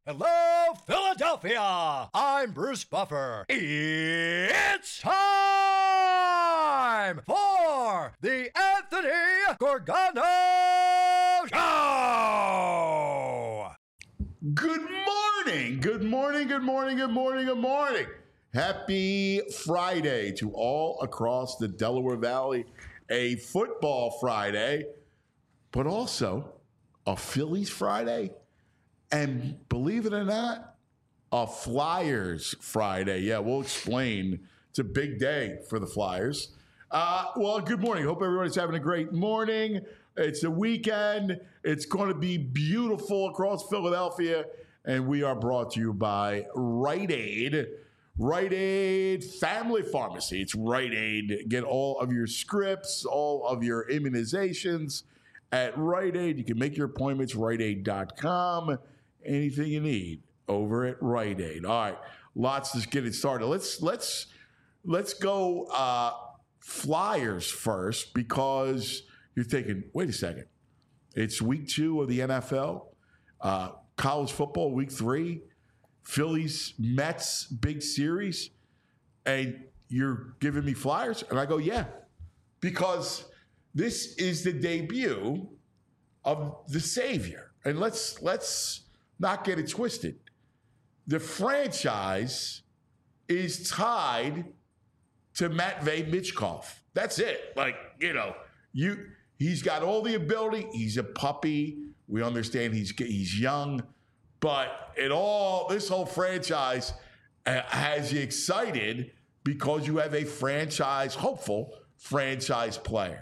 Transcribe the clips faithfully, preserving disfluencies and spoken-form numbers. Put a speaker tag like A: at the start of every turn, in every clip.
A: Hello, Philadelphia! I'm Bruce Buffer. It's time for the Anthony Gorgano Show!
B: Good morning, good morning, good morning, good morning, good morning. Happy Friday to all across the Delaware Valley. A football Friday, but also a Phillies Friday. And believe it or not, a Flyers Friday. Yeah, we'll explain. It's a big day for the Flyers. Uh, well, good morning. Hope everybody's having a great morning. It's a weekend. It's going to be beautiful across Philadelphia. And we are brought to you by Rite Aid. Rite Aid Family Pharmacy. It's Rite Aid. Get all of your scripts, all of your immunizations at Rite Aid. You can make your appointments, rite aid dot com. Anything you need over at Rite Aid. All right, lots to get it started. Let's let's let's go uh, Flyers first, because you're thinking, wait a second, it's week two of the N F L, uh, college football week three, Phillies Mets big series, and you're giving me Flyers, and I go, yeah, because this is the debut of the savior, and let's let's. not get it twisted. The franchise is tied to Matvei Michkov. That's it. Like, you know, you he's got all the ability. He's a puppy. We understand he's he's young, but it all this whole franchise uh, has you excited because you have a franchise hopeful franchise player,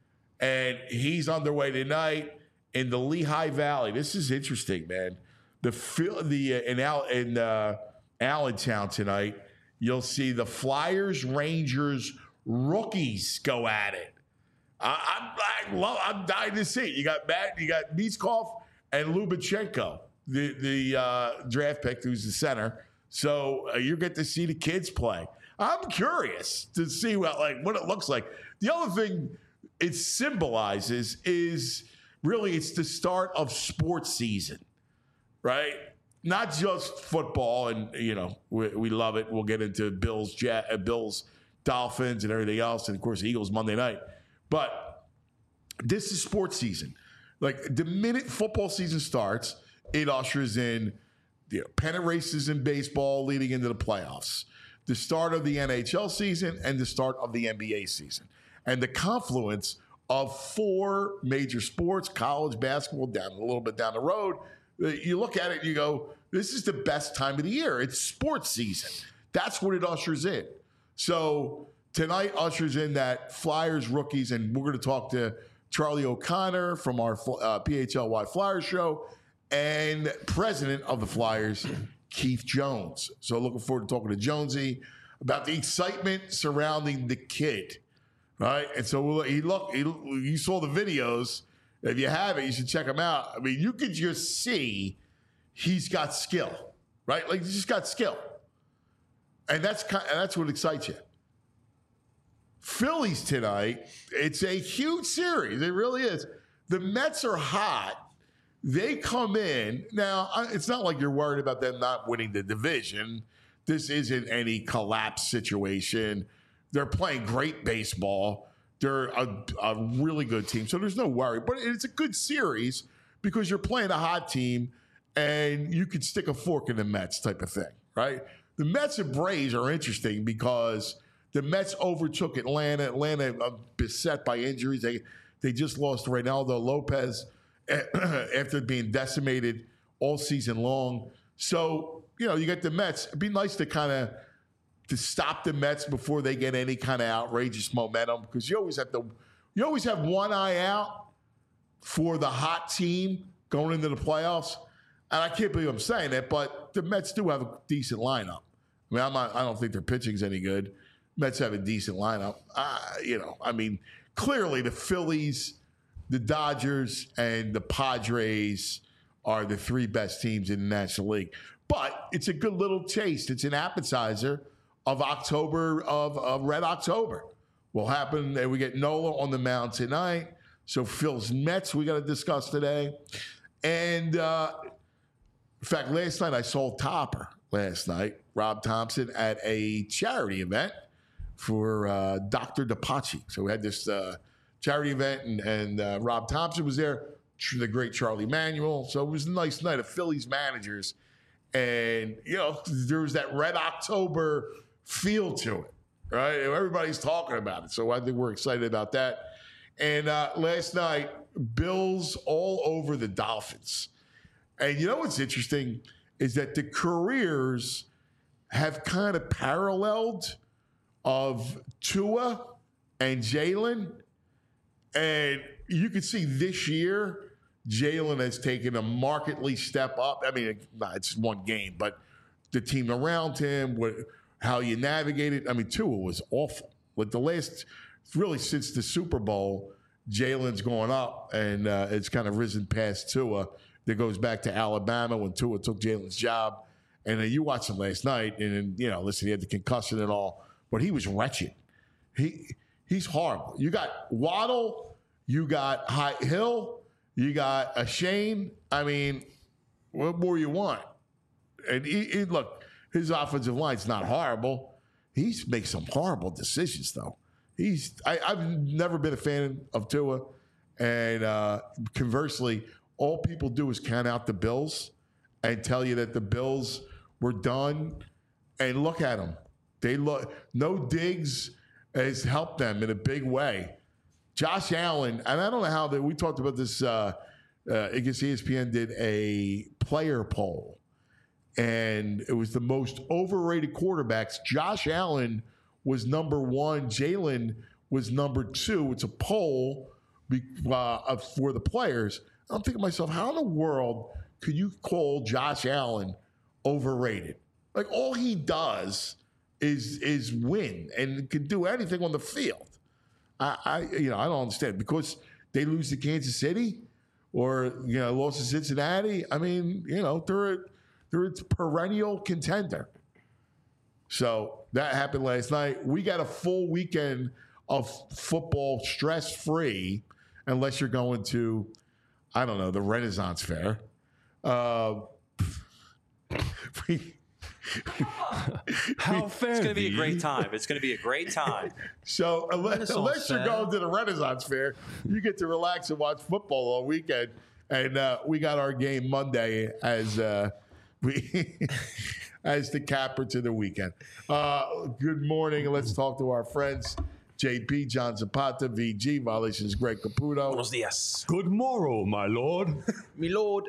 B: and he's underway tonight in the Lehigh Valley. This is interesting, man. The the uh, in Al, in uh, Allentown tonight, you'll see the Flyers Rangers rookies go at it. I, I'm I love, I'm dying to see it. You got Matt, you got Michkov and Lubachenko, the the uh, draft pick, who's the center. So uh, you get to see the kids play. I'm curious to see what like what it looks like. The other thing it symbolizes is really it's the start of sports season. Right? Not just football, and, you know, we, we love it. We'll get into Bills, Jet, uh, Bills, Dolphins, and everything else, and, of course, Eagles Monday night. But this is sports season. Like, the minute football season starts, it ushers in the pennant races in baseball leading into the playoffs, the start of the N H L season, and the start of the N B A season. And the confluence of four major sports, college basketball down a little bit down the road. You look at it and you go, this is the best time of the year. It's sports season. That's what it ushers in. So tonight ushers in that Flyers rookies, and we're going to talk to Charlie O'Connor from our uh, P H L Y Flyers show and president of the Flyers, Keith Jones. So looking forward to talking to Jonesy about the excitement surrounding the kid, right? And so we'll, he look, he, you saw the videos. If you have it, you should check him out. I mean, you could just see he's got skill, right? Like, he's just got skill. And that's kind of, that's what excites you. Phillies tonight, it's a huge series. It really is. The Mets are hot. They come in. Now, it's not like you're worried about them not winning the division. This isn't any collapse situation. They're playing great baseball. They're a, a really good team, so there's no worry. But it's a good series because you're playing a hot team, and you could stick a fork in the Mets type of thing, right? The Mets and Braves are interesting because the Mets overtook Atlanta. Atlanta uh, beset by injuries. They they just lost Reynaldo Lopez after being decimated all season long. So, you know, you get the Mets. It'd be nice to kind of to stop the Mets before they get any kind of outrageous momentum, because you always have to, you always have one eye out for the hot team going into the playoffs. And I can't believe I'm saying that, but the Mets do have a decent lineup. I mean, I'm not, I don't think their pitching's any good. Mets have a decent lineup. Uh, you know, I mean, clearly the Phillies, the Dodgers, and the Padres are the three best teams in the National League. But it's a good little taste. It's an appetizer of October, of, of Red October. Will happen, and we get Nola on the mound tonight. So Phil's Mets we got to discuss today. And uh, In fact, last night I saw Topper. Last night, Rob Thompson at a charity event for uh, Doctor DePace. So we had this uh, charity event, and, and uh, Rob Thompson was there. The great Charlie Manuel. So it was a nice night of Phillies managers. And, you know, there was that Red October feel to it, right? Everybody's talking about it. So I think we're excited about that. And uh, last night, Bills all over the Dolphins. And you know what's interesting is that the careers have kind of paralleled of Tua and Jalen. And you can see this year, Jalen has taken a markedly step up. I mean, it's one game, but the team around him, what, how you navigate it. I mean, Tua was awful. Like the last, really since the Super Bowl, Jalen's going up, and uh, it's kind of risen past Tua. That goes back to Alabama when Tua took Jalen's job. And then you watched him last night, and, and you know, listen, he had the concussion and all, but he was wretched. He He's horrible. You got Waddle, you got High Hill, you got a Shane. I mean, what more you want? And he, he, look, his offensive line's not horrible. He makes some horrible decisions, though. He's I, I've never been a fan of Tua, and uh, conversely, all people do is count out the Bills and tell you that the Bills were done. And look at them. They look. No Diggs has helped them in a big way. Josh Allen, and I don't know how that we talked about this. Uh, uh, I guess E S P N did a player poll, and it was the most overrated quarterbacks. Josh Allen was number one. Jalen was number two. It's a poll uh, for the players. I'm thinking to myself, how in the world could you call Josh Allen overrated? Like, all he does is is win and can do anything on the field. I, I you know I don't understand, because they lose to Kansas City or you know lost to Cincinnati. I mean, you know they're a, they're a perennial contender. So that happened last night. We got a full weekend of football stress free, unless you're going to, I don't know, the Renaissance Fair. Uh, we,
C: How fair?
D: It's going to be a great time. It's going to be a great time.
B: So unless, unless you're
C: Fair.
B: going to the Renaissance Fair, you get to relax and watch football all weekend. And uh, we got our game Monday as uh, we as the capper to the weekend. Uh, good morning, and let's talk to our friends. J P, John Zapata, V G, Violations, Greg Caputo.
D: Buenos dias.
C: Good morrow, my lord.
D: Me lord.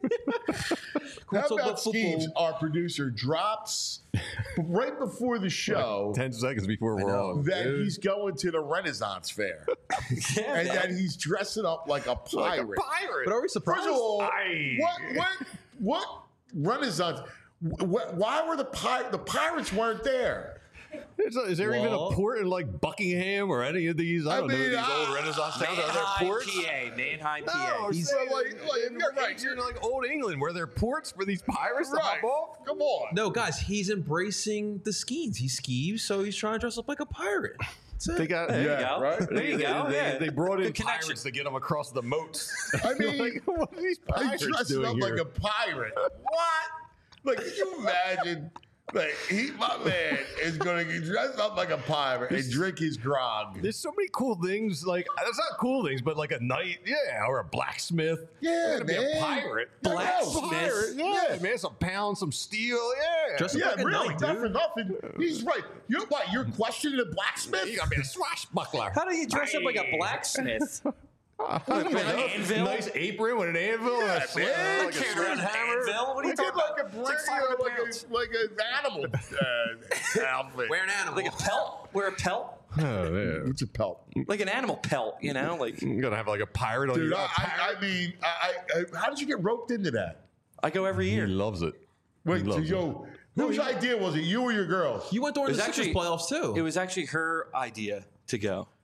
B: How about Skeeves, our producer, drops right before the show
C: Ten seconds before we're on.
B: that he's going to the Renaissance Fair.
D: Yeah,
B: And
D: man.
B: that he's dressing up like a pirate.
C: pirate.
E: But are we surprised?
B: First of all,
C: Aye.
B: what what what Renaissance? Wh- Why were the pirates? The pirates weren't there.
C: Is, is there even
E: Well-
C: a port in like Buckingham or any of these? I
B: I
C: don't know.
B: mean,
C: These
B: I-
C: old Renaissance towns. Are there
D: Manheim,
C: ports?
D: P A. Manheim, P A.
C: No, I'm
B: He's-
C: saying,
B: like-
C: like,
B: like,
C: in
B: you're right,
C: ancient,
B: you're-
C: like old England, where there are ports for these pirates to
B: Right?
C: hop off.
B: Come on.
E: No, guys, he's embracing the skeeves. He skeeves, so he's trying to dress up like a pirate. That's it.
C: They got
D: There you
B: Yeah,
D: go.
B: right?
D: There you
C: they,
D: go.
C: They,
D: yeah.
C: they brought in
D: Good connection.
C: pirates to get them across the moats.
B: I mean,
C: like, what are these
B: He's
C: pirates
B: dressing
C: doing
B: up
C: here?
B: like a pirate. What? Like, can you imagine? Like, he, my man, is going to get dressed up like a pirate and drink his grog.
C: There's so many cool things. Like, that's not cool things, but like a knight, yeah, or a blacksmith.
B: Yeah,
C: You're gonna be
B: man.
C: a pirate.
B: Blacksmith.
C: Pirate, yeah,
B: Yeah.
C: man, some pounds, some steel, yeah.
E: Just-
B: Yeah,
E: like a
B: really,
E: knight,
B: not
E: dude.
B: for nothing. He's right. You're what? You're questioning a blacksmith?
C: You gotta be a swashbuckler.
D: How do you dress up like a blacksmith?
C: Like
D: an
C: a
D: anvil?
C: nice apron with an anvil and
B: Yeah,
C: a sling,
B: man.
C: like a
D: Can't run an
C: sledgehammer.
D: anvil. What are you
B: He did
D: talking
B: like
D: about?
B: a
D: It's like
B: brand,
D: five hundred
B: like
D: pounds.
B: a like an animal uh, outfit.
E: Wear an animal.
D: Like a pelt? Wear a pelt?
C: Oh, yeah.
B: What's a pelt?
D: Like an animal pelt, you know? Like
C: You gotta have like a pirate on
B: Dude,
C: your
B: I,
C: a
B: I,
C: pirate.
B: I mean, I, I, how did you get roped into that?
D: I go every
C: He
D: year.
C: loves it.
B: Wait,
C: He
B: so
C: loves
B: yo, whose idea was it? You or your girls?
E: You went during
D: It was
E: the Sixers
D: actually-
E: playoffs too.
D: It was actually her idea to go.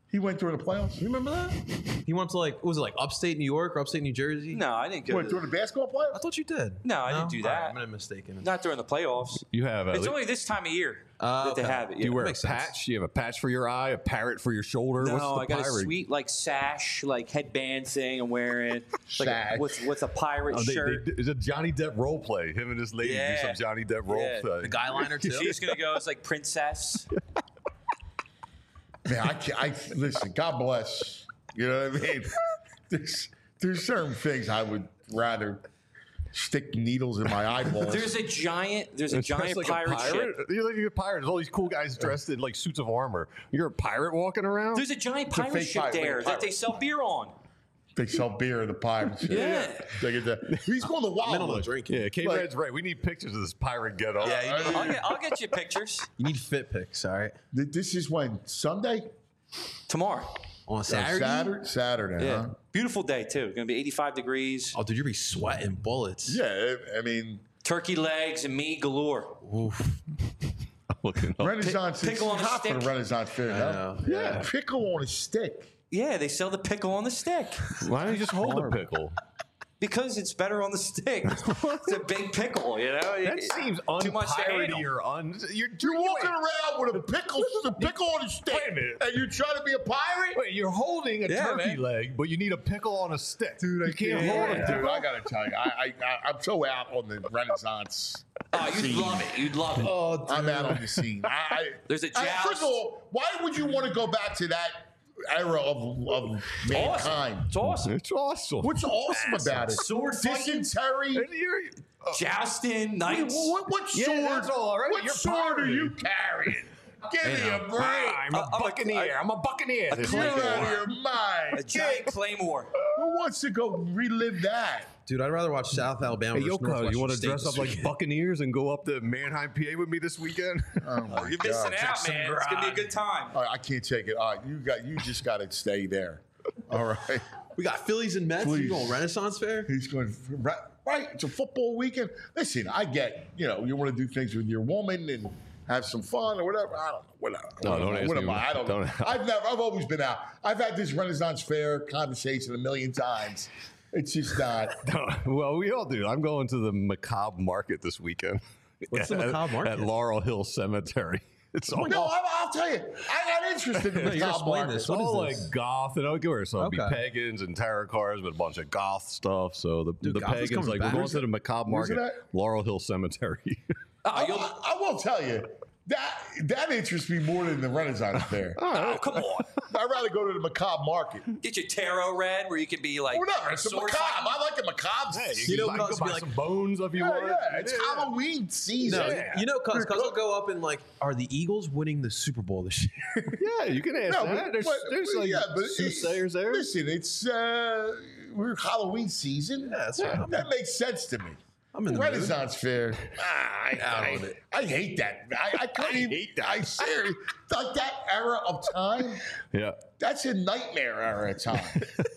B: He went during the playoffs.
E: You remember that? He went to like, what was it like upstate New York or upstate New Jersey?
D: No, I didn't go.
B: Went
D: To,
B: during the basketball playoffs.
E: I thought you did.
D: No, I didn't do
E: All right,
D: that.
E: I'm mistaken.
D: not during the playoffs.
C: You have.
D: It's only this time of year
E: Uh,
D: that they
E: okay.
D: have it.
C: Do you
D: yeah.
C: wear a
E: makes sense.
C: patch? Do you have a patch for your eye, a parrot for your shoulder?
D: No,
C: What's the
D: I got
C: pirate?
D: a sweet like sash, like headband thing I'm wearing. Like
B: Sash.
D: with with a pirate
C: Oh, they,
D: shirt.
C: they, it's a Johnny Depp role play. Him and his lady
D: Yeah.
C: do some Johnny Depp role
D: Yeah.
C: play.
E: The guy liner too.
D: She's gonna go as like princess.
B: Man, I can't. I listen. God bless. You know what I mean? There's there's certain things I would rather stick needles in my eyeballs.
D: There's a giant. There's a
C: It's dressed
D: giant
C: like
D: pirate,
C: a pirate.
D: ship.
C: You're like a pirate. There's all these cool guys dressed in like suits of armor. You're a pirate walking around.
D: There's a giant
B: a
D: pirate
B: fake
D: ship
B: pirate, like a
D: there that
B: pirate.
D: they sell beer on.
B: They sell beer in the pirates.
D: Yeah.
B: They get that. He's going to
E: Men on the
B: Wildwood.
E: drink.
C: yeah, K
B: Like-
C: Red's right. We need pictures of this pirate get up.
E: Yeah, you need,
D: I'll get, I'll get you pictures
E: you need fit pics, all right?
B: Th- This is when Sunday,
D: tomorrow.
E: On
B: Uh,
E: Saturday.
B: Saturday, Saturday.
D: Yeah,
B: Huh?
D: beautiful day too. Gonna be eighty-five degrees.
E: Oh, dude, you'll be sweating bullets.
B: Yeah, I mean,
D: Turkey legs and meat galore.
E: Oof.
C: I'm looking up.
B: Renaissance is
D: pickle on a
B: hot for the
D: stick.
B: Renaissance fair.
E: I
B: huh?
E: know,
B: Yeah,
E: yeah.
B: pickle on a stick.
D: Yeah, they sell the pickle on the stick
C: Why don't you just hold the pickle?
D: because it's better on the stick. It's a big pickle, you know.
C: That seems
D: too much to
C: unpiratey
D: handle.
C: or un. You're,
B: You're
C: you
B: walking
C: wait,
B: around with a pickle, a pickle on a stick,
C: Wait a minute.
B: and you're trying to be a pirate.
C: Wait, you're holding a
D: Yeah,
C: turkey
D: man.
C: leg, but you need a pickle on a stick. Dude, you can't
B: Yeah,
C: hold a
B: dude,
C: pickle.
B: I gotta tell you, I, I, I, I'm so out on the Renaissance.
D: Oh, you'd love it. You'd love it.
E: Oh, dude.
B: I'm out on the scene. I, I,
D: There's a
B: I-
D: joust.
B: First of all, why would you want to go back to that era of, of
D: Awesome.
B: mankind?
D: It's awesome.
C: It's awesome.
B: What's awesome about it?
D: Sword fighting,
B: Dysentery.
C: And you're-
D: jousting,
B: What,
D: knights.
B: what, what
C: Yeah,
B: sword?
C: that's all right.
B: What
C: You're
B: sword are
C: pirating.
B: you carrying? Give me a break.
C: I'm a
D: I'm a-
C: buccaneer. I'm a buccaneer.
D: a
B: You're
D: claymore.
B: out of your mind.
D: A giant claymore.
B: Who wants to go relive that?
E: Dude, I'd rather watch South Alabama.
C: Hey,
E: versus
C: Yoko,
E: Northwestern
C: you want to
E: State
C: dress
E: this
C: up like
E: weekend.
C: Buccaneers and go up to Manheim, P A with me this weekend?
B: Oh my
D: You're missing
B: God.
D: out, man. It's gonna be a good time.
B: All right, I can't take it. All right, you got. You just got to stay there. All right.
E: We got Phillies and Mets.
B: Please.
E: You going Renaissance Fair?
B: He's going right, right. It's a football weekend. Listen, I get. You know, you want to do things with your woman and have some fun or whatever. I don't know. Whatever.
C: No,
B: what
C: don't
B: am I?
C: ask
B: What
C: me.
B: am I? I don't, know.
C: Don't-
B: I've never. I've always been out. I've had this Renaissance Fair conversation a million times. It's just not.
C: Well, we all do. I'm going to the Macabre Market this weekend.
E: What's the
C: At-
E: Macabre Market?
C: At Laurel Hill Cemetery. It's all,
B: No, I, I'll tell you. I got interested in
E: No,
B: the
E: you're
B: top
E: explaining
B: market.
E: this.
C: it's
E: What is
C: all
E: this?
C: like goth and okay, so it'll be
E: Okay.
C: pagans and tarot cards, but a bunch of goth stuff. So the,
E: Dude,
C: the
E: goth is
C: pagans
E: coming
C: like
E: back.
C: we're going
E: Where's
C: to the Macabre
B: where's it
C: Market,
B: at?
C: Laurel Hill Cemetery.
D: Oh,
B: I,
D: you'll,
B: I will tell you that that interests me more than the Renaissance Fair.
D: oh, come on.
B: I'd rather go to the Macabre Market.
D: Get your tarot read where you can be like.
B: Whatever. It's a
D: sword
B: macabre.
D: fighting.
B: I like the macabre.
E: You know,
C: can
E: cuz
C: go
E: be
C: buy
E: like-
C: some bones if you
B: yeah,
C: want.
B: yeah. It's
C: Yeah.
B: Halloween season.
E: No,
C: Yeah.
E: you know, cuz
B: You're
E: cuz will
B: cook-
E: go up and like, are the Eagles winning the Super Bowl this year?
C: Yeah, you can ask
B: No,
C: that.
B: but-
C: there's
B: but-
C: there's
B: but
C: like
B: yeah, but
C: soothsayers there.
B: Listen, it's uh, we're Halloween season.
E: Yeah, that's right.
B: That makes sense to me.
E: I'm in the mood.
B: Renaissance Fair. Ah, I,
E: Out
B: I,
E: on it.
B: I hate that. I, I couldn't even.
C: hate that.
B: I seriously like that era of time.
C: Yeah.
B: That's a nightmare era of time.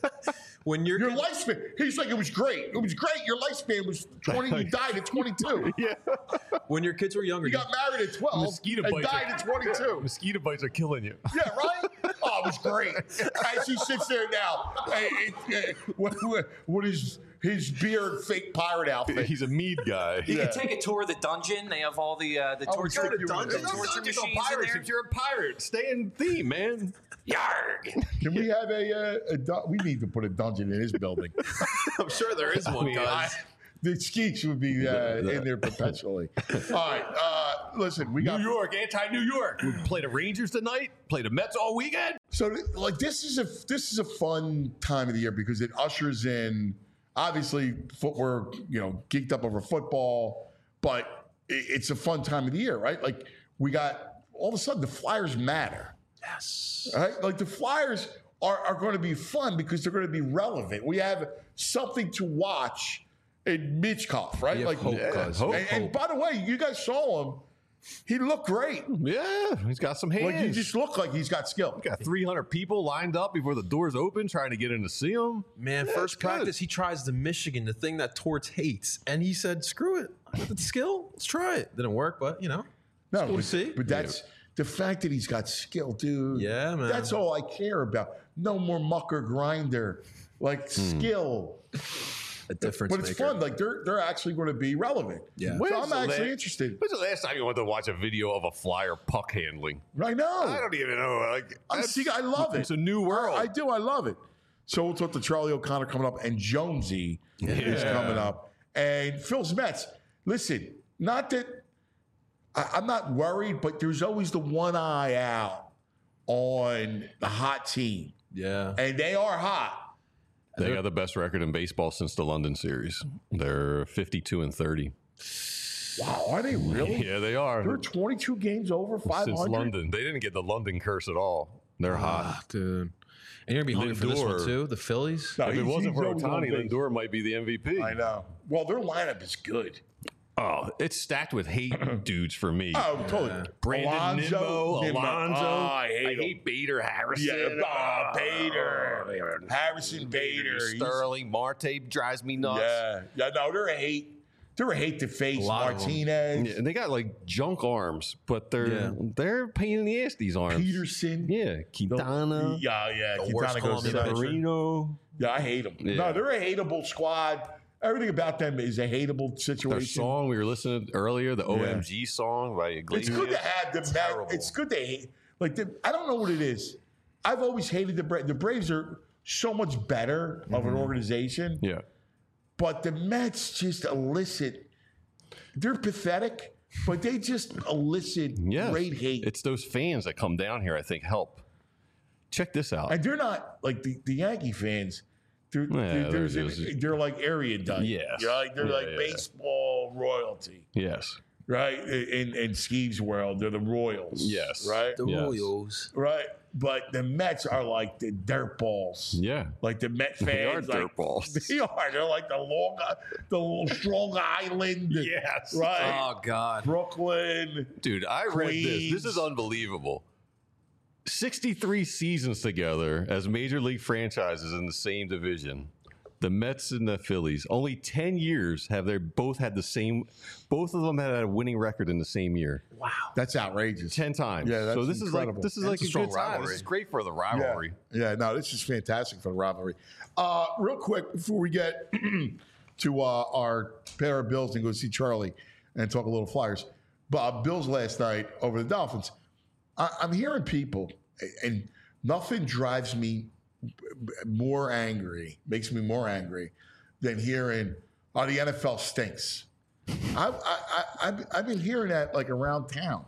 E: When you're
B: Your lifespan. He's like, it was great. It was great. Your lifespan was twenty. You died at twenty-two.
C: Yeah.
E: when your kids were younger,
B: You got married at twelve
C: Mosquito
B: and
C: bites.
B: died
C: are-
B: at twenty-two.
C: Mosquito bites are killing you.
B: Yeah, right? Oh, it was great. As he sits there now, hey, hey, hey, what, what, what is his beard fake pirate outfit?
C: He's a mead guy.
D: You
B: Yeah.
D: can take a tour of the dungeon. They have all the uh, the
B: Oh,
D: torture,
B: go to dungeon.
D: the torture
C: Don't
D: machines in
C: pirates.
D: there.
C: If you're a pirate, stay in theme, man.
D: Yarg.
B: Can we have a, uh, a dun- we need to put a dungeon in his building.
E: I'm sure there is one,
C: mean,
E: cuz.
B: I- the Skeeks would be uh, in there perpetually. All right, uh, listen, we got
C: New York, anti-New York. We play the Rangers tonight. Play the Mets all weekend.
B: So, like, this is a this is a fun time of the year because it ushers in, obviously, footwear, you know, geeked up over football, but it, it's a fun time of the year, right? Like, we got all of a sudden the Flyers matter,
E: Yes.
B: right? Like, the Flyers are are going to be fun because they're going to be relevant. We have something to watch in Mitchkov, right?
E: We have
B: Like,
E: hope,
C: yeah,
E: cuz.
C: hope.
B: and, and by the way, you guys saw him. He looked great.
C: Yeah, he's got some hands.
B: Like, he just looked like he's got skill.
C: got three hundred people lined up before the doors open trying to get in to see him.
E: Man,
C: Yeah,
E: first
C: it's good.
E: practice, he tries the Michigan, the thing that Torts hates. And he said, screw it. I got the skill. Let's try it. Didn't work, but, you know.
B: No,
E: cool to
B: but,
E: see.
B: but that's the fact that he's got skill, dude.
E: Yeah, man.
B: That's all I care about. No more mucker grinder, like skill.
E: A difference
B: But it's
E: maker.
B: fun. Like they're they're actually going to be relevant.
E: Yeah.
B: So
C: When's
B: I'm
C: the
B: actually
C: la-
B: interested.
C: When's the last time you went to watch a video of a Flyer puck handling?
B: I know.
C: I don't even know. Like,
B: I
C: that's-
B: see. I love it.
C: It's a new world.
B: I, I do. I love it. So we'll talk to Charlie O'Connor coming up, and Jonesy is
C: Yeah.
B: coming up, and Phil's Mets. Listen, not that I, I'm not worried, but there's always the one eye out on the hot team,
E: Yeah.
B: and they are hot.
C: They got the best record in baseball since the London series. They're fifty-two and thirty.
B: Wow, are they really?
C: Yeah, they are.
B: They're twenty-two games over five
C: Since
B: hundred.
C: London. They didn't get the London curse at all. They're hot.
E: Ah, dude. And you're going to be hungry for this one,
C: Lindor.
E: too? The Phillies?
B: No,
C: If it
B: he's-
C: wasn't
B: he's
C: for
B: always on
C: Otani,
B: base.
C: Lindor might be the M V P.
B: I know. Well, their lineup is good.
C: Oh, it's stacked with hate dudes for me.
B: Oh, totally.
C: Brandon
B: Alonzo,
C: Nimmo,
B: Nimmo.
C: Alonzo.
B: Oh, I hate, him.
C: Bader Harrison.
B: Yeah,
C: Ah,
B: oh, Bader. Harrison Bader. He's-
C: Sterling, Marte drives me nuts.
B: Yeah. Yeah, no, they're a hate. They're a hate to face.
E: A lot of them.
B: Martinez,
C: Yeah, and they got like junk arms, but they're
E: Yeah.
C: they're a pain in the ass. These arms.
B: Peterson.
C: Yeah, Quintana,
B: Yeah, yeah.
E: The worst
B: Quintana goes
E: Colombian
B: nuts.
E: pitcher.
C: Marino.
B: Yeah, I hate them.
C: Yeah.
B: No, they're a hateable squad. Everything about them is a hateable
C: Their
B: situation.
C: song we were listening to earlier, the O M G song by Iglesias.
B: It's good to have the Met.
C: terrible.
B: It's good to hate. Like the, I don't know what it is. I've always hated the Braves. The Braves are so much better of an organization,
C: Yeah.
B: but the Mets just elicit. They're pathetic, but they just elicit
C: Yes.
B: great hate.
C: It's those fans that come down here, I think, help. Check this out.
B: and they're not like the, the Yankee fans. They're,
C: Yeah,
B: they're,
C: they're
B: there's an-
C: just-
B: they're like erudite.
C: Yes.
B: You know, like they're
C: Yeah,
B: like
C: yeah.
B: baseball royalty,
C: Yes.
B: right? In in Steve's world, they're the Royals.
C: Yes.
B: Right.
E: The
C: Yes.
E: Royals.
B: Right. But the Mets are like the dirt balls.
C: Yeah.
B: Like the Met fans.
C: They are
B: like,
C: dirt balls.
B: They are. They're like the long, the Strong Island.
C: Yes.
B: Right.
E: Oh, God.
B: Brooklyn.
C: Dude, I read this.
B: Queens.
C: This is unbelievable. sixty-three seasons together as major league franchises in the same division. The Mets and the Phillies. Only ten years have they both had the same, both of them had a winning record in the same year.
B: That's outrageous.
C: ten times.
B: Yeah, that's
C: so this
B: incredible.
C: is like this is
E: That's
C: like
E: a
C: a,
E: strong
C: good time.
E: rivalry.
C: This is great for the
B: Yeah.
C: rivalry.
B: Yeah, no, this is fantastic for the rivalry. Uh, real quick, before we get to uh, our pair of Bills and go see Charlie and talk a little Flyers. But uh, Bills last night over the Dolphins. I, I'm hearing people, and nothing drives me more angry, makes me more angry than hearing, oh, the N F L stinks. I, I, I, I've, I've been hearing that like around town.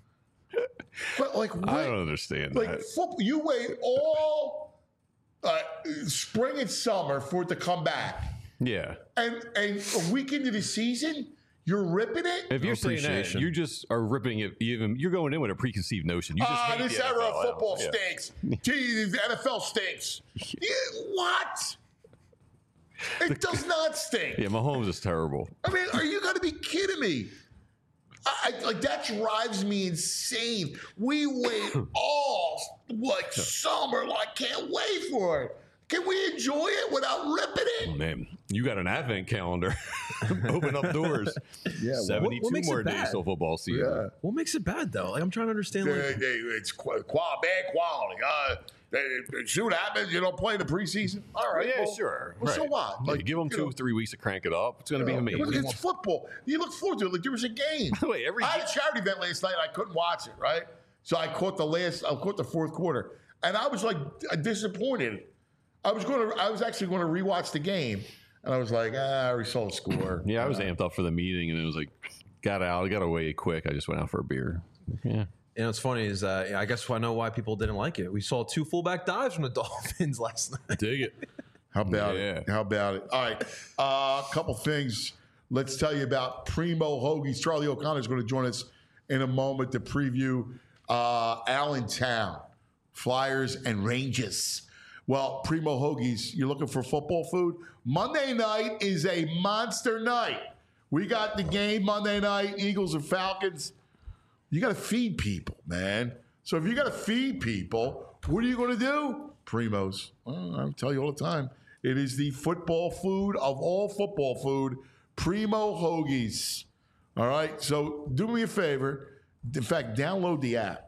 B: But like, what?
C: I don't understand
B: Like
C: that.
B: football, you wait all uh, spring and summer for it to come back,
C: Yeah.
B: and and a week into the season, you're ripping it.
C: If you're saying that,
E: appreciation.
C: you just are ripping it. Even you're going in with a preconceived notion. You just
B: Ah,
C: hate
B: this
C: the
B: era
C: N F L.
B: of football
C: Yeah.
B: stinks. Gee, the N F L stinks. Yeah, what? It does not stink.
C: Yeah, Mahomes is terrible.
B: I mean, are you going to be kidding me? I, I- like that drives me insane. We wait all like summer. Like, can't wait for it. Can we enjoy it without ripping it?
C: Man, you got an advent calendar. Open up doors.
B: Yeah,
C: seventy-two
E: what makes it
C: more days
E: bad?
C: till football season.
B: Yeah.
E: What makes it bad, though? Like, I'm trying to understand.
B: They,
E: Like,
B: they, it's qu- qual- bad quality. Uh, they, they, see what happens. You don't play in the preseason. All right.
C: Yeah,
B: well,
C: sure.
B: Well, so
C: Right.
B: what?
C: Yeah,
B: Like,
C: give them
B: you
C: two
B: know,
C: or three weeks to crank it up. It's going to be
B: you know,
C: amazing.
B: It's football. You look forward to it. Like there was a game.
C: Wait, every
B: I had a charity event last night. I couldn't watch it. Right. So I caught the last. I caught the fourth quarter, and I was like disappointed. I was going to. I was actually going to rewatch the game, and I was like, ah, I already saw the score.
C: yeah, I was amped up for the meeting, and it was like, got out, got away quick. I just went out for a beer. Yeah.
E: you know, what's funny is uh, I guess I know why people didn't like it. We saw two fullback dives from the Dolphins last night.
C: Dig it.
B: How about
C: Yeah.
B: it? How about it? All right. A uh, couple things. Let's tell you about Primo Hoagies. Charlie O'Connor is going to join us in a moment to preview uh, Allentown, Flyers and Rangers. Well, Primo Hoagies, you're looking for football food? Monday night is a monster night. We got the game Monday night, Eagles and Falcons. You got to feed people, man. So if you got to feed people, what are you going to do? Primos. Well, I tell you all the time. It is the football food of all football food, Primo Hoagies. All right, so do me a favor. In fact, download the app.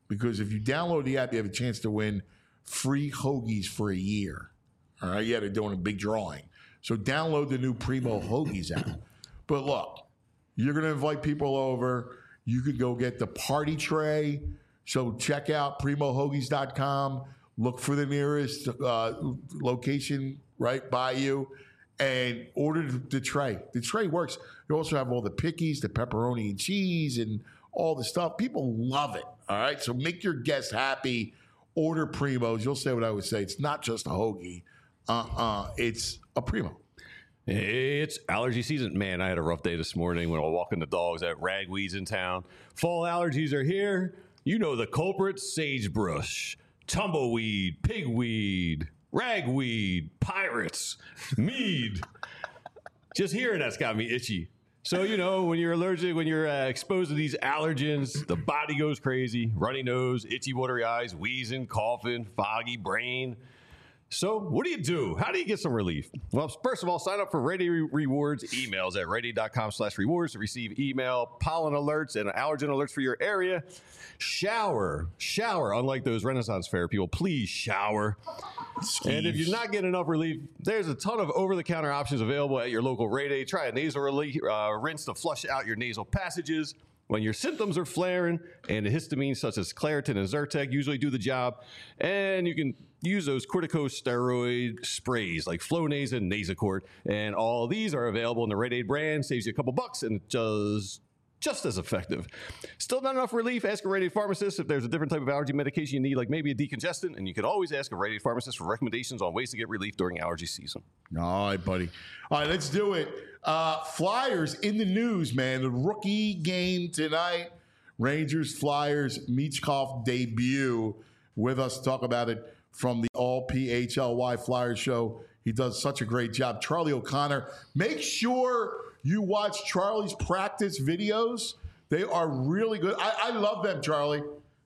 B: because if you download the app, you have a chance to win free hoagies for a year. All right, yeah, they're doing a big drawing. So download the new Primo Hoagies app. But look, you're going to invite people over. You could go get the party tray. So check out primo hoagies dot com. Look for the nearest uh, location right by you and order the tray. The tray works. You also have all the pickies, the pepperoni and cheese, and all the stuff. People love it. All right, so make your guests happy. Order Primos. You'll say what I would say. It's not just a hoagie. Uh-uh. It's a Primo.
C: It's allergy season. Man, I had a rough day this morning when I was walking the dogs at Ragweed's in town. Fall allergies are here. You know the culprits: sagebrush, tumbleweed, pigweed, ragweed, pirates, mead. Just hearing that's got me itchy. So, you know, when you're allergic, when you're uh, exposed to these allergens, the body goes crazy. Runny nose, itchy, watery eyes, wheezing, coughing, foggy brain. So what do you do? How do you get some relief? Well, first of all, sign up for Rite Aid Rewards emails at rite aid dot com slash rewards to receive email, pollen alerts, and allergen alerts for your area. Shower. Shower. Unlike those Renaissance Fair people, please shower. Skeeves. And if you're not getting enough relief, there's a ton of over-the-counter options available at your local Rite Aid. Try a nasal relief, uh, rinse to flush out your nasal passages. When your symptoms are flaring, antihistamines such as Claritin and Zyrtec usually do the job. And you can use those corticosteroid sprays like Flonase and Nasacort. And all of these are available in the Rite Aid brand. Saves you a couple bucks and just, just as effective. Still not enough relief? Ask a Rite Aid pharmacist if there's a different type of allergy medication you need, like maybe a decongestant. And you can always ask a Rite Aid pharmacist for recommendations on ways to get relief during allergy season.
B: All right, buddy. All right, let's do it. Uh, Flyers in the news, man. The rookie game tonight. Rangers, Flyers, Michkov debut. With us to talk about it from the All P H L Y Flyers show. He does such a great job. Charlie O'Connor. Make sure you watch Charlie's practice videos. They are really good. I, I love them, Charlie.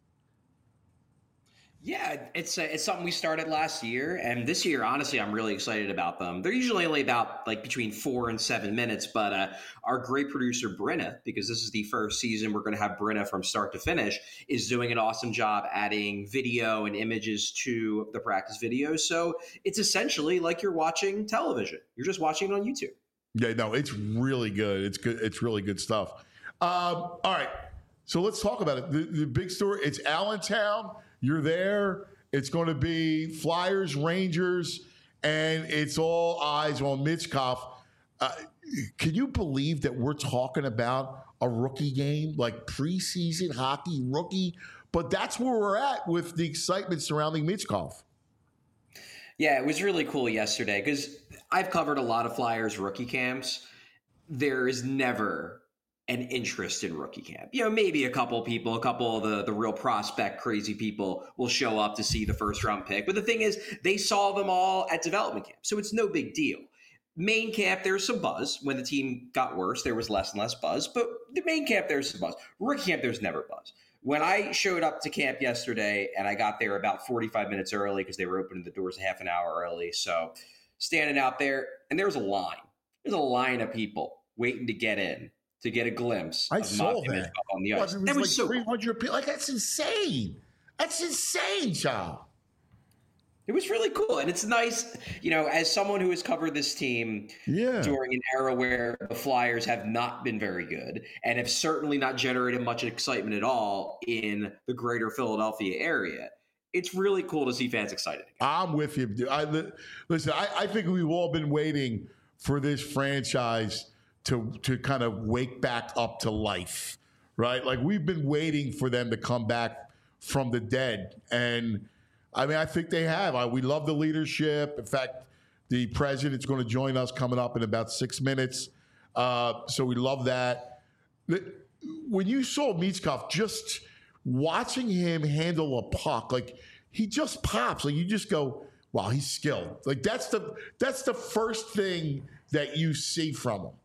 F: Yeah, it's uh, it's something we started last year, and this year, honestly, I'm really excited about them. They're usually only about like between four and seven minutes, but uh, our great producer Brenna, because this is the first season we're going to have Brenna from start to finish, is doing an awesome job adding video and images to the practice videos. So it's essentially like you're watching television. You're just watching it on YouTube.
B: Yeah, no, it's really good. It's good. It's really good stuff. Um, all right, so let's talk about it. The, the big story. It's Allentown. You're there. It's going to be Flyers, Rangers, and it's all eyes on Michkov. Uh, can you believe that we're talking about a rookie game, like preseason hockey rookie? But that's where we're at with the excitement surrounding Michkov.
F: Yeah, it was really cool yesterday because I've covered a lot of Flyers rookie camps. There is never an interest in rookie camp. You know, maybe a couple people, a couple of the, the real prospect crazy people will show up to see the first round pick. But the thing is, they saw them all at development camp. So it's no big deal. Main camp, there's some buzz. When the team got worse, there was less and less buzz. But the main camp, there's some buzz. Rookie camp, there's never buzz. When I showed up to camp yesterday and I got there about forty-five minutes early because they were opening the doors a half an hour early. So standing out there, and there was a line. There's a line of people waiting to get in, to get a glimpse
B: I
F: of
B: saw
F: Matthew
B: that.
F: Michkov on the
B: Well,
F: ice.
B: it was
F: That was
B: like
F: so
B: three hundred people. Like, that's insane. That's insane, child.
F: It was really cool. And it's nice, you know, as someone who has covered this team
B: Yeah.
F: during an era where the Flyers have not been very good and have certainly not generated much excitement at all in the greater Philadelphia area, it's really cool to see fans excited again.
B: I'm with you. dude. I, li- listen, I, I think we've all been waiting for this franchise to to kind of wake back up to life, right? Like, we've been waiting for them to come back from the dead. And, I mean, I think they have. I, we love the leadership. In fact, the president's going to join us coming up in about six minutes. Uh, so we love that. The- When you saw Michkov, just watching him handle a puck, like, he just pops. Like, you just go, wow, he's skilled. Like, that's the that's the first thing that you see from him.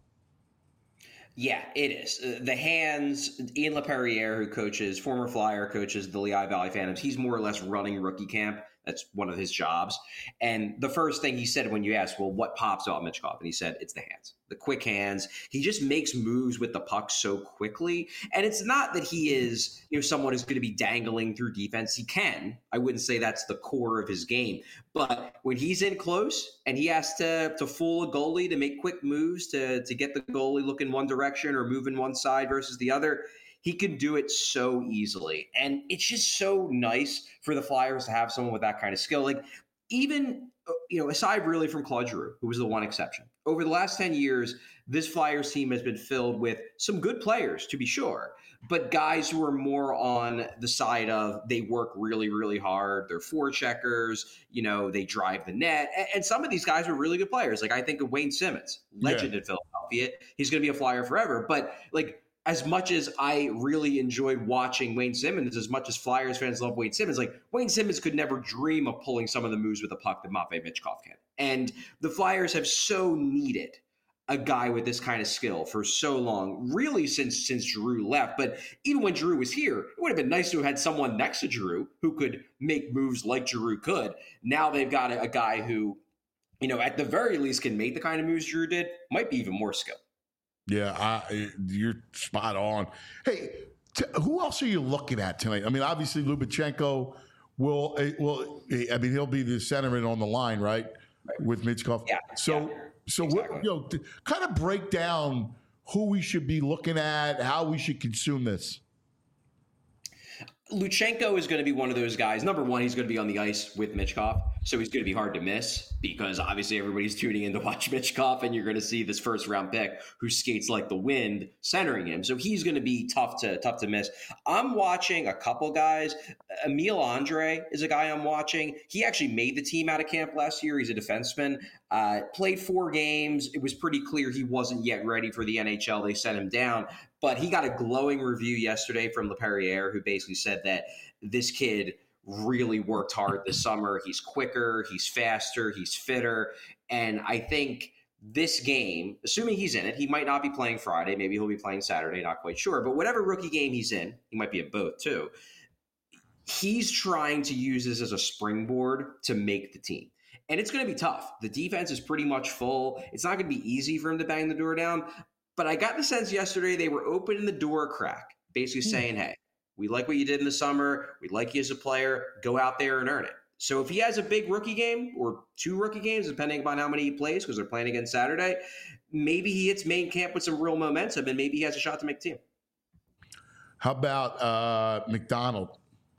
F: Yeah, it is. Uh, The hands, Ian LaPerriere, who coaches, former Flyer coaches the Lehigh Valley Phantoms, he's more or less running rookie camp That's one of his jobs. And the first thing he said when you asked, well, what pops about Michkov? And he said, it's the hands, the quick hands. He just makes moves with the puck so quickly. And it's not that he is, you know, someone who's going to be dangling through defense. He can. I wouldn't say that's the core of his game. But when he's in close and he has to, to fool a goalie to make quick moves to, to get the goalie looking one direction or moving one side versus the other, he can do it so easily. And it's just so nice for the Flyers to have someone with that kind of skill. Like, even, you know, aside really from Claude Giroux, who was the one exception, over the last ten years, this Flyers team has been filled with some good players, to be sure, but guys who are more on the side of they work really, really hard. They're forecheckers, you know, they drive the net. And, and some of these guys are really good players. Like, I think of Wayne Simmons, legend yeah. in Philadelphia. He's going to be a Flyer forever. But, like, as much as I really enjoyed watching Wayne Simmons, as much as Flyers fans love Wayne Simmons, like, Wayne Simmons could never dream of pulling some of the moves with the puck that Matvei Michkov can. And the Flyers have so needed a guy with this kind of skill for so long, really since since Giroux left. But even when Giroux was here, it would have been nice to have had someone next to Giroux who could make moves like Giroux could. Now they've got a, a guy who, you know, at the very least can make the kind of moves Giroux did, might be even more skilled.
B: Yeah, I, you're spot on. Hey, t- who else are you looking at tonight? I mean, obviously Lubachenko will, will. I mean, he'll be the centerman on the line, right, right. with Michkov.
F: Yeah.
B: So,
F: yeah.
B: so
F: exactly.
B: what, you know, to kind of break down who we should be looking at, how we should consume this.
F: Luchenko is going to be one of those guys. Number one, he's going to be on the ice with Michkov, so he's going to be hard to miss because obviously everybody's tuning in to watch Michkov, and you're going to see this first round pick who skates like the wind centering him. So he's going to be tough to tough to miss. I'm watching a couple guys. Emil Andre is a guy I'm watching. He actually made the team out of camp last year. He's a defenseman. Uh, played four games. It was pretty clear he wasn't yet ready for the N H L. They sent him down. But he got a glowing review yesterday from LePerriere, who basically said that this kid really worked hard this summer. He's quicker, he's faster, he's fitter. And I think this game, assuming he's in it, he might not be playing Friday. Maybe he'll be playing Saturday, not quite sure. But whatever rookie game he's in, he might be in both too. He's trying to use this as a springboard to make the team. And it's going to be tough. The defense is pretty much full. It's not going to be easy for him to bang the door down. But I got the sense yesterday they were opening the door crack, basically saying, hey, we like what you did in the summer. We like you as a player. Go out there and earn it. So if he has a big rookie game or two rookie games, depending upon how many he plays, because they're playing again Saturday, maybe he hits main camp with some real momentum and maybe he has a shot to make the team.
B: How about uh, McDonald?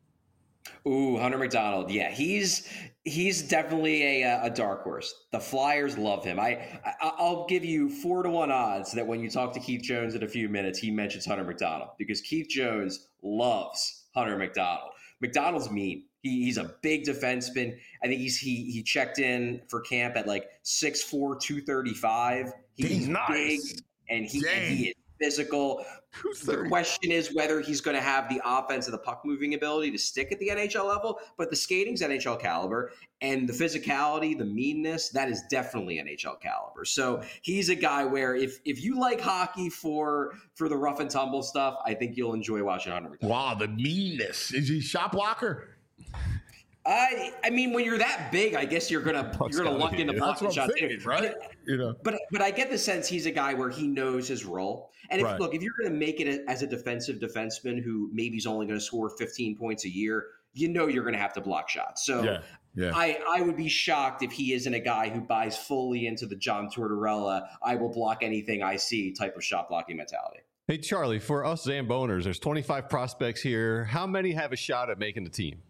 F: Ooh, Hunter McDonald. Yeah, he's he's definitely a, a dark horse. The Flyers love him. I, I I'll give you four to one odds that when you talk to Keith Jones in a few minutes, he mentions Hunter McDonald because Keith Jones loves Hunter McDonald. McDonald's mean. He, he's a big defenseman. I think he's he he checked in for camp at like six four, two thirty-five. He's
B: nice.
F: big and he, and he is physical. The question is whether he's going to have the offense and the puck moving ability to stick at the N H L level, but the skating's N H L caliber and the physicality, the meanness, that is definitely N H L caliber. So he's a guy where if if you like hockey for for the rough and tumble stuff, I think you'll enjoy watching Hunter McDonald.
B: Wow, the meanness. Is he shot blocker?
F: I I mean, when you're that big, I guess you're gonna
C: Puck's
F: you're gonna luck into
B: That's
F: block
B: what I'm
F: shots,
B: thinking, right? You know,
F: but but I get the sense he's a guy where he knows his role. And if
B: Right.
F: look, if you're going to make it as a defensive defenseman who maybe is only going to score fifteen points a year, you know you're going to have to block shots. So
B: Yeah, yeah.
F: I I would be shocked if he isn't a guy who buys fully into the John Tortorella, I will block anything I see type of shot blocking mentality.
C: Hey, Charlie, for us Zamboners, there's twenty-five prospects here. How many have a shot at making the team?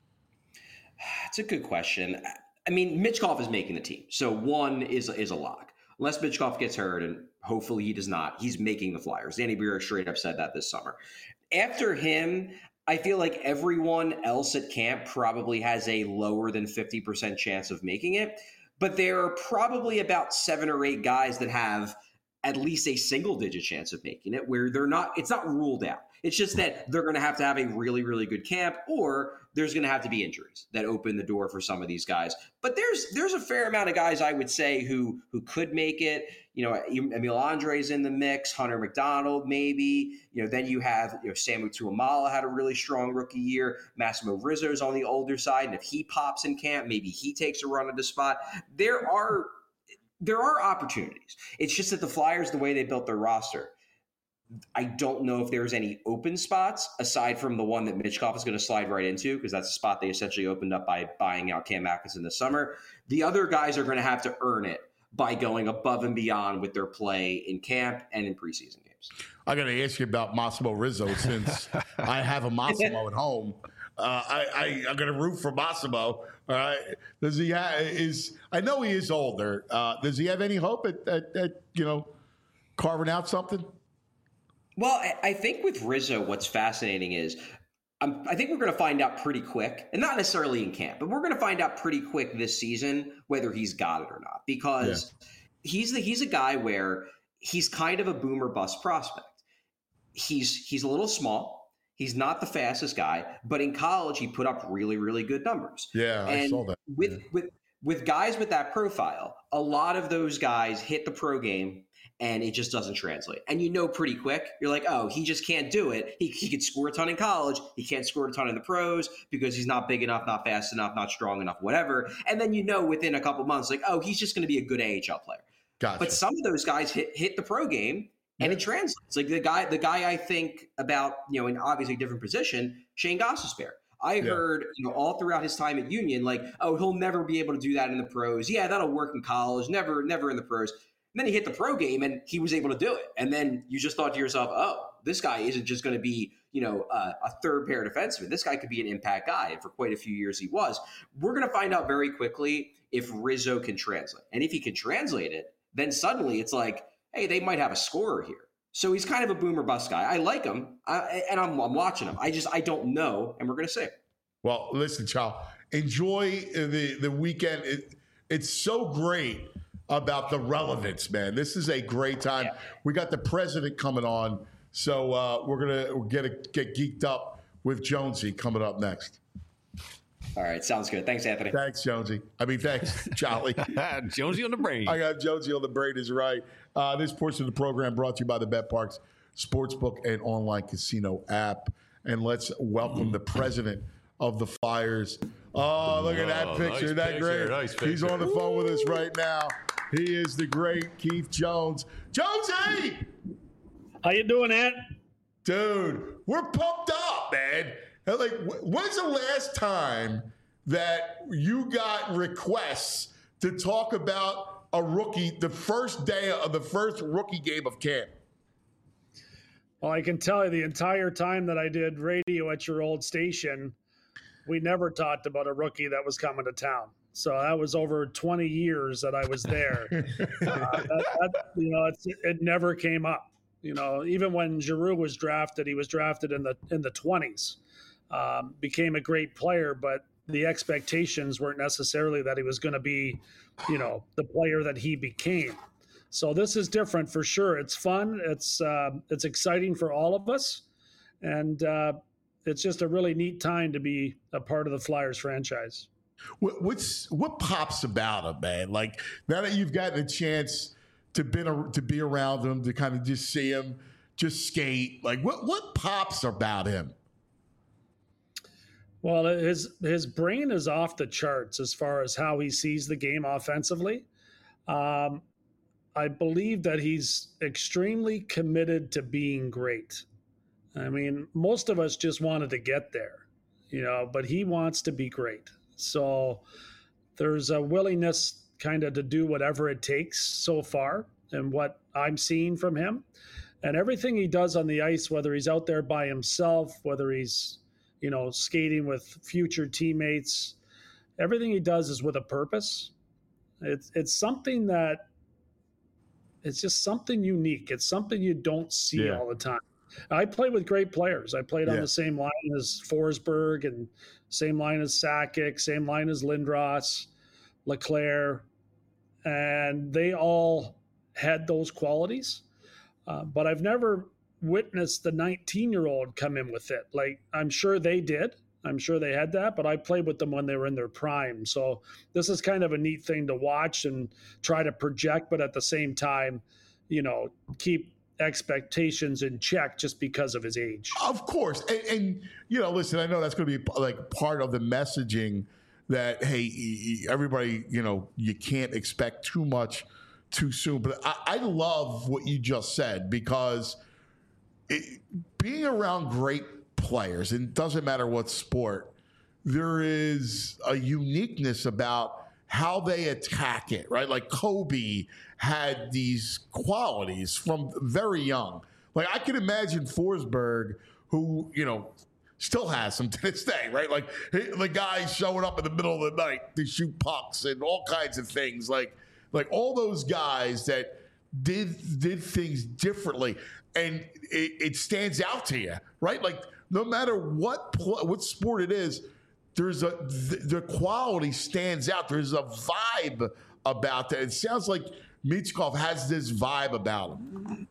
F: It's a good question. I mean, Michkov is making the team, so one is is a lock. Unless Michkov gets hurt, and hopefully he does not, he's making the Flyers. Danny Briere straight up said that this summer. After him, I feel like everyone else at camp probably has a lower than fifty percent chance of making it, but there are probably about seven or eight guys that have at least a single digit chance of making it, where they're not, it's not ruled out. It's just that they're going to have to have a really, really good camp, or there's going to have to be injuries that open the door for some of these guys. But there's there's a fair amount of guys, I would say, who who could make it. You know, Emil Andre's in the mix, Hunter McDonald maybe. You know, then you have, you know, Samu Tuamala had a really strong rookie year. Massimo Rizzo's on the older side, and if he pops in camp, maybe he takes a run at the spot. There are there are opportunities. It's just that the Flyers, the way they built their roster, I don't know if there's any open spots aside from the one that Mitchkov is going to slide right into, because that's a spot they essentially opened up by buying out Cam Atkinson this summer. The other guys are going to have to earn it by going above and beyond with their play in camp and in preseason games.
B: I got to ask you about Massimo Rizzo since I have a Massimo at home. Uh, I, I I'm going to root for Massimo. All right, does he have, is I know he is older. Uh, does he have any hope at, at, at you know carving out something?
F: Well, I think with Rizzo, what's fascinating is um, I think we're going to find out pretty quick, and not necessarily in camp, but we're going to find out pretty quick this season whether he's got it or not, because yeah. he's the he's a guy where he's kind of a boomer bust prospect. He's he's a little small. He's not the fastest guy, but in college he put up really, really good numbers.
B: Yeah,
F: and
B: I saw that.
F: With
B: yeah.
F: with with guys with that profile, a lot of those guys hit the pro game and it just doesn't translate. And you know pretty quick, you're like, oh, he just can't do it. He, he could score a ton in college. He can't score a ton in the pros because he's not big enough, not fast enough, not strong enough, whatever. And then you know within a couple months, like, oh, he's just going to be a good A H L player.
B: Gotcha.
F: But some of those guys hit hit the pro game and yeah. it translates. Like the guy, the guy I think about, you know, in obviously a different position, Shane Gostisbehere. I yeah. heard, you know, all throughout his time at Union, like, oh, he'll never be able to do that in the pros. Yeah, that'll work in college. Never, never in the pros. And then he hit the pro game and he was able to do it. And then you just thought to yourself, oh, this guy isn't just going to be, you know, uh, a third pair defenseman. This guy could be an impact guy. And for quite a few years he was. We're going to find out very quickly if Rizzo can translate. And if he can translate it, then suddenly it's like, hey, they might have a scorer here. So he's kind of a boomer bust guy. I like him, I, and I'm, I'm watching him. I just, I don't know, and we're going to see.
B: Well, listen, Chow, enjoy the, the weekend. It, it's so great about the relevance, man. This is a great time. Yeah. We got the president coming on, so uh, we're going to get a, get geeked up with Jonesy coming up next.
F: All right, sounds good. Thanks, Anthony.
B: Thanks, Jonesy. I mean, thanks, Charlie.
C: Jonesy on the brain.
B: I got Jonesy on the brain is right. Uh, this portion of the program brought to you by the BetParx Sportsbook and online casino app. And let's welcome the president of the Flyers. Oh, look at that
C: oh,
B: picture.
C: Nice
B: Isn't that
C: picture,
B: great?
C: nice picture.
B: He's on the phone with us right now. He is the great Keith Jones. Jonesy!
G: How you doing, Ant?
B: Dude, we're pumped up, man. Like, when's the last time that you got requests to talk about a rookie the first day of the first rookie game of camp?
G: Well, I can tell you the entire time that I did radio at your old station, we never talked about a rookie that was coming to town. So that was over twenty years that I was there. uh, that, that, you know, it's, it never came up. You know, even when Giroux was drafted, he was drafted in the in the twenties. Um, became a great player, but the expectations weren't necessarily that he was going to be, you know, the player that he became. So this is different for sure. It's fun. It's uh, it's exciting for all of us, and uh, it's just a really neat time to be a part of the Flyers franchise.
B: What, what's what pops about him, man? Like now that you've gotten a chance to been a, to be around him, to kind of just see him, just skate. Like what what pops about him?
G: Well, his his brain is off the charts as far as how he sees the game offensively. Um, I believe that he's extremely committed to being great. I mean, most of us just wanted to get there, you know, but he wants to be great. So there's a willingness kind of to do whatever it takes so far and what I'm seeing from him. And everything he does on the ice, whether he's out there by himself, whether he's you know, skating with future teammates. Everything he does is with a purpose. It's it's something that it's just something unique. It's something you don't see yeah. all the time. I play with great players. I played on yeah. the same line as Forsberg and same line as Sakic, same line as Lindros, LeClaire, and they all had those qualities, uh, but I've never witnessed the nineteen-year-old come in with it. Like, I'm sure they did. I'm sure they had that, but I played with them when they were in their prime. So this is kind of a neat thing to watch and try to project, but at the same time, you know, keep expectations in check just because of his age.
B: Of course. And, and you know, listen, I know that's going to be like part of the messaging that, hey, everybody, you know, you can't expect too much too soon. But I, I love what you just said, because it, being around great players, and it doesn't matter what sport, there is a uniqueness about how they attack it, right? Like Kobe had these qualities from very young. Like, I can imagine Forsberg, who, you know, still has them to this day, right? Like, the guys showing up in the middle of the night to shoot pucks and all kinds of things. Like, like all those guys that did did things differently, and it, it stands out to you, right? Like, no matter what pl- what sport it is, there's a the, the quality stands out. There's a vibe about that. It sounds like Michkov has this vibe about him.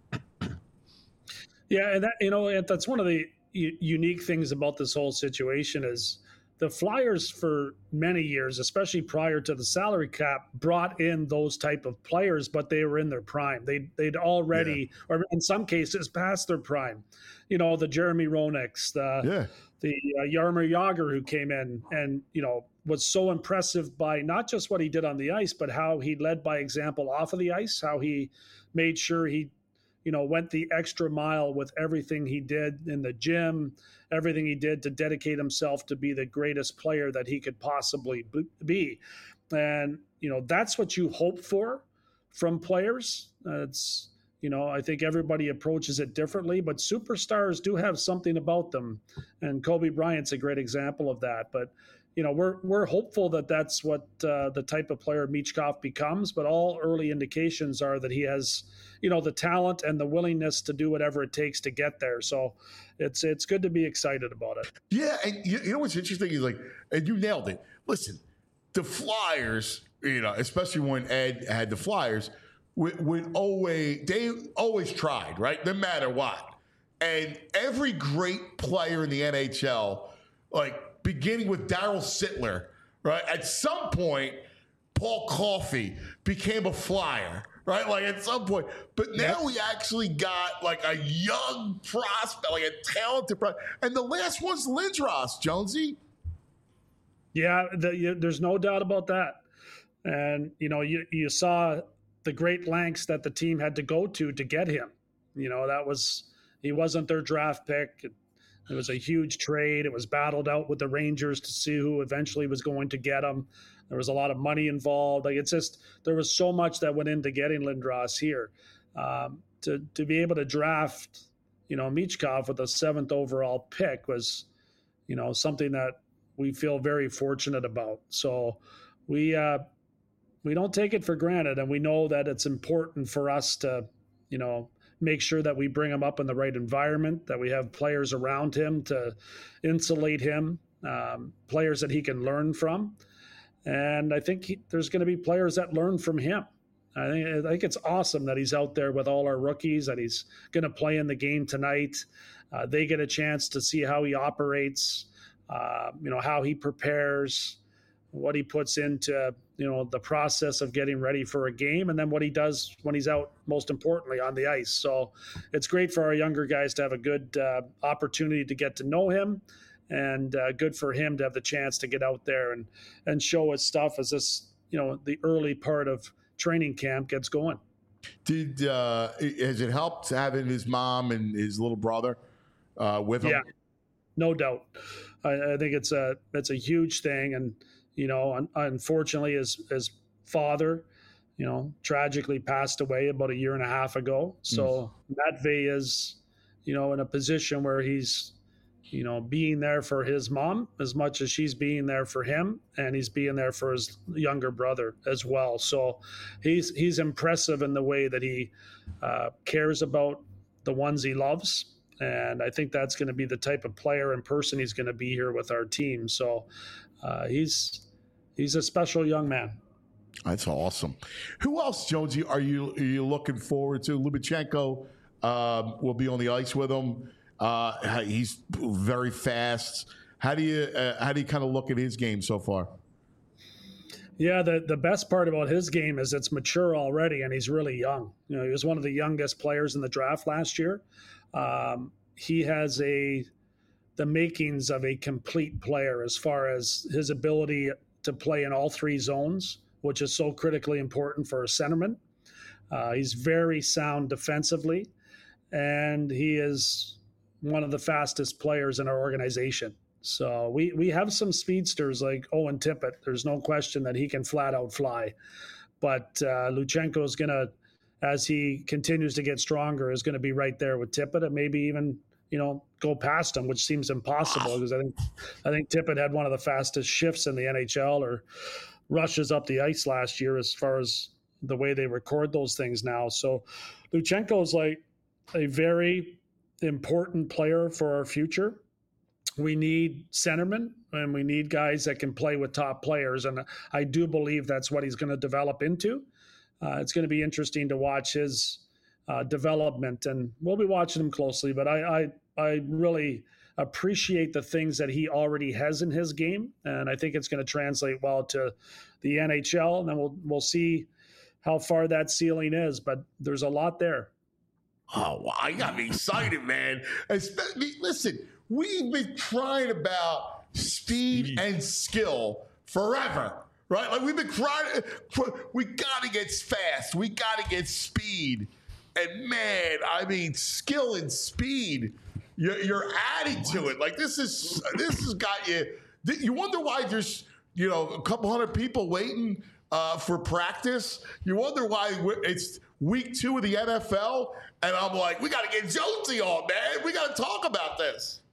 G: Yeah, and that, you know, that's one of the u- unique things about this whole situation is the Flyers for many years, especially prior to the salary cap, brought in those type of players, but they were in their prime. They they'd already, yeah. or in some cases, past their prime. You know, the Jeremy Roenick's, the yeah. the uh, Jaromir Jagr, who came in and, you know, was so impressive by not just what he did on the ice, but how he led by example off of the ice, how he made sure he, you know, went the extra mile with everything he did in the gym, everything he did to dedicate himself to be the greatest player that he could possibly be. And, you know, that's what you hope for from players. Uh, it's, you know, I think everybody approaches it differently, but superstars do have something about them. And Kobe Bryant's a great example of that. But, you know, we're we're hopeful that that's what uh, the type of player Michkov becomes. But all early indications are that he has, you know, the talent and the willingness to do whatever it takes to get there. So it's it's good to be excited about it.
B: Yeah, and you, you know what's interesting is, like, and you nailed it. Listen, the Flyers, you know, especially when Ed had the Flyers, would, would always they always tried, right? No matter what. And every great player in the N H L, like, beginning with Darryl Sittler, right? At some point, Paul Coffey became a Flyer, right? Like, at some point. But now yep. we actually got, like, a young prospect, like a talented prospect. And the last one's Lindros, Jonesy.
G: Yeah, the, you, there's no doubt about that. And, you know, you, you saw the great lengths that the team had to go to to get him. You know, that was – he wasn't their draft pick. It was a huge trade. It was battled out with the Rangers to see who eventually was going to get him. There was a lot of money involved. Like, it's just, there was so much that went into getting Lindros here. Um, to to be able to draft, you know, Michkov with a seventh overall pick was, you know, something that we feel very fortunate about. So we uh, we don't take it for granted, and we know that it's important for us to, you know, make sure that we bring him up in the right environment, that we have players around him to insulate him, um, players that he can learn from. And I think he, there's going to be players that learn from him. I think, I think it's awesome that he's out there with all our rookies, that he's going to play in the game tonight. Uh, they get a chance to see how he operates, uh, you know, how he prepares, what he puts into, you know, the process of getting ready for a game, and then what he does when he's out, most importantly, on the ice. So it's great for our younger guys to have a good uh, opportunity to get to know him, and uh, good for him to have the chance to get out there and, and show his stuff as this, you know, the early part of training camp gets going.
B: Did, uh, has it helped having his mom and his little brother uh, with him?
G: Yeah, no doubt. I, I think it's a, it's a huge thing. And, you know, un- unfortunately, his, his father, you know, tragically passed away about a year and a half ago. So mm. Matvey is, you know, in a position where he's, you know, being there for his mom as much as she's being there for him, and he's being there for his younger brother as well. So he's he's impressive in the way that he uh, cares about the ones he loves. And I think that's going to be the type of player and person he's going to be here with our team. So uh, he's he's a special young man.
B: That's awesome. Who else, Jonesy, are you are you looking forward to? Lubachenko um, will be on the ice with him. Uh, he's very fast. How do you uh, how do you kind of look at his game so far?
G: Yeah, the, the best part about his game is it's mature already, and he's really young. You know, he was one of the youngest players in the draft last year. Um, he has a the makings of a complete player as far as his ability to play in all three zones, which is so critically important for a centerman. Uh, he's very sound defensively, and he is one of the fastest players in our organization. So we, we have some speedsters like Owen Tippett. There's no question that he can flat out fly. But uh, Luchenko is going to, as he continues to get stronger, is going to be right there with Tippett and maybe even, you know, go past him, which seems impossible because I think I think Tippett had one of the fastest shifts in the N H L or rushes up the ice last year as far as the way they record those things now. So Luchenko is like a very important player for our future. We need centermen and we need guys that can play with top players. And I do believe that's what he's going to develop into. Uh, it's going to be interesting to watch his uh, development, and we'll be watching him closely. But I, I, I really appreciate the things that he already has in his game. And I think it's going to translate well to the N H L. And then we'll, we'll see how far that ceiling is, but there's a lot there.
B: Oh, wow, you got me excited, man. Especially, listen, we've been crying about speed, speed and skill forever, right? Like we've been crying, we got to get fast. We got to get speed. And man, I mean, skill and speed, you're, you're adding to it. Like this is, this has got you, you wonder why there's, you know, a couple hundred people waiting uh, for practice. You wonder why it's week two of the N F L. And I'm like, we got to get Jonesy on, man. We got to talk about this.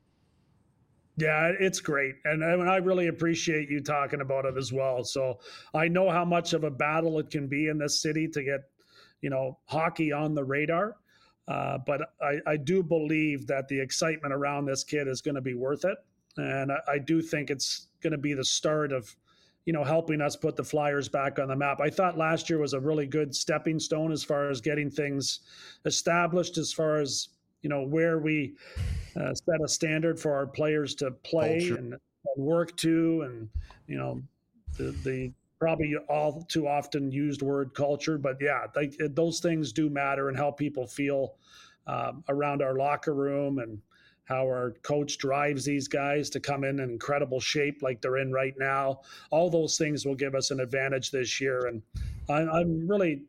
G: Yeah, it's great. And I, mean, I really appreciate you talking about it as well. So I know how much of a battle it can be in this city to get, you know, hockey on the radar. Uh, but I, I do believe that the excitement around this kid is going to be worth it. And I, I do think it's going to be the start of, you know, helping us put the Flyers back on the map. I thought last year was a really good stepping stone as far as getting things established, as far as, you know, where we uh, set a standard for our players to play and, and work to, and, you know, the, the probably all too often used word culture. But yeah, they, those things do matter and help people feel um, around our locker room, and how our coach drives these guys to come in in incredible shape like they're in right now. All those things will give us an advantage this year. And I'm, I'm really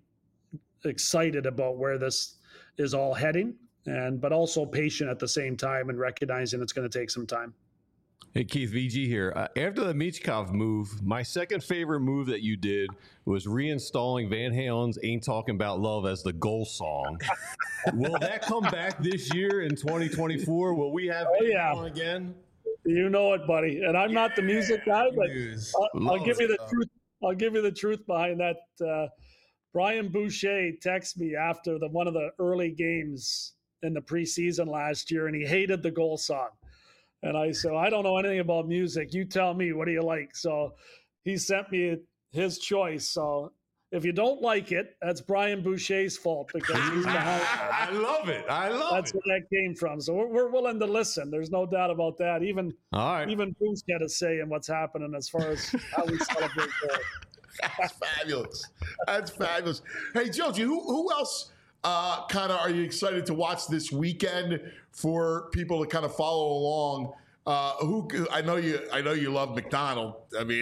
G: excited about where this is all heading, and but also patient at the same time and recognizing it's going to take some time.
C: Hey, Keith, V G here. Uh, after the Michkov move, my second favorite move that you did was reinstalling Van Halen's Ain't Talking About Love as the goal song. Will that come back this year in twenty twenty-four? Will we have
G: oh,
C: Van
G: yeah.
C: Halen again?
G: You know it, buddy. And I'm yeah, not the music guy, but I'll, I'll give you the stuff. truth. I'll give you the truth behind that. Uh, Brian Boucher texted me after the one of the early games in the preseason last year, and he hated the goal song. And I said, I don't know anything about music. You tell me, what do you like? So he sent me his choice. So if you don't like it, that's Brian Boucher's fault, because he's behind.
C: I love it. I love
G: that's
C: it.
G: That's where that came from. So we're, we're willing to listen. There's no doubt about that. Even
C: All right.
G: even Bruce had a say in what's happening as far as how we celebrate goals.
B: That's fabulous. That's fabulous. Hey, Jonesy, who, who else uh, kind of are you excited to watch this weekend for people to kind of follow along? Uh, who I know you, I know you love McDonald. I mean,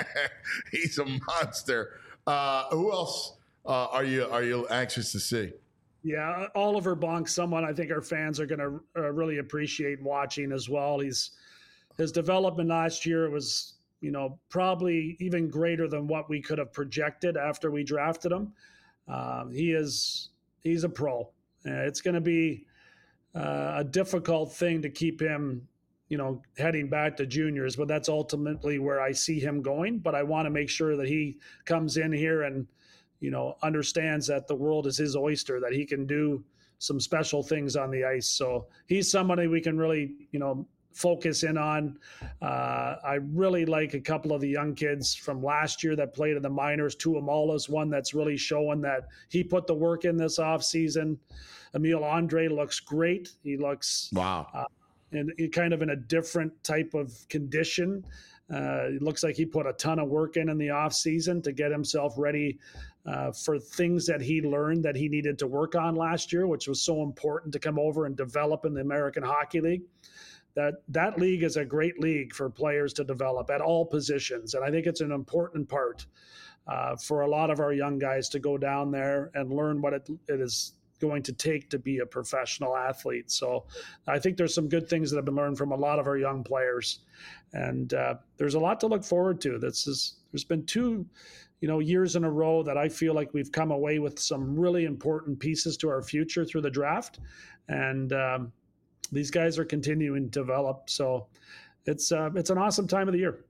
B: he's a monster. Uh, who else uh, are you are you anxious to see?
G: Yeah, Oliver Bonk, someone I think our fans are going to uh, really appreciate watching as well. He's his development last year was, you know, probably even greater than what we could have projected after we drafted him. Um, he is he's a pro. Uh, it's going to be uh, a difficult thing to keep him, you know, heading back to juniors, but that's ultimately where I see him going. But I want to make sure that he comes in here and, you know, understands that the world is his oyster, that he can do some special things on the ice. So he's somebody we can really, you know, focus in on. Uh, I really like a couple of the young kids from last year that played in the minors. Tuamala's one that's really showing that he put the work in this offseason. Emil Andre looks great. He looks
B: Wow.
G: Uh, in, in kind of in a different type of condition. Uh, it looks like he put a ton of work in in the offseason to get himself ready uh, for things that he learned that he needed to work on last year, which was so important to come over and develop in the American Hockey League. That that league is a great league for players to develop at all positions. And I think it's an important part uh, for a lot of our young guys to go down there and learn what it, it is going to take to be a professional athlete. So I think there's some good things that have been learned from a lot of our young players. And uh, there's a lot to look forward to. This is, there's been two, you know, years in a row that I feel like we've come away with some really important pieces to our future through the draft. And um, these guys are continuing to develop. So it's uh, it's an awesome time of the year.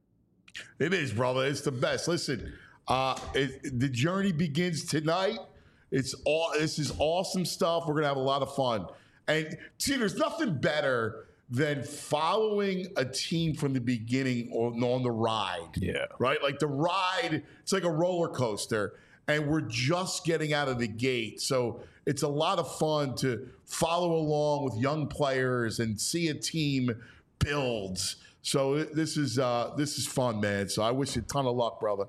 B: It is, brother. It's the best. Listen, uh, it, the journey begins tonight. It's all. This is awesome stuff. We're gonna have a lot of fun. And see, there's nothing better than following a team from the beginning on, on the ride.
C: Yeah.
B: Right? Like the ride, it's like a roller coaster. And we're just getting out of the gate. So it's a lot of fun to follow along with young players and see a team build. So this is uh, this is fun, man. So I wish you a ton of luck, brother.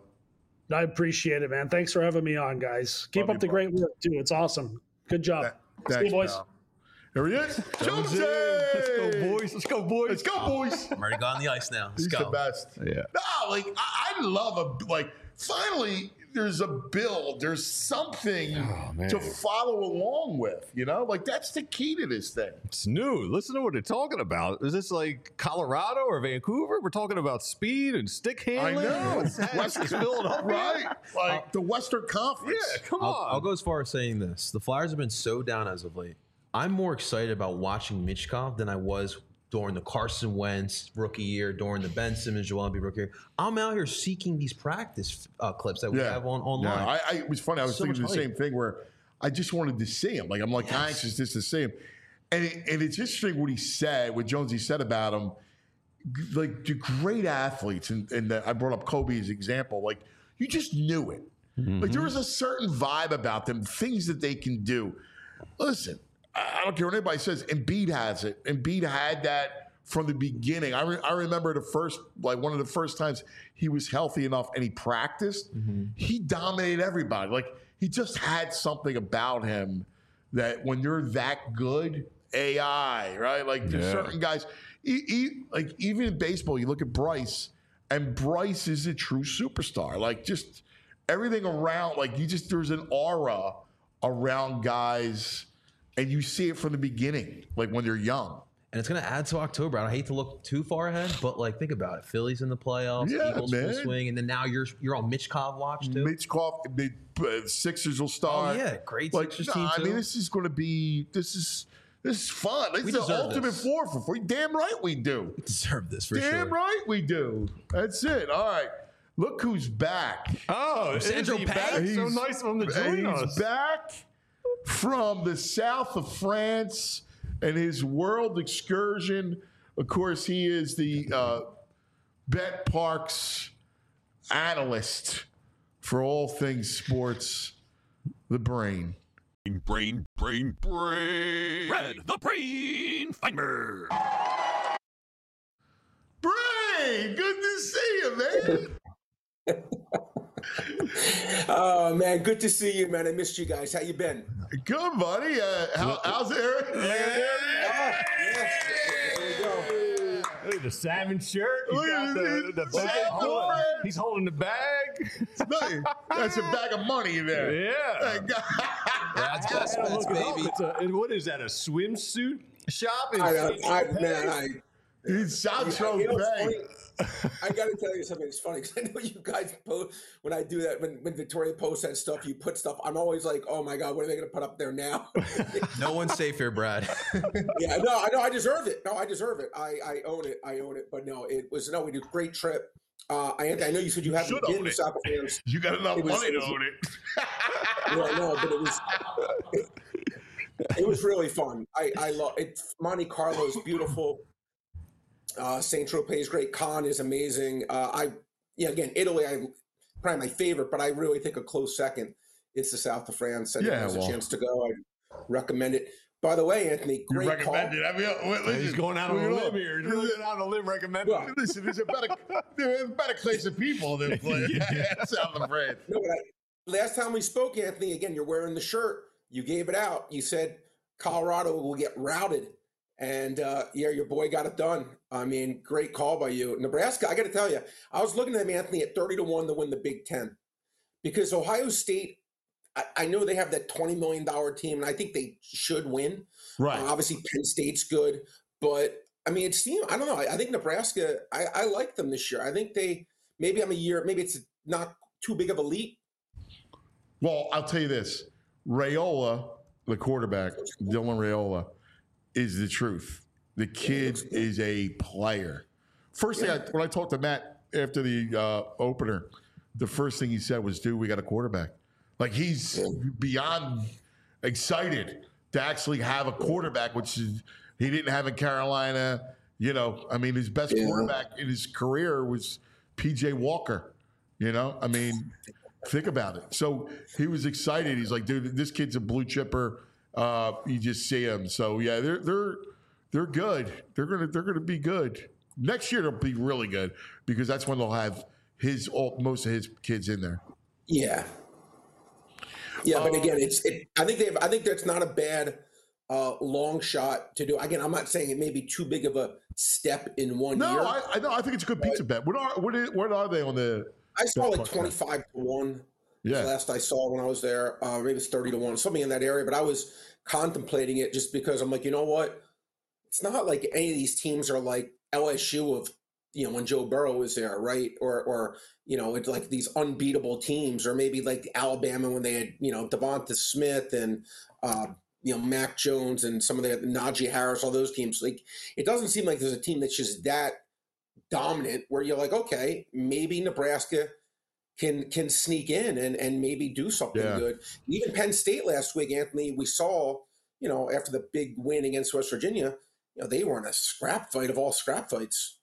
G: I appreciate it, man. Thanks for having me on, guys. Keep
B: Love
G: up
B: you,
G: the great work, too. It's awesome. Good job.
B: Thanks,
G: See you, boys.
B: pal. Here he is.
C: Jonesy!
B: Jonesy!
C: Let's go, boys. Let's go, boys.
B: Let's go, boys.
E: I'm already got on the ice now. Let's
B: He's
E: go.
B: the best.
C: Yeah.
B: No, like I, I love a like. Finally, there's a build. There's something
C: Oh, man.
B: to follow along with. You know, like that's the key to this thing.
C: It's new. Listen to what they're talking about. Is this like Colorado or Vancouver? We're talking about speed and stick
B: I
C: handling.
B: know.
C: What's that? This is Philadelphia.
B: Right? Like the Western Conference.
C: Yeah, come
E: I'll,
C: on.
E: I'll go as far as saying this. The Flyers have been so down as of late. I'm more excited about watching Michkov than I was during the Carson Wentz rookie year, during the Ben Simmons, Joel Embiid rookie year. I'm out here seeking these practice uh, clips that we have on online.
B: Yeah, I, I, it was funny. I was
E: So
B: thinking
E: much
B: the
E: hype.
B: same thing where I just wanted to see him. Like I'm like
E: Yes.
B: anxious just to see him. And it, and it's interesting what he said, what Jonesy said about him. G- Like the great athletes, and, and the, I brought up Kobe as an example. Like you just knew it. Like there was a certain vibe about them, things that they can do. Listen, I I don't care what anybody says. Embiid has it. Embiid had that from the beginning. I, re- I remember the first, like one of the first times he was healthy enough and he practiced, he dominated everybody. Like he just had something about him that when you're that good, A I, right? Like there's
C: Yeah.
B: certain guys, e- e- like even in baseball, you look at Bryce, and Bryce is a true superstar. Like just everything around, like you just, there's an aura around guys, and you see it from the beginning, like when they're young.
E: And it's going to add to October. I hate to look too far ahead, but like think about it. Phillies in the playoffs,
B: Yeah,
E: Eagles
B: man.
E: full swing, and then now you're you're on Michkov watch too.
B: Mitchkov, the uh, Sixers will start.
E: Oh, yeah, great
B: like,
E: Sixers
B: nah,
E: team,
B: I
E: too.
B: mean, this is going to be this is this is fun. This
E: We
B: is the
E: deserve
B: ultimate
E: this.
B: four for free. Damn right we do.
E: Deserve this for
B: Damn
E: sure.
B: right we do. That's it. All right. Look who's back.
C: Oh,
E: Sandro
C: is he
E: Pay?
C: back? So
B: He's-
C: nice of him to join
B: He's
C: us.
B: back from the south of France and his world excursion. Of course, he is the uh, Bet Parks analyst for all things sports, the brain.
A: Brain, brain, brain. Red, the brain finder.
B: Brain, good to see you, man.
H: Oh man, good to see you, man. I missed you guys. How you been?
B: Good, buddy. Uh, how, how's Eric?
H: Ah, yes. There we go.
C: Look at the salmon shirt. He's
B: Look
C: got
B: at
C: the,
B: this.
C: the bag.
B: Salmon
C: Hold-
B: shirt.
C: He's holding the bag.
B: That's a bag of money there.
C: Yeah.
E: That's yes,
C: Yeah,
E: that's
C: look it up.
E: baby.
C: It's a, and what is that? A swimsuit shop? in
H: I,
C: Saint
H: I,
C: Tropez?
H: man, I,
B: He's Sancho
H: you know, it's
B: Bay.
H: funny. I got to tell you something. It's funny because I know you guys post when I do that. When when Victoria posts that stuff, you put stuff. I'm always like, oh my god, what are they going to put up there now?
E: No one's safe here, Brad.
H: Yeah, no, I know, I deserve it. No, I deserve it. I, I own it. I own it. But no, it was no. We did a great trip. Uh, I I know you said you haven't
B: should
H: been
B: own
H: to
B: it.
H: South Africa.
B: You got enough
H: It was-
B: money
H: it
B: to
H: was-
B: own it.
H: Yeah, no, but it was it, it was really fun. I I love it. Monte Carlo is beautiful. Uh, Saint Tropez is great. Cannes is amazing. Uh, I yeah, again, Italy, I probably my favorite, but I really think a close second. It's the south of France. Anyone
B: Yeah,
H: has
B: well.
H: a chance to go, I recommend it. By the way, Anthony,
B: You
H: great call.
B: recommend it. I mean, uh, wait, listen,
C: He's going out on
B: look
C: a
B: it
C: limb
B: up.
C: here. He's going out on a limb recommending.
H: Well,
B: Listen, there's a better, there's a better class of people than play South of France.
H: No, but I, last time we spoke, Anthony, again, you're wearing the shirt. You gave it out. You said Colorado will get routed. And uh, yeah, your boy got it done. I mean, great call by you. Nebraska, I got to tell you, I was looking at them, Anthony, at thirty to one to win the Big Ten. Because Ohio State, I, I know they have that twenty million dollars team, and I think they should win.
B: Right.
H: Uh, obviously, Penn State's good. But, I mean, it seems, I don't know. I, I think Nebraska, I, I like them this year. I think they, maybe I'm a year, maybe it's not too big of a leap.
B: Well, I'll tell you this. Raiola, the quarterback, Dylan Raiola, is the truth. The kid is a player. First thing, I, when I talked to Matt after the uh, opener, the first thing he said was, dude, we got a quarterback. Like, he's beyond excited to actually have a quarterback, which is, he didn't have in Carolina. You know, I mean, his best
H: Yeah.
B: quarterback in his career was P J Walker. You know, I mean, think about it. So he was excited. He's like, dude, this kid's a blue chipper. Uh, you just see him. So yeah, they're they're they're good. They're gonna they're gonna be good. Next year they'll be really good because that's when they'll have his all, most of his kids in there.
H: Yeah. Yeah, but again, it's. It, I think they. Have, I think that's not a bad uh, long shot to do. Again, I'm not saying it may be too big of a step in one
B: No,
H: year.
B: I, I know. I think it's a good pizza bet. What are what, is, what are they on the?
H: I saw like
B: Buck bet?
H: twenty-five to one.
B: Yeah.
H: Last I saw when I was there, uh, maybe it's thirty to one, something in that area. But I was contemplating it just because I'm like, you know what? It's not like any of these teams are like L S U of, you know, when Joe Burrow was there, right? Or, or you know, it's like these unbeatable teams, or maybe like Alabama when they had, you know, Devonta Smith and, uh, you know, Mac Jones and some of the Najee Harris, all those teams. Like, it doesn't seem like there's a team that's just that dominant where you're like, okay, maybe Nebraska can can sneak in and, and maybe do something
B: Yeah.
H: good. Even Penn State last week, Anthony, we saw, you know, after the big win against West Virginia, you know, they were in a scrap fight of all scrap fights.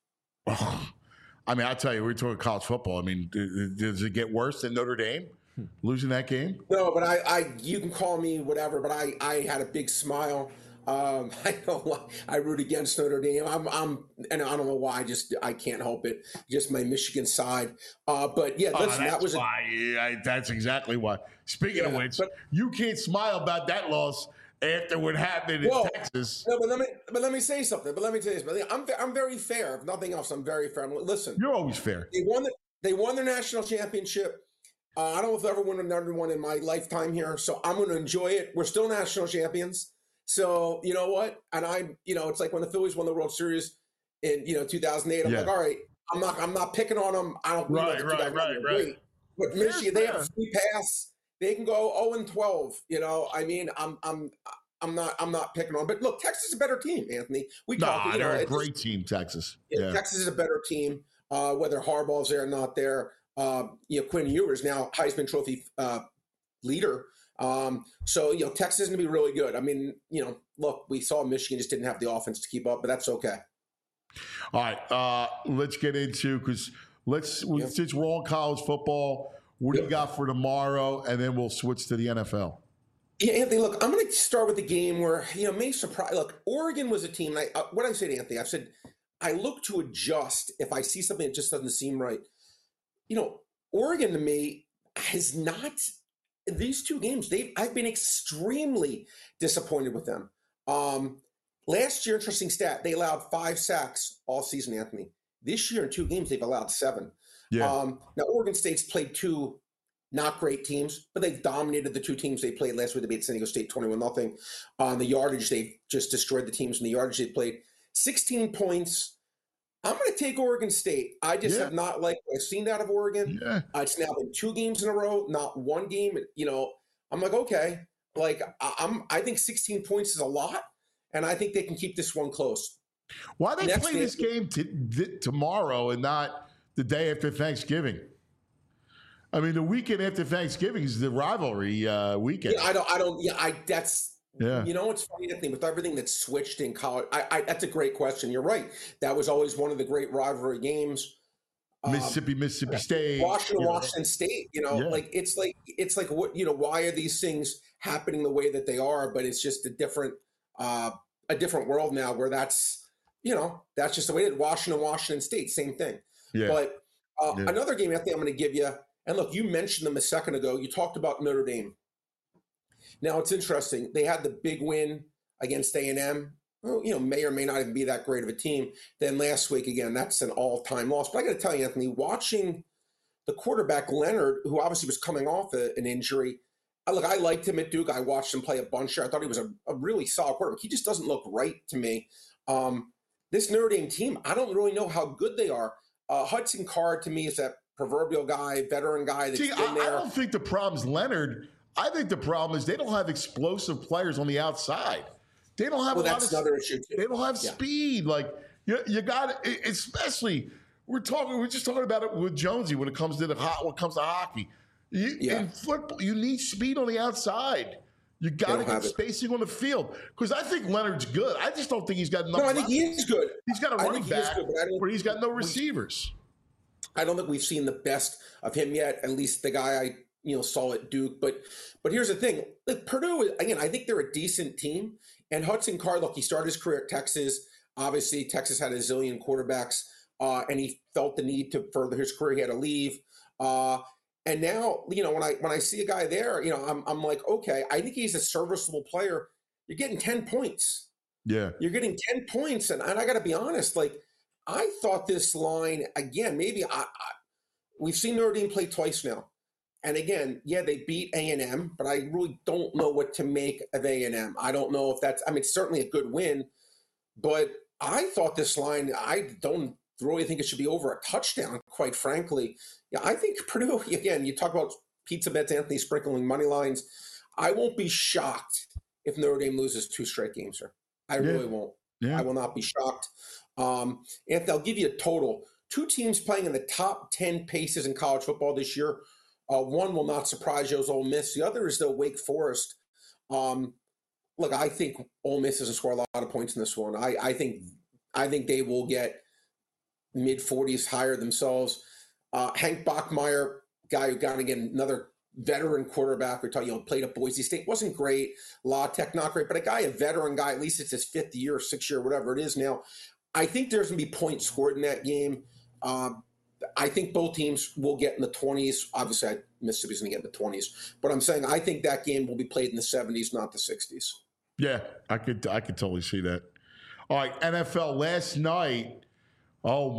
B: I mean, I'll tell you, we're talking college football. I mean, d- does it get worse than Notre Dame losing that game?
H: No, but I, I you can call me whatever, but I, I had a big smile. Um, I know I root against Notre Dame. I'm, I'm, and I don't know why. I just I can't help it. Just my Michigan side. Uh, but yeah, listen, that was a,
B: why. I, that's exactly why. Speaking of
H: Yeah,
B: which,
H: but-
B: you can't smile about that loss after what happened in
H: Whoa.
B: Texas.
H: no, but let me but let me say something. But let me tell you this. But I'm I'm very fair. If nothing else, I'm very fair. Listen,
B: You're always fair.
H: They won the, they won their national championship. Uh, I don't know if I've ever won another one in my lifetime here, so I'm going to enjoy it. We're still national champions, so you know what? And I, you know, it's like when the Phillies won the World Series in you know two thousand eight. I'm
B: Yeah.
H: like, all right, I'm not I'm not picking on them. I don't. we
B: Right,
H: know
B: right,
H: that
B: right,
H: they're
B: right.
H: great. But
B: Fair,
H: Michigan, they have
B: fair.
H: a free pass. They can go oh and twelve. You know, I mean, I'm I'm. I'm not. I'm not picking on, but look, Texas is a better team, Anthony. We talk.
B: Nah,
H: you know,
B: they're a
H: it's-
B: great team, Texas.
H: yeah,
B: Yeah.
H: Texas is a better team, uh, whether Harbaugh's there or not there. Uh, you know, Quinn Ewers now Heisman Trophy uh, leader. Um, so, you know, Texas is going to be really good. I mean, you know, look, we saw Michigan just didn't have the offense to keep up, but that's okay.
B: All right, uh, let's get into because let's we,
H: Yep.
B: since we're on college football, what do you
H: Yep.
B: got for tomorrow, and then we'll switch to the N F L.
H: Yeah, Anthony, look, I'm going to start with the game where, you know, may surprise. Look, Oregon was a team. And I, uh, what I say to Anthony, I've said, I look to adjust if I see something that just doesn't seem right. You know, Oregon to me has not, these two games, they've, I've been extremely disappointed with them. Um, last year, interesting stat, they allowed five sacks all season, Anthony. This year in two games, they've allowed seven.
B: Yeah,
H: Um, now, Oregon State's played two not great teams, but they've dominated the two teams they played last week. They beat San Diego State twenty-one nothing. On the yardage, they've just destroyed the teams in the yardage they played. sixteen points. I'm going to take Oregon State. I just
B: Yeah.
H: have not liked what I've seen out of Oregon.
B: yeah.
H: Uh, it's now been two games in a row, not one game. You know, I'm like, okay, like I- I'm. I think sixteen points is a lot, and I think they can keep this one close.
B: Why they
H: Next
B: play
H: game-
B: this game t- th- tomorrow and not the day after Thanksgiving? I mean, the weekend after Thanksgiving is the rivalry uh, weekend.
H: Yeah, I don't. I don't. Yeah, I. That's
B: Yeah.
H: You know, it's funny, Anthony, with everything that's switched in college. I, I, that's a great question. You're right. That was always one of the great rivalry games. Um,
B: Mississippi, Mississippi State,
H: Washington,
B: you know.
H: Washington State. You know,
B: Yeah.
H: like it's like it's like what you know. Why are these things happening the way that they are? But it's just a different, uh, a different world now where that's you know that's just the way it. Washington, Washington State, same thing.
B: Yeah.
H: But uh,
B: Yeah.
H: another game, Anthony, I'm going to give you. And look, you mentioned them a second ago. You talked about Notre Dame. Now it's interesting. They had the big win against A and M. Well, you know, may or may not even be that great of a team. Then last week, again, that's an all-time loss. But I got to tell you, Anthony, watching the quarterback Leonard, who obviously was coming off a, an injury, I, look, I liked him at Duke. I watched him play a bunch there. I thought he was a, a really solid quarterback. He just doesn't look right to me. Um, this Notre Dame team, I don't really know how good they are. Uh, Hudson Card, to me, is that proverbial guy, veteran guy that's
B: See,
H: been
B: I,
H: there.
B: I don't think the problem's Leonard. I think the problem is they don't have explosive players on the outside. They don't have
H: Well,
B: a lot
H: that's
B: of,
H: another issue, too.
B: They don't have
H: Yeah.
B: speed. Like you, you got especially we're talking. We're just talking about it with Jonesy when it comes to the hot. When it comes to hockey, you,
H: Yeah.
B: in football, you need speed on the outside. You got to
H: don't
B: get
H: have it.
B: spacing on the field because I think Leonard's good. I just don't think he's got enough.
H: No, I think he
B: weapons.
H: is good.
B: He's got a
H: I
B: running
H: think he is
B: back
H: good, but I don't-
B: where he's got no receivers.
H: I don't think we've seen the best of him yet. At least the guy I you know saw at Duke. But but here's the thing: like Purdue again. I think they're a decent team. And Hudson Card, look, he started his career at Texas. Obviously, Texas had a zillion quarterbacks, uh, and he felt the need to further his career. He had to leave. Uh, and now, you know, when I when I see a guy there, you know, I'm I'm like, okay, I think he's a serviceable player. You're getting ten points.
B: Yeah.
H: You're getting ten points, and, and I got to be honest, like I thought this line again. Maybe I, I we've seen Notre Dame play twice now, and again, yeah, they beat A and M, but I really don't know what to make of A and M. I don't know if that's. I mean, it's certainly a good win, but I thought this line. I don't really think it should be over a touchdown. Quite frankly, yeah, I think Purdue. Again, you talk about pizza bets, Anthony sprinkling money lines. I won't be shocked if Notre Dame loses two straight games here. I
B: Yeah.
H: really won't.
B: Yeah.
H: I will not be shocked. Um, Anthony, I'll give you a total. Two teams playing in the top ten paces in college football this year. Uh, one will not surprise you, is Ole Miss. The other is the Wake Forest. Um, look, I think Ole Miss doesn't score a lot of points in this one. I, I think I think they will get mid forties higher themselves. Uh, Hank Bachmeier, guy who got again another veteran quarterback. We're talking, you know, played at Boise State, wasn't great. La Tech, not great, but a guy, a veteran guy. At least it's his fifth year, sixth year, whatever it is now. I think there's going to be points scored in that game. Um, I think both teams will get in the twenties. Obviously, I, Mississippi's going to get in the twenties. But I'm saying I think that game will be played in the seventies, not the sixties.
B: Yeah, I could I could totally see that. All right, N F L last night. Oh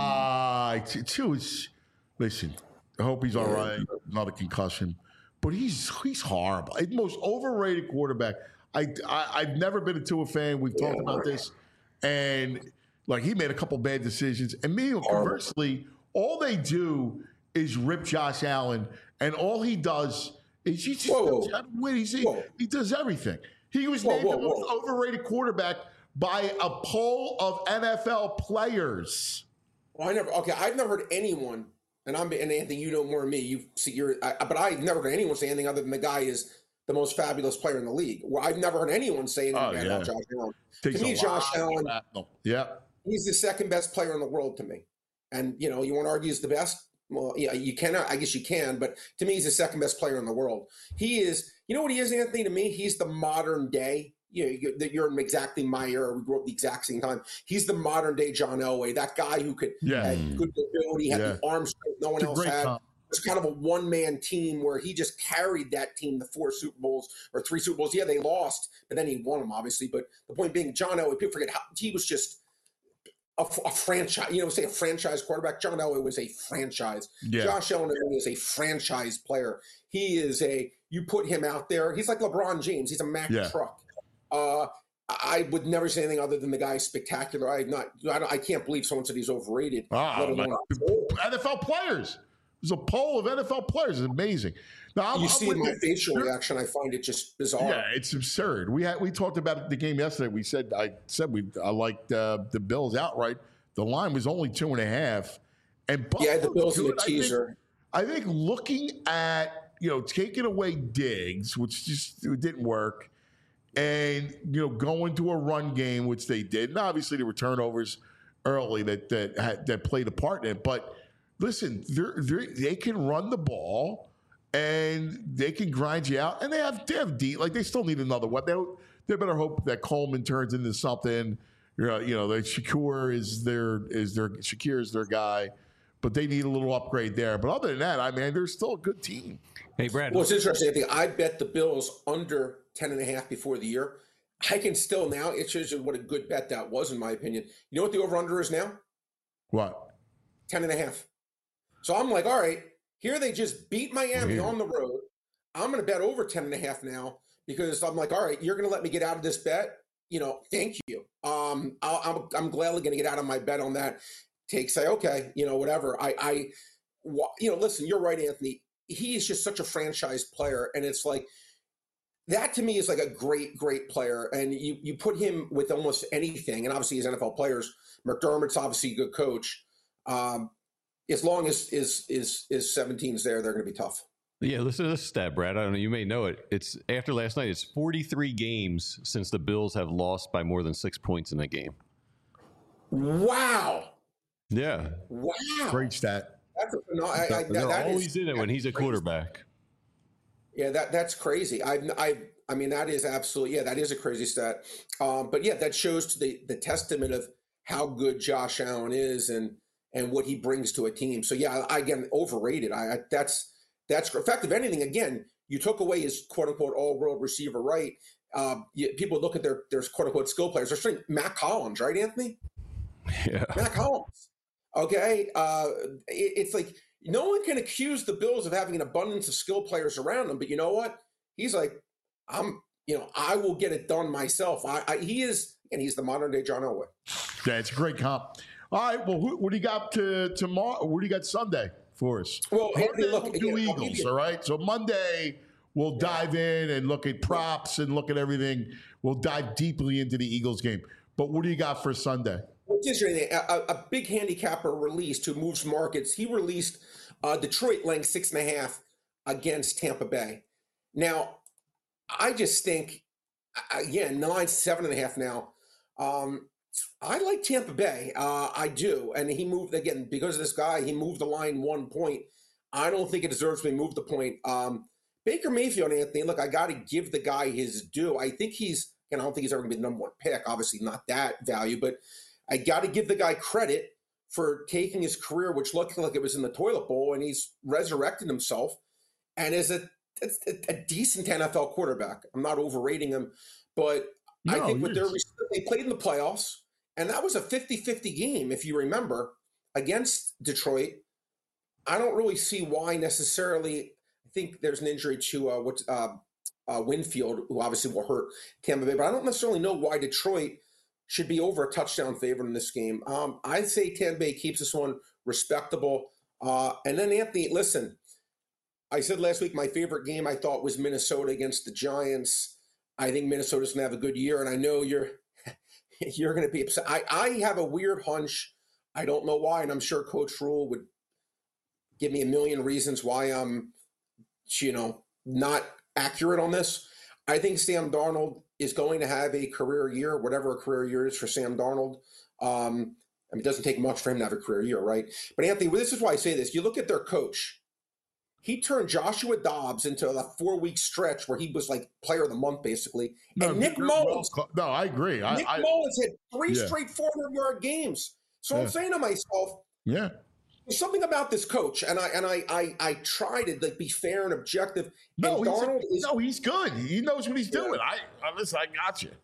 B: my! T- Two is listen. I hope he's all right. Not a concussion, but he's he's horrible. He's the most overrated quarterback. I, I I've never been a Tua fan. We've talked about this, and like he made a couple bad decisions. And me, conversely, all they do is rip Josh Allen, and all he does is he just
H: Whoa, whoa.
B: knows how to win. He's, he,
H: Whoa.
B: he does everything. He was
H: Whoa,
B: named
H: whoa,
B: the most
H: whoa.
B: overrated quarterback by a poll of N F L players.
H: Well, I never. Okay, I've never heard anyone, and I'm and Anthony, you know more than me. You see, you're, I, but I've never heard anyone say anything other than the guy is the most fabulous player in the league. Well, I've never heard anyone say anything
B: Oh,
H: bad
B: yeah.
H: about Josh Allen.
B: Takes
H: To me,
B: a
H: Josh
B: lot of
H: Allen,
B: shrapnel. Yeah.
H: he's the second best player in the world to me. And you know, you want to argue he's the best? Well, yeah, you cannot. I guess you can, but to me, he's the second best player in the world. He is. You know what he is, Anthony? To me, he's the modern day. You know, you're, that you're in exactly my era. We grew up the exact same time. He's the modern day John Elway, that guy who could
B: Yeah.
H: had good ability, had
B: Yeah.
H: the arm strength no one
B: It's a
H: else
B: great
H: had.
B: comp.
H: It was kind of a one man team where he just carried that team to four Super Bowls or three Super Bowls. Yeah, they lost, but then he won them, obviously. But the point being, John Elway, people forget how he was just a, a franchise. You know, say a franchise quarterback. John Elway was a franchise.
B: Yeah.
H: Josh Allen is a franchise player. He is a. You put him out there, he's like LeBron James. He's a Mack
B: Yeah.
H: truck. Uh, I would never say anything other than the guy's spectacular. I not. I, don't- I can't believe someone said he's overrated.
B: Ah,
H: let alone
B: like, N F L players. There's a poll of N F L players. It's amazing. Now, I'm,
H: you
B: I'm
H: see
B: with
H: my
B: you.
H: facial reaction. I find it just bizarre.
B: Yeah, it's absurd. We had we talked about the game yesterday. We said I said we I liked uh, the Bills outright. The line was only two and a half, and
H: Yeah, the
B: Buffalo's
H: Bills in the
B: good. I think-
H: teaser.
B: I think looking at, you know, taking away Diggs, which just it didn't work, and you know go into a run game, which they did. And obviously there were turnovers early that that had, that played a part in it. But listen, they're, they're, they can run the ball and they can grind you out, and they have they have deep. Like they still need another weapon. They, they better hope that Coleman turns into something. You know, you know that Shakur is their is their Shakir is their guy. But they need a little upgrade there. But other than that, I mean, they're still a good team.
C: Hey, Brad.
H: Well, it's interesting. I think I bet the Bills under ten and a half before the year. I can still now, it shows you what a good bet that was, in my opinion. You know what the over-under is now?
B: What?
H: ten and a half. So I'm like, all right, here they just beat Miami
B: Weird.
H: on the road. I'm going to bet over ten and a half now because I'm like, all right, you're going to let me get out of this bet? You know, thank you. Um, I'll, I'm, I'm gladly going to get out of my bet on that. Take say, okay, you know, whatever. I, I, you know, listen, you're right, Anthony. He is just such a franchise player, and it's like that to me is like a great, great player. And you you put him with almost anything, and obviously he's N F L players. McDermott's obviously a good coach. Um, as long as is is is seventeen's there, they're going to be tough.
C: Yeah, listen to this stat, Brad. I don't know. You may know it. It's after last night. It's forty-three games since the Bills have lost by more than six points in a game.
H: Wow.
C: Yeah.
H: Wow.
B: Great stat.
H: That's a, no, I, I, that,
C: They're
H: that
C: always
H: is,
C: in it when he's a
H: crazy.
C: quarterback.
H: Yeah, that that's crazy. I I I mean that is absolutely yeah that is a crazy stat. Um, but yeah, that shows to the the testament of how good Josh Allen is and and what he brings to a team. So yeah, I, again overrated. I, I that's that's in fact, if anything, again, you took away his quote unquote all world receiver, right? Um, you, people look at their their quote unquote skill players. They're saying Matt Collins, right, Anthony?
C: Yeah.
H: Matt Collins. Okay, uh, it, it's like no one can accuse the Bills of having an abundance of skill players around them, but you know what? He's like, I'm, you know, I will get it done myself. I, I he is, and he's the modern day John Elway.
B: Yeah, it's a great comp. All right, well, who, what do you got to tomorrow? What do you got Sunday for us?
H: Well,
B: Monday
H: Anthony, look,
B: we'll do
H: again, I'll give
B: Eagles,
H: you-
B: all right? So Monday we'll dive in and look at props and look at everything. We'll dive deeply into the Eagles game. But what do you got for Sunday?
H: What's interesting, a, a big handicapper released who moves markets. He released uh, Detroit laying six and a half against Tampa Bay. Now, I just think, again, nine, seven and a half now. Um, I like Tampa Bay. Uh, I do. And he moved, again, because of this guy, he moved the line one point. I don't think it deserves to be moved the point. Um, Baker Mayfield, Anthony, look, I got to give the guy his due. I think he's, and I don't think he's ever going to be the number one pick. Obviously not that value, but I got to give the guy credit for taking his career, which looked like it was in the toilet bowl, and he's resurrected himself and is a, a, a decent N F L quarterback. I'm not overrating him, but
B: No,
H: I think
B: he
H: with their
B: is.
H: they played in the playoffs, and that was a fifty-fifty game, if you remember, against Detroit. I don't really see why necessarily. I think there's an injury to uh, what uh, uh, Winfield, who obviously will hurt Tampa Bay, but I don't necessarily know why Detroit should be over a touchdown favorite in this game. Um, I'd say Tampa Bay keeps this one respectable. Uh, and then, Anthony, listen, I said last week my favorite game I thought was Minnesota against the Giants. I think Minnesota's going to have a good year, and I know you're you're going to be upset. I, I have a weird hunch. I don't know why, and I'm sure Coach Rule would give me a million reasons why I'm, you know, not accurate on this. I think Sam Darnold is going to have a career year, whatever a career year is for Sam Darnold. Um, I mean, it doesn't take much for him to have a career year, right? But Anthony, this is why I say this. You look at their coach. He turned Joshua Dobbs into a four-week stretch where he was like player of the month, basically.
B: No,
H: and Nick
B: you're
H: Mullins.
B: well- no, I agree. I,
H: Nick
B: I,
H: Mullins had three
B: Yeah.
H: straight four hundred-yard games. So I'm
B: Yeah.
H: saying to myself,
B: yeah.
H: there's something about this coach, and I and I I, I try to like be fair and objective.
B: No,
H: and
B: he's,
H: Darnold is
B: no, he's good. He knows what he's doing. I, I listen. I got you.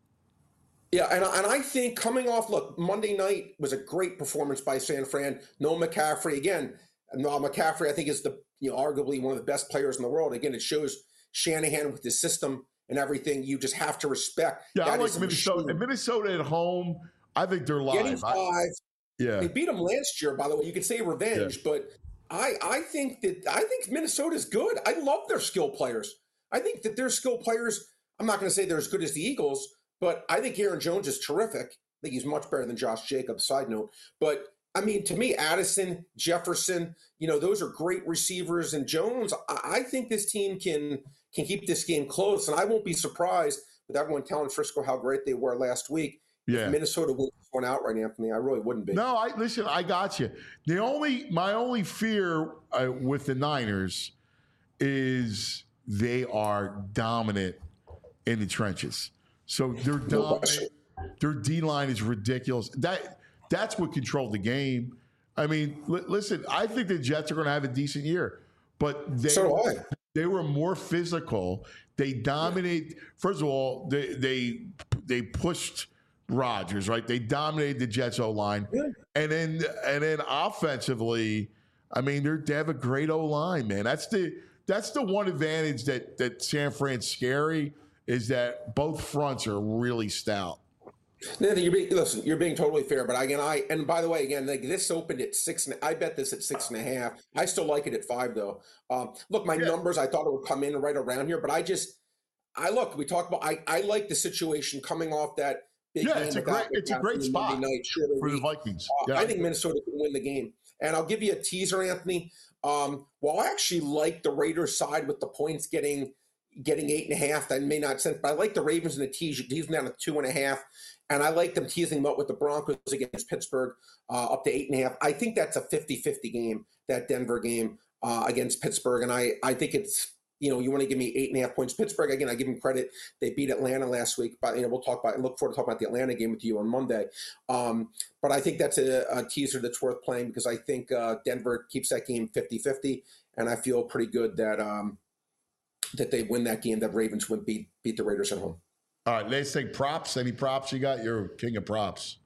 H: Yeah, and, and I think coming off, look, Monday night was a great performance by San Fran. Noah McCaffrey, again, Noah McCaffrey, I think, is the, you know, arguably one of the best players in the world. Again, it shows Shanahan with his system and everything. You just have to respect.
B: Yeah, I
H: that
B: like
H: is a
B: Minnesota.
H: machine.
B: Minnesota at home. I think they're
H: Getting
B: live. I,
H: five.
B: yeah.
H: They beat them last year, by the way. You could say revenge, but I, I think that I think Minnesota's good. I love their skill players. I think that their skill players, I'm not going to say they're as good as the Eagles, but I think Aaron Jones is terrific. I think he's much better than Josh Jacobs, side note. But, I mean, to me, Addison, Jefferson, you know, those are great receivers. And Jones, I, I think this team can can keep this game close. And I won't be surprised with everyone telling Frisco how great they were last week.
B: Yeah.
H: If Minnesota wins one outright, Anthony, I really wouldn't be.
B: No, I listen. I got you. The only my only fear uh, with the Niners is they are dominant in the trenches. So they're dominant. Their D line is ridiculous. That that's what controlled the game. I mean, li- listen. I think the Jets are going to have a decent year, but they
H: So do I.
B: they were more physical. They dominated. First of all, they they they pushed Rodgers, right? They dominated the Jets O line,
H: Yeah.
B: and then and then offensively, I mean, they're, they have a great O line, man. That's the that's the one advantage that that San Fran's scary is that both fronts are really stout.
H: Nathan, you're being, listen, you're being totally fair, but again, I and by the way, again, like this opened at six. And I bet this at six and a half. I still like it at five, though. Um, look, my
B: Yeah.
H: numbers, I thought it would come in right around here, but I just, I look. We talked about. I, I like the situation coming off that big
B: Yeah,
H: game.
B: it's a
H: without
B: great it's a
H: McCaffrey
B: great
H: Monday
B: spot
H: night, shorter
B: for the
H: week.
B: Vikings.
H: Uh,
B: Yeah,
H: I think Minnesota can win the game. And I'll give you a teaser, Anthony. Um, while I actually like the Raiders side with the points getting getting eight and a half, that may not sense, but I like the Ravens and the tease. You tease them down to two and a half. And I like them teasing them up with the Broncos against Pittsburgh uh, up to eight and a half. I think that's a fifty-fifty game, that Denver game uh, against Pittsburgh. And I, I think it's, you know, you want to give me eight and a half points. Pittsburgh, again, I give them credit. They beat Atlanta last week, but, you know, we'll talk about, look forward to talking about the Atlanta game with you on Monday. Um, but I think that's a, a teaser that's worth playing because I think uh, Denver keeps that game fifty-fifty. And I feel pretty good that um, that they win that game, that Ravens would beat, beat the Raiders at home.
B: All right, let's take props. Any props you got? You're king of props.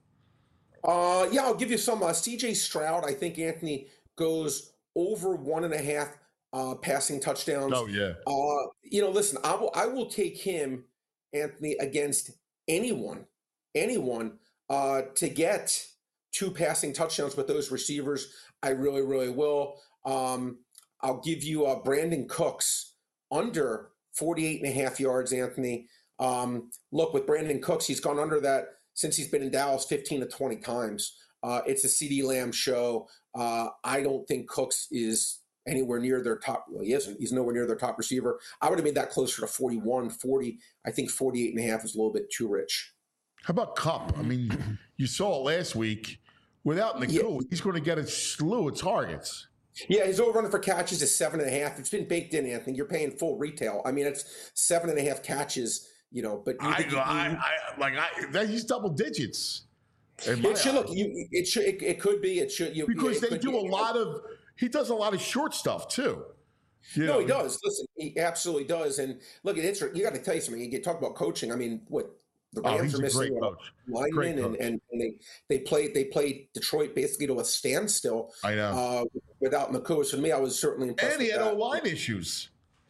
H: Uh, yeah, I'll give you some. Uh, C J Stroud, I think Anthony goes over one and a half uh, passing touchdowns.
B: Oh yeah.
H: Uh, you know, listen, I will I will take him, Anthony, against anyone, anyone uh, to get two passing touchdowns with those receivers. I really, really will. Um, I'll give you uh, Brandon Cooks under forty-eight and a half yards, Anthony. Um, look, with Brandon Cooks, he's gone under that since he's been in Dallas fifteen to twenty times. Uh, it's a CeeDee Lamb show. Uh, I don't think Cooks is anywhere near their top. Well, he isn't. He's nowhere near their top receiver. I would have made that closer to forty-one, forty. I think forty-eight and a half is a little bit too rich.
B: How about Kupp? I mean, you saw it last week. Without Nakua, yeah. he's going to get a slew of targets.
H: Yeah, his over for catches is seven and a half. It's been baked in, Anthony. You're paying full retail. I mean, it's seven and a half catches. You know, but you,
B: I,
H: you,
B: I, I like I that he's double digits.
H: It should look. You, it should. It, it could be. It should. You,
B: because
H: it
B: they do
H: be,
B: a lot of. He does a lot of short stuff too. You
H: no,
B: know,
H: he does. Listen, he absolutely does. And look, it's you got to tell you something. You get talk about coaching. I mean, what the Rams
B: oh,
H: are missing linemen, and, and and they they played they played Detroit basically to a standstill.
B: I know.
H: Uh, without Nakua, so to me, I was certainly impressed.
B: And he
H: with
B: had
H: that.
B: O-line issues.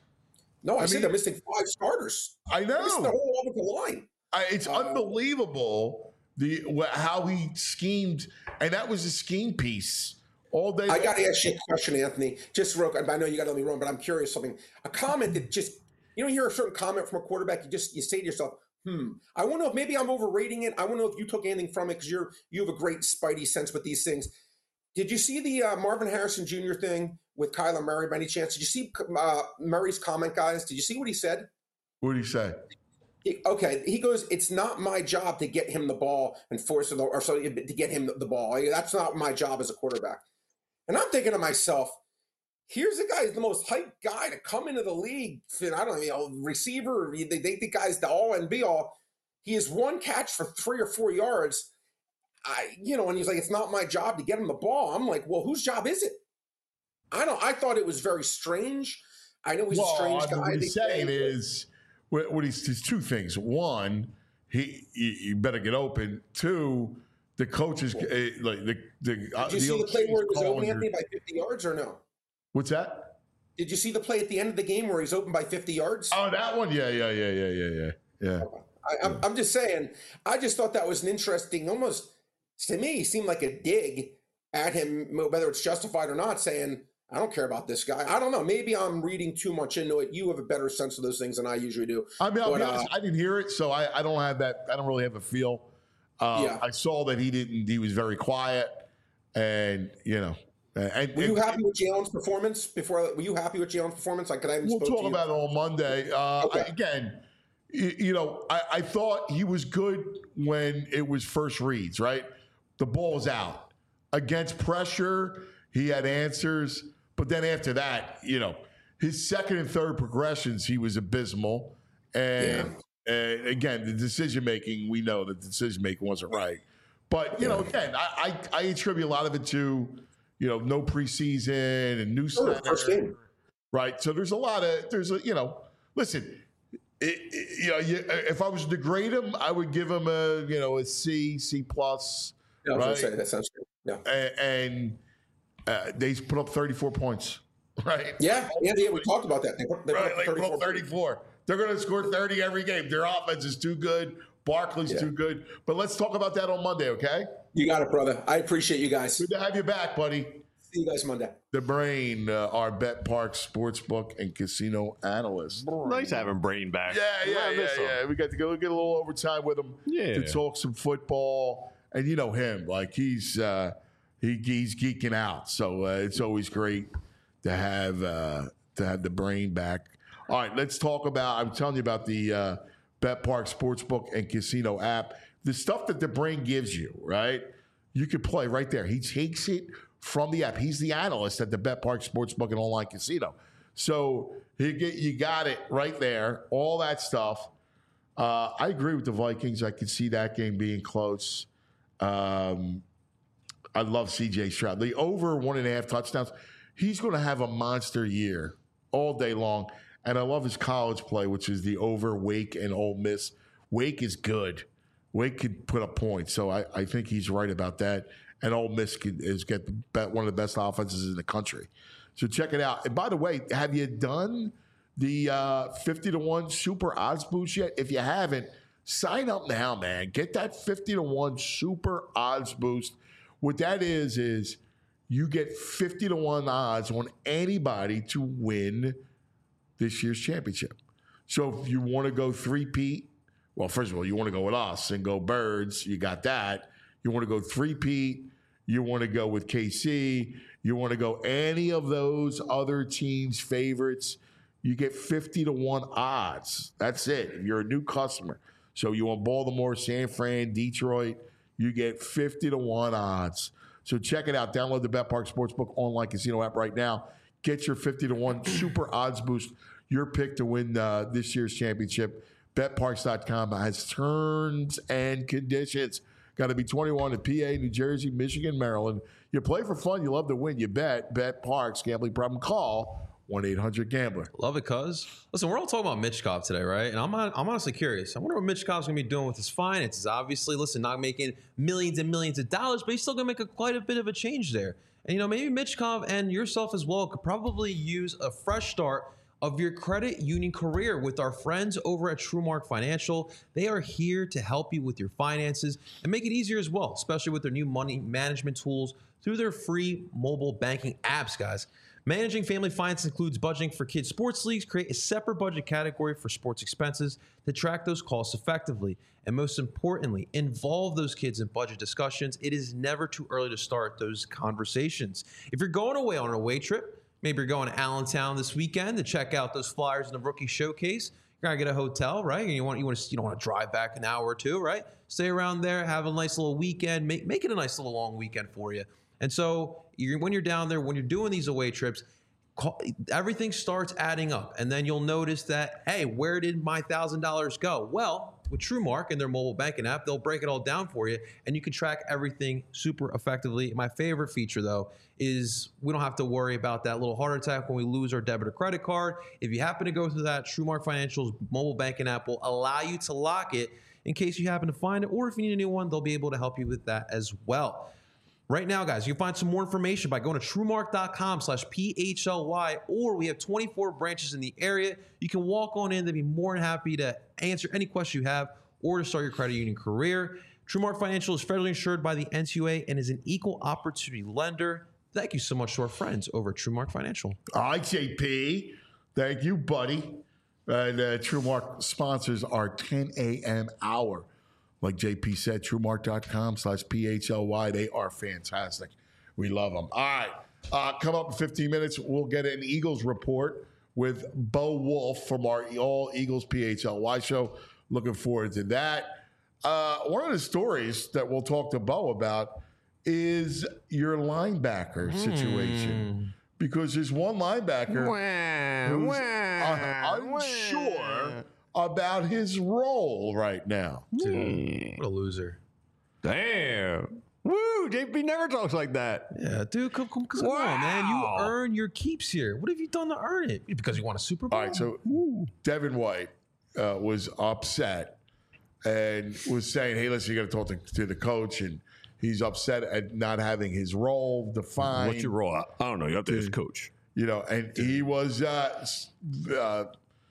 H: No, I, I said
B: mean,
H: they're missing five starters.
B: I know.
H: They're missing the whole offensive line.
B: I, it's uh, unbelievable the how he schemed, and that was a scheme piece all day.
H: I got to ask you a question, Anthony. Just real quick. I know you got to let me run, but I'm curious something. A comment that just you know, you hear a certain comment from a quarterback, you just you say to yourself, "Hmm." I want to know if maybe I'm overrating it. I want to know if you took anything from it because you're you have a great spidey sense with these things. Did you see the uh, Marvin Harrison Junior thing with Kyler Murray by any chance? Did you see uh, Murray's comment, guys? Did you see what he said?
B: What did he say?
H: He, okay, he goes, it's not my job to get him the ball and force it, or so to get him the ball. That's not my job as a quarterback. And I'm thinking to myself, here's a guy who's the most hyped guy to come into the league. I don't know, receiver. They think the guy's the all and be all. He has one catch for three or four yards. I, you know, and he's like, it's not my job to get him the ball. I'm like, well, whose job is it? I don't. I thought it was very strange. I know he's
B: well,
H: a strange
B: I mean,
H: guy.
B: What he's saying say, is, what he's, there's two things. One, he you better get open. Two, the coaches well, uh, like the the. Uh,
H: did you
B: the
H: see the play where it was open,
B: your,
H: Anthony, by fifty yards or no?
B: What's that?
H: Did you see the play at the end of the game where he's open by fifty yards?
B: Oh, that one. Yeah, yeah, yeah, yeah, yeah, yeah. Yeah.
H: I, I'm, I'm just saying. I just thought that was an interesting, almost to me, seemed like a dig at him, whether it's justified or not, saying, I don't care about this guy. I don't know. Maybe I'm reading too much into it. You have a better sense of those things than I usually do.
B: I mean, I'll
H: but,
B: be honest,
H: uh,
B: I didn't hear it, so I, I don't have that. I don't really have a feel. Uh,
H: yeah.
B: I saw that he didn't. He was very quiet, and you know. And,
H: were you
B: and,
H: happy with Jalen's performance? Before, were you happy with Jalen's performance? Like, could I even
B: we'll
H: spoke
B: talk
H: to you?
B: about it on Monday. Uh,
H: Okay.
B: I, again, you, you know, I, I thought he was good when it was first reads, right? The ball was out. Against pressure, he had answers. But then after that, you know, his second and third progressions, he was abysmal. And, yeah. and again, the decision making, we know that the decision making wasn't right. But, you yeah. know, again, I, I, I attribute a lot of it to, you know, no preseason and new
H: oh, first game.
B: Right. So there's a lot of, there's a, you know, listen, it, it, you know, you, if I was to grade him, I would give him a, you know, a C, C plus.
H: Yeah, I was
B: right?
H: going to say, that sounds good. Yeah.
B: And, and uh, they put up thirty-four points, right?
H: Yeah, yeah, yeah. We talked about that. They put, they
B: right,
H: put up
B: they put up thirty-four. They're going to score thirty every game. Their offense is too good. Barkley's yeah. too good. But let's talk about that on Monday, okay?
H: You got it, brother. I appreciate you guys.
B: Good to have you back, buddy.
H: See you guys Monday.
B: The Brain, uh, our Bet Park sportsbook and casino analyst.
C: Nice having Brain back.
B: Yeah, yeah, yeah, yeah. We got to go get a little overtime with him
C: yeah.
B: to talk some football. And you know him, like he's uh, he, he's geeking out. So uh, it's always great to have uh, to have the Brain back. All right, let's talk about. I'm telling you about the uh, Bet Park sportsbook and casino app. The stuff that the Brain gives you, right? You could play right there. He takes it from the app. He's the analyst at the Bet Park sportsbook and online casino. So he get, you got it right there. All that stuff. Uh, I agree with the Vikings. I could see that game being close. Um, I love C J Stroud. The over one and a half touchdowns. He's going to have a monster year all day long. And I love his college play, which is the over Wake and Ole Miss. Wake is good. Wake could put up points. So I, I think he's right about that. And Ole Miss could, is get the, one of the best offenses in the country. So check it out. And by the way, have you done the uh, fifty to one super odds boost yet? If you haven't, sign up now, man. Get that fifty to one super odds boost. What that is, is you get fifty to one odds on anybody to win this year's championship. So if you want to go three-peat, well, first of all, you want to go with us and go Birds. You got that. You want to go three-peat. You want to go with K C. You want to go any of those other teams' favorites. You get fifty to one odds. That's it. If you're a new customer. So you want Baltimore, San Fran, Detroit, you get fifty to one odds. So check it out. Download the Bet Park Sportsbook online casino app right now. Get your fifty to one super odds boost. Your pick to win uh, this year's championship. Bet Parks dot com has terms and conditions. Got to be twenty-one in P A, New Jersey, Michigan, Maryland. You play for fun. You love to win. You bet. Bet Parks. Gambling problem? Call one eight hundred gambler.
E: Love it, cuz. Listen, we're all talking about Michkov today, right? And I'm I'm honestly curious. I wonder what Michkov's going to be doing with his finances. Obviously, listen, not making millions and millions of dollars, but he's still going to make a, quite a bit of a change there. And, you know, maybe Michkov and yourself as well could probably use a fresh start of your credit union career with our friends over at TrueMark Financial. They are here to help you with your finances and make it easier as well, especially with their new money management tools through their free mobile banking apps, guys. Managing family finance includes budgeting for kids' sports leagues. Create a separate budget category for sports expenses to track those costs effectively. And most importantly, involve those kids in budget discussions. It is never too early to start those conversations. If you're going away on an away trip, maybe you're going to Allentown this weekend to check out those Flyers in the rookie showcase. You're gonna get a hotel, right? And you want you want to you don't want to drive back an hour or two, right? Stay around there, have a nice little weekend, make make it a nice little long weekend for you. And so you're, when you're down there, when you're doing these away trips, call, everything starts adding up, and then you'll notice that, hey, where did my thousand dollars go? Well, with TrueMark and their mobile banking app, they'll break it all down for you, and you can track everything super effectively. My favorite feature, though, is we don't have to worry about that little heart attack when we lose our debit or credit card. If you happen to go through that, TrueMark Financial's mobile banking app will allow you to lock it in case you happen to find it, or if you need a new one, they'll be able to help you with that as well. Right now, guys, you can find some more information by going to TrueMark.com slash PHLY, or we have twenty-four branches in the area. You can walk on in. They'd be more than happy to answer any question you have or to start your credit union career. TrueMark Financial is federally insured by the N C U A and is an equal opportunity lender. Thank you so much to our friends over at TrueMark Financial.
B: All right, J P. Thank you, buddy. And uh, TrueMark sponsors our ten a.m. hour. Like J P said, TrueMark.com slash PHLY. They are fantastic. We love them. All right. Uh, come up in fifteen minutes. We'll get an Eagles report with Bo Wolf from our All Eagles P H L Y show. Looking forward to that. Uh, one of the stories that we'll talk to Bo about is your linebacker situation. Because there's one linebacker who's uh, unsure about his role right now.
E: Dude, what a loser.
C: Damn. Woo, J P never talks like that.
E: Yeah, dude, come, come, come
C: Wow.
E: on, man. You earn your keeps here. What have you done to earn it? Because you want a Super Bowl?
B: All right, so Devin White uh, was upset and was saying, hey, listen, you got to talk to, to the coach. And he's upset at not having his role defined.
C: What's your role? I don't know. You have to ask coach.
B: You know, and he was uh, uh,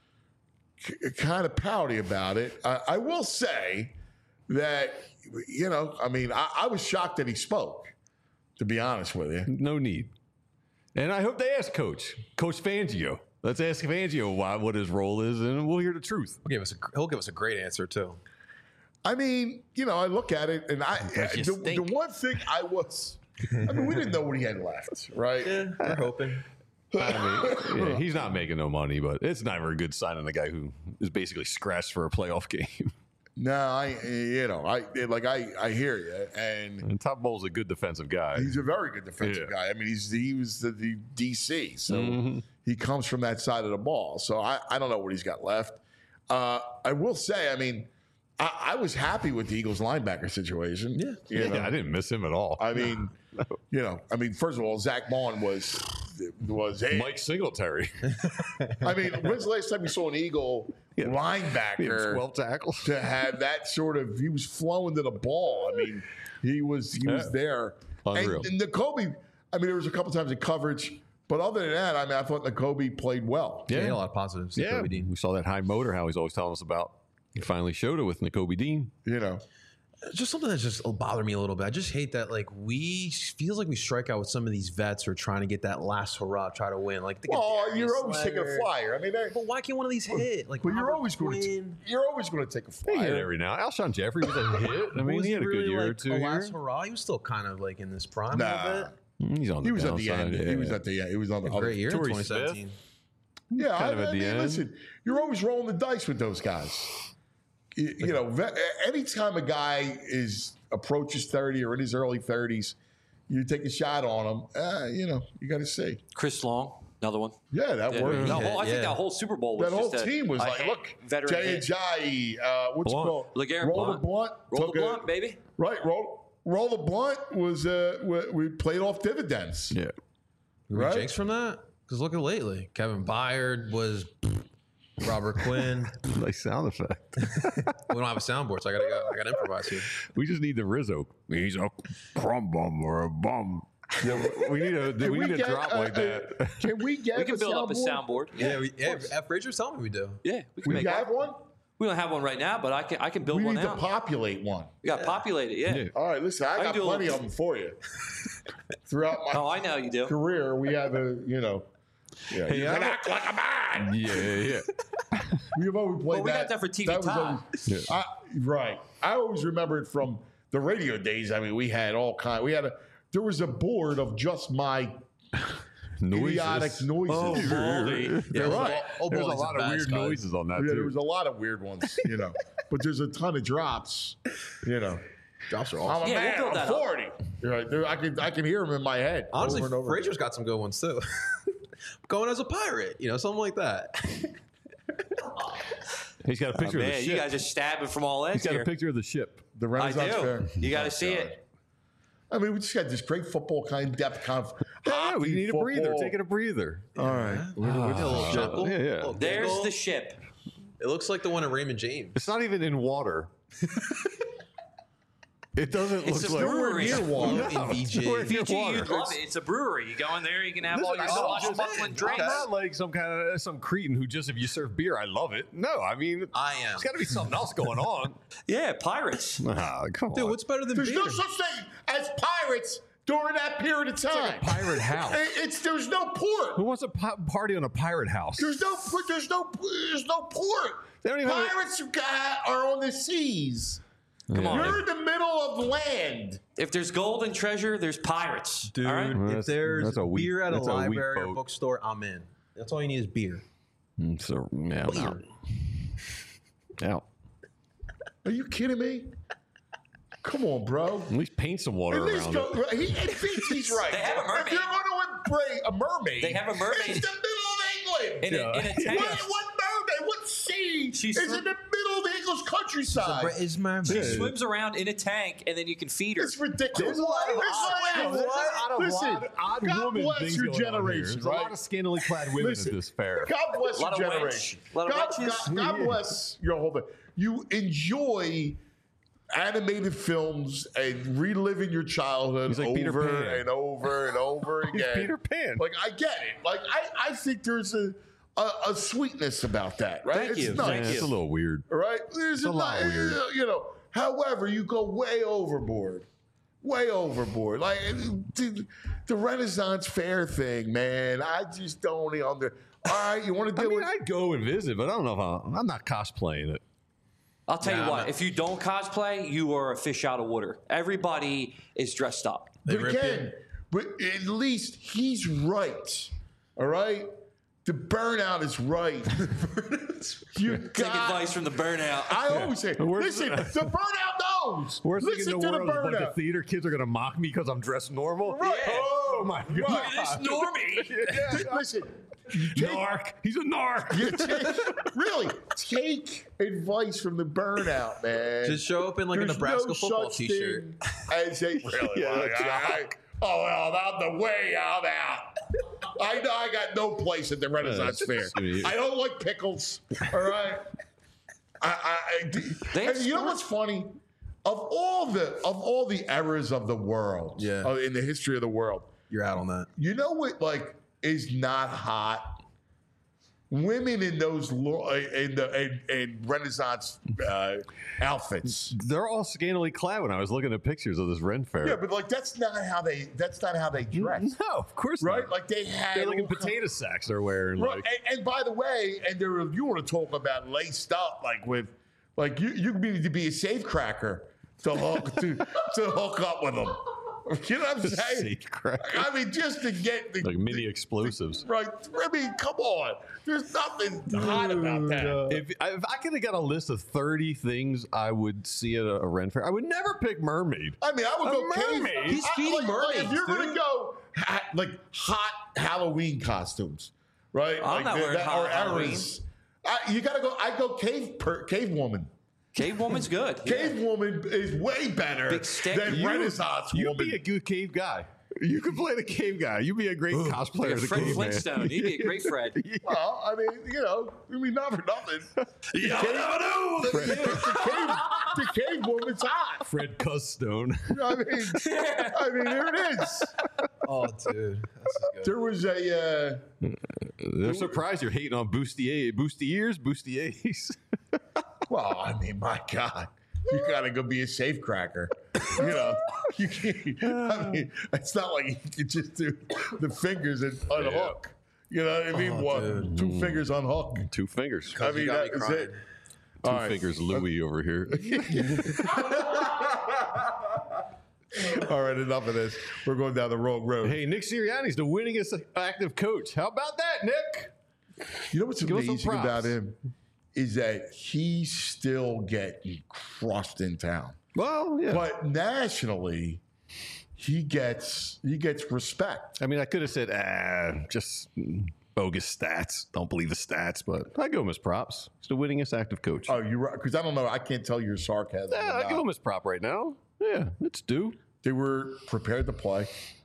B: c- kind of pouty about it. I, I will say that, you know, I mean, I, I was shocked that he spoke, to be honest with you.
C: No need. And I hope they ask Coach, Coach Fangio. Let's ask Fangio why, what his role is, and we'll hear the truth.
E: He'll give us a, he'll give us a great answer, too.
B: I mean, you know, I look at it, and I
D: you
B: the,
D: stink.
B: the one thing I was, I mean, we didn't know what he had left, right?
E: Yeah, we're hoping.
C: I mean, yeah, he's not making no money, but it's never a good sign on a guy who is basically scratched for a playoff game.
B: No, I, you know, I like I, I hear you, and
C: And Top Bowl's a good defensive guy.
B: he's a very good defensive
C: Yeah.
B: guy. I mean, he's he was the, the D C, so
C: Mm-hmm.
B: he comes from that side of the ball. So I, I don't know what he's got left. Uh, I will say, I mean, I, I was happy with the Eagles linebacker situation.
E: Yeah.
B: you know?
C: Yeah, I didn't miss him at all.
B: I mean, you know, I mean, first of all, Zach Vaughn was was hey,
C: Mike Singletary.
B: I mean, when's the last time you saw an Eagle
C: He had
B: linebacker
C: twelve tackles.
B: to have that sort of? He was flowing to the ball. I mean, he was he was
C: Yeah.
B: there.
C: Unreal.
B: And, and Nakobe, I mean, there was a couple times in coverage, but other than that, I mean, I thought Nakobe played well.
E: Yeah, he had a lot of positives.
C: Yeah,
E: Kobe Dean.
C: we saw that high motor, how he's always telling us about. He finally showed it with Nakobe Dean.
B: You know,
E: Just something that just bothered me a little bit. I just hate that, like, we feels like we strike out with some of these vets who are trying to get that last hurrah, try to win. Like, think of
B: well,
E: Darius
B: you're always taking a
E: Leonard.
B: flyer. I mean, they,
E: But why can't one of these hit? Like,
B: well, you're
E: Robert
B: always going to
E: Quinn.
B: you're always going to take a
C: He hit
B: flyer.
C: every now. Alshon Jeffrey was a hit. I mean,
E: Was
C: he had a
E: really
C: good year or
E: like
C: two
E: a
C: here.
E: last hurrah? He was still kind of like in this prime a
B: Nah.
E: little bit.
C: He's on the
B: He was at the
C: downside,
B: end.
C: yeah.
B: He was at the end. He was on the
E: A
B: other
E: great year in
C: Torrey
E: twenty
C: Smith.
E: seventeen.
B: Yeah,
C: Kind
B: I,
C: of at
B: I
C: the
B: mean,
C: end.
B: listen, you're always rolling the dice with those guys. You, you know, ve- anytime a guy is approaches thirty or in his early thirties, you take a shot on him. Uh, you know, you got to see.
D: Chris Long, another one.
B: Yeah, that
D: Yeah.
B: worked.
D: The whole, I
E: Yeah.
D: think that whole Super Bowl was
B: That whole
D: just a-
B: team was
D: a
B: like,
D: hit-
B: look,
D: veteran
B: Jay
D: hit.
B: Ajayi, uh, what's
C: Blunt.
B: it called?
D: LeGarrette
B: Roll
D: Blunt.
B: the blunt.
D: Roll
B: took
D: the
B: a-
D: blunt, baby.
B: Right, roll, roll the blunt was uh, we, we played off dividends.
C: Yeah.
E: Were
B: Right?
E: we jinxed from that? Because look at lately. Kevin Byard was Robert Quinn.
C: Nice sound effect.
E: We don't have a soundboard, so I gotta go. I gotta improvise here.
C: We just need the Rizzo. He's a crumb bum or a bum. Yeah, we need a
B: Can
C: we need a
B: get,
C: drop
B: uh,
C: like that.
B: uh, Can we get
D: We can
B: a
D: build up a
B: soundboard?
D: soundboard.
E: Yeah, we,
D: of
E: yeah.
D: course.
E: F. Fraser's telling me we do.
D: Yeah, we can
B: We
D: make
B: have
D: one.
B: one?
D: We don't have one right now, but I can I can build
B: We
D: one
B: need to
D: out.
B: populate one.
D: We got to populate it. Yeah.
C: Yeah.
B: All right, listen, I,
D: I
B: got
D: do a
B: plenty
D: little-
B: of them for you. Throughout my
D: Oh, I know you do.
B: career, we have a, you know, yeah,
C: Hey,
B: you
C: I-
B: can act like a man.
C: Yeah, yeah, yeah.
B: We've always played
D: Well, we
B: that.
D: got that for T V
B: was
D: time.
B: always- I, right. I always remember it from the radio days. I mean, we had all kind. We had a. There was a board of just my idiotic noises.
D: Oh, Baldy.
B: Yeah, right.
E: Oh,
C: There's a
E: Baldy's
C: lot
E: the
C: of
E: best,
C: weird
E: guys.
C: noises on that
B: Yeah, there
C: too.
B: was a lot of weird ones, you know. But there's a ton of drops, you know.
E: Drops are
B: I'm
E: awesome.
B: a
D: Yeah, we'll
B: man.
D: build
B: I'm
D: that up.
B: forty. You're right. There, I can I can hear them in my head.
E: Honestly,
B: over and over
E: Fraser's got some good ones too. Going as a pirate, you know, something like that.
C: He's got a
D: Oh,
C: picture of the
D: man,
C: ship.
D: you guys are stabbing from all ends
C: He's got
D: here.
C: a picture of the ship.
B: The
D: I
B: Renaissance
D: do.
B: Fair.
D: You got
B: Oh,
D: to see
B: God.
D: it.
B: I mean, we just got this great football kind of depth conf.
C: Yeah, we
B: hockey,
C: need a breather.
B: football.
C: Taking a breather.
B: All right.
E: We did a little
C: Ah,
E: chuckle.
C: yeah, yeah.
E: little
D: There's
E: giggle.
D: the ship.
E: It looks like the one at Raymond James.
C: It's not even in water. It doesn't
D: It's
C: look
D: a
C: like
D: brewery.
B: Near water.
E: In V J.
C: Nowhere near
D: P G,
C: water.
D: you'd love it. It's a brewery. You go in there, you can have all your
C: Listen, I know,
D: swashbuckling
C: I'm
D: drinks.
C: not like some kind of some cretin who just if you serve beer, I love it. No, I mean,
E: I am.
C: there's got to be something else going on.
D: Yeah, pirates.
C: Ah, come
E: Dude,
C: on.
E: what's better than
B: There's
E: beer?
B: no such thing as pirates during that period of time.
C: like a pirate house.
B: It- It's there's no port.
C: Who wants a pi- party on a pirate house?
B: There's no there's no there's no port.
C: They don't even have a-
B: Pirates got- are on the seas.
D: Come on.
B: You're in the middle of land.
D: If there's gold and treasure, there's pirates.
E: Dude,
D: all right?
C: Well,
E: if
C: that's-
E: there's
C: that's a weak-
E: beer at a
C: that's a weak
E: library or
C: boat.
E: bookstore, I'm in. That's all you need is beer.
C: Mm, So yeah, I'm out. Out.
B: Are you kidding me? Come on, bro.
C: At least paint some water
B: At least
C: around
B: go.
C: it.
B: He, he thinks he's right.
D: They have a mermaid.
B: If you're going to embrace a mermaid,
D: They have a mermaid.
B: It's the middle of England.
D: In a, in a tank.
B: What, what mermaid? What sea
D: She's
B: is
D: from-
B: in the middle of the English countryside?
E: Is my
D: She swims around in a tank, and then you can feed her.
B: It's ridiculous.
C: There's a lot of
B: It's
C: odd,
B: like-
C: there's a lot of
B: Listen,
C: odd, odd
B: God
C: woman
B: bless
C: things
B: your
C: going on here.
B: generation,
C: There's a
B: right?
C: lot of scantily clad women
B: Listen,
C: at this fair.
B: God bless
D: Lot
B: your
D: of
B: generation.
D: wench. Lot of
B: God,
D: wenches.
B: God, God bless your whole thing. You enjoy animated films and reliving your childhood
C: He's like Peter
B: over
C: Pan.
B: and over and over
C: He's
B: again.
C: Peter Pan.
B: Like I get it. Like I, I think there's a, a a sweetness about that, right?
D: Thank
B: it's
D: you.
B: Nice.
D: Thank
C: Yeah, it's a little weird.
B: All right, there's
C: a lot
B: ni-
C: weird.
B: You know, however, you go way overboard, way overboard. Like the, the Renaissance Fair thing, man. I just don't under. All right, you want to
C: I
B: deal
C: mean,
B: with?
C: I'd go and visit, but I don't know if I'm, I'm not cosplaying it.
D: I'll tell
E: Yeah,
D: you what,
E: I'm not-
D: if you don't cosplay, you are a fish out of water. Everybody is dressed up.
E: They
B: But
E: rip
B: again, but at least he's right. All right, the burnout is right. you
D: Take
B: got.
D: advice from the burnout.
B: I always say,
C: Where's
B: listen,
C: the-
B: the burnout knows.
C: Worst thing in
B: Listen
C: the
B: to the
C: world is a bunch
B: burnout.
C: of theater kids are going to mock me because I'm dressed normal.
B: Right.
C: Oh, my God.
B: Look at
D: this normie.
B: Listen, you take,
C: Narc. He's a narc.
B: you take, really take advice from the burnout, man.
E: Just show up in like a
B: There's
E: Nebraska
B: no
E: football
B: such
E: t-shirt.
B: thing As a, really?
C: Yeah,
B: Well,
C: that's
B: I- I- oh well, I'm the way I'm out. I know I got no place at the Renaissance Fair. I don't like pickles. All right. I, I, I
D: They have
B: and you know what's funny? Of all the of all the eras of the world,
E: Yeah.
B: uh, in the history of the world,
E: You're out on that.
B: you know what? Like, is not hot. Women in those lo- in the in, in Renaissance uh, outfits.
C: They're all scantily clad when I was looking at pictures of this Ren Fair.
B: Yeah, but like that's not how they that's not how they dress,
C: No, of course
B: right?
C: not.
B: Like they had
C: They're like in
B: all kinds-
C: potato sacks they're wearing.
B: Right,
C: Like,
B: and, and by the way, and there you want to talk about laced up, like with, like you you need to be a safe cracker to hook to to hook up with them. You know what I'm saying?
C: safe cracker.
B: I mean, just to get the
C: like mini explosives.
B: right. I mean, come on. There's nothing hot about that.
C: If, I- if I could have got a list of thirty things I would see at a, a Ren Fair, I would never pick mermaid.
B: I mean, I would
C: A
B: go cave.
C: mermaid?
E: He's
B: I-
E: feeding
B: like, like, if
E: mermaids,
B: you're going to
E: dude.
B: go ha- like hot Halloween costumes, right?
D: I'm
B: like
D: not
B: the-
D: wearing
B: that-
D: hot
B: or
D: Halloween.
B: eras. I, you got to go. I go cave per, cave woman.
D: Cave woman's good.
B: Cave woman is way better
D: Big stick.
B: than
C: You-
B: Renaissance
C: You'd
B: woman.
C: be a good cave guy. You could play the cave guy. You'd be a great cosplayer
D: Like
C: of
D: a
C: the
D: Fred
C: caveman.
D: Flintstone. He'd be a great Fred.
B: well, I mean, you know, I mean, not for nothing. The
C: Yeah,
B: cave,
C: no, no.
B: the, the cave, the cave woman's hot.
C: Fred Custone.
B: I mean, I mean, here it is.
E: Oh, dude. This is good.
B: There was a. Uh,
C: They're surprised you're hating on Bustier, Bustiers, Bustiers.
B: Well, I mean, my God, you gotta go be a safe cracker. You know, you can't. I mean, it's not like you can just do the fingers and unhook. You know what I mean?
E: Oh,
B: One,
E: dude.
B: two fingers unhook.
C: Two fingers.
B: I
E: You
B: mean,
E: got me
B: that is
E: crying.
B: it.
C: Two
B: All right.
C: fingers Louis over here.
B: All right, enough of this. We're going down the wrong road.
C: Hey, Nick Sirianni's the winningest active coach. How about that, Nick?
B: You know what's
C: Give us some
B: amazing
C: props.
B: about him is that he's still getting crushed in town,
C: Well, yeah.
B: but nationally, he gets he gets respect.
C: I mean, I could have said, ah, just bogus stats. Don't believe the stats, but I give him his props. He's the winningest active coach.
B: Oh, you're right, because I don't know. I can't tell your sarcasm.
C: yeah,
B: or
C: I
B: not.
C: give him his prop right now. Yeah, it's due.
B: They were prepared to play.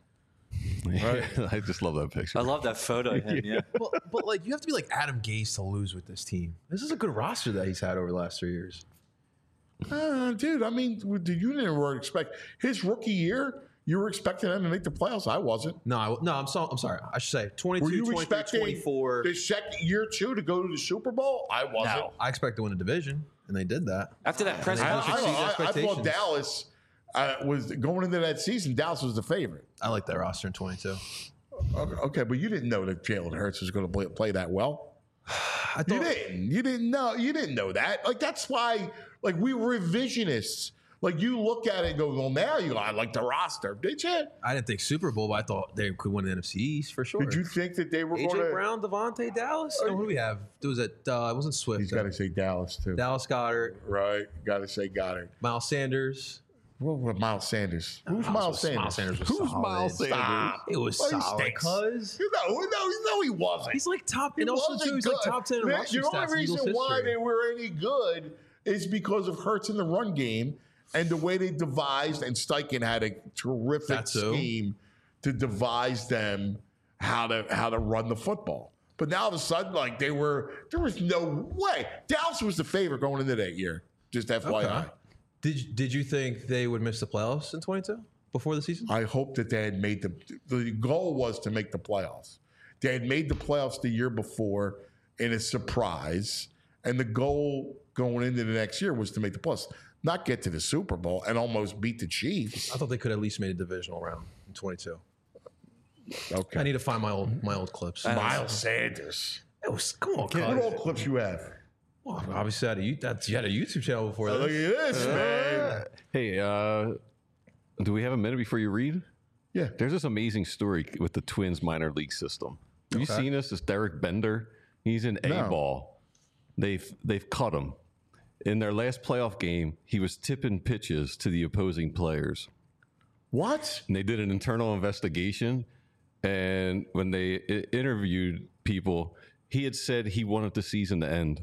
C: I just love that picture.
D: I love that photo of him. Yeah.
E: but, but like you have to be like Adam Gase to lose with this team. This is a good roster that he's had over the last three years.
B: Uh, dude, I mean, did you never expect his rookie year? You were expecting them to make the playoffs. I wasn't.
E: No, I, no, I'm so, I'm sorry. I should say
B: Were
E: twenty-two,
B: you
E: twenty-three,
B: expecting
E: twenty-four.
B: the second year two to go to the Super Bowl? I wasn't.
D: No.
E: I expect to win a division, and they did that.
D: After that press
B: I, I,
E: Exceeds
B: I, I thought
E: expectations.
B: Dallas uh, was going into that season. Dallas was the favorite.
E: I like that roster in twenty-two.
B: Okay, okay, but you didn't know that Jalen Hurts was going to play, play that well.
E: I
B: You
E: thought
B: didn't. You didn't know. You didn't know that. Like that's why. Like we were revisionists. Like you look at it and go, well, now you I like the roster. Did you?
E: I didn't think Super Bowl, but I thought they could win the N F C East for sure.
B: Did you think that they were
E: A J
B: going to?
E: Brown, Devontae, Dallas? No, who do we have? There was it. Uh, it wasn't Swift.
B: He's got to say Dallas too.
E: Dallas Goddard,
B: Right. Got to say Goddard.
E: Miles Sanders.
B: What with Miles Sanders? Who's
E: Miles
B: Miles
E: was-
B: Sanders?
E: Miles Sanders was
C: Who's
E: solid.
C: Miles Sanders?
B: Stop.
E: It was
B: Well, he
E: solid,
B: stinks.
E: cuz.
B: You know, no, no, he wasn't.
E: He's like top,
B: He
E: and also
B: wasn't
E: too, he's
B: good.
E: like top ten in
B: Man,
E: rushing
B: The
E: stats
B: only
E: in
B: reason
E: Eagles
B: why
E: history.
B: they were any good is because of Hurts in the run game and the way they devised, and Steichen had a terrific
E: That's so.
B: scheme to devise them how to how to run the football. But now all of a sudden, like they were, there was no way. Dallas was the favorite going into that year. Just F Y I.
E: Okay. Did Did you think they would miss the playoffs in twenty-two before the season?
B: I hope that they had made the the goal was to make the playoffs. They had made the playoffs the year before in a surprise, and the goal going into the next year was to make the playoffs, not get to the Super Bowl and almost beat the Chiefs.
E: I thought they could at least made a divisional round in twenty-two.
B: Okay,
E: I need to find my old my old clips.
B: Miles Sanders.
E: It was come on,
B: What
E: cuz.
B: old clips you have?
E: Well, obviously, I had a, you, that's, you had a YouTube channel before
B: Oh, look
E: this.
B: at this, man.
C: Hey, uh, do we have a minute before you read?
B: Yeah.
C: There's this amazing story with the Twins minor league system. Have you seen this? This Derek Bender. He's in A
B: No.
C: ball. They've they've cut him. In their last playoff game, he was tipping pitches to the opposing players.
B: What?
C: And they did an internal investigation. And when they I- interviewed people, he had said he wanted the season to end.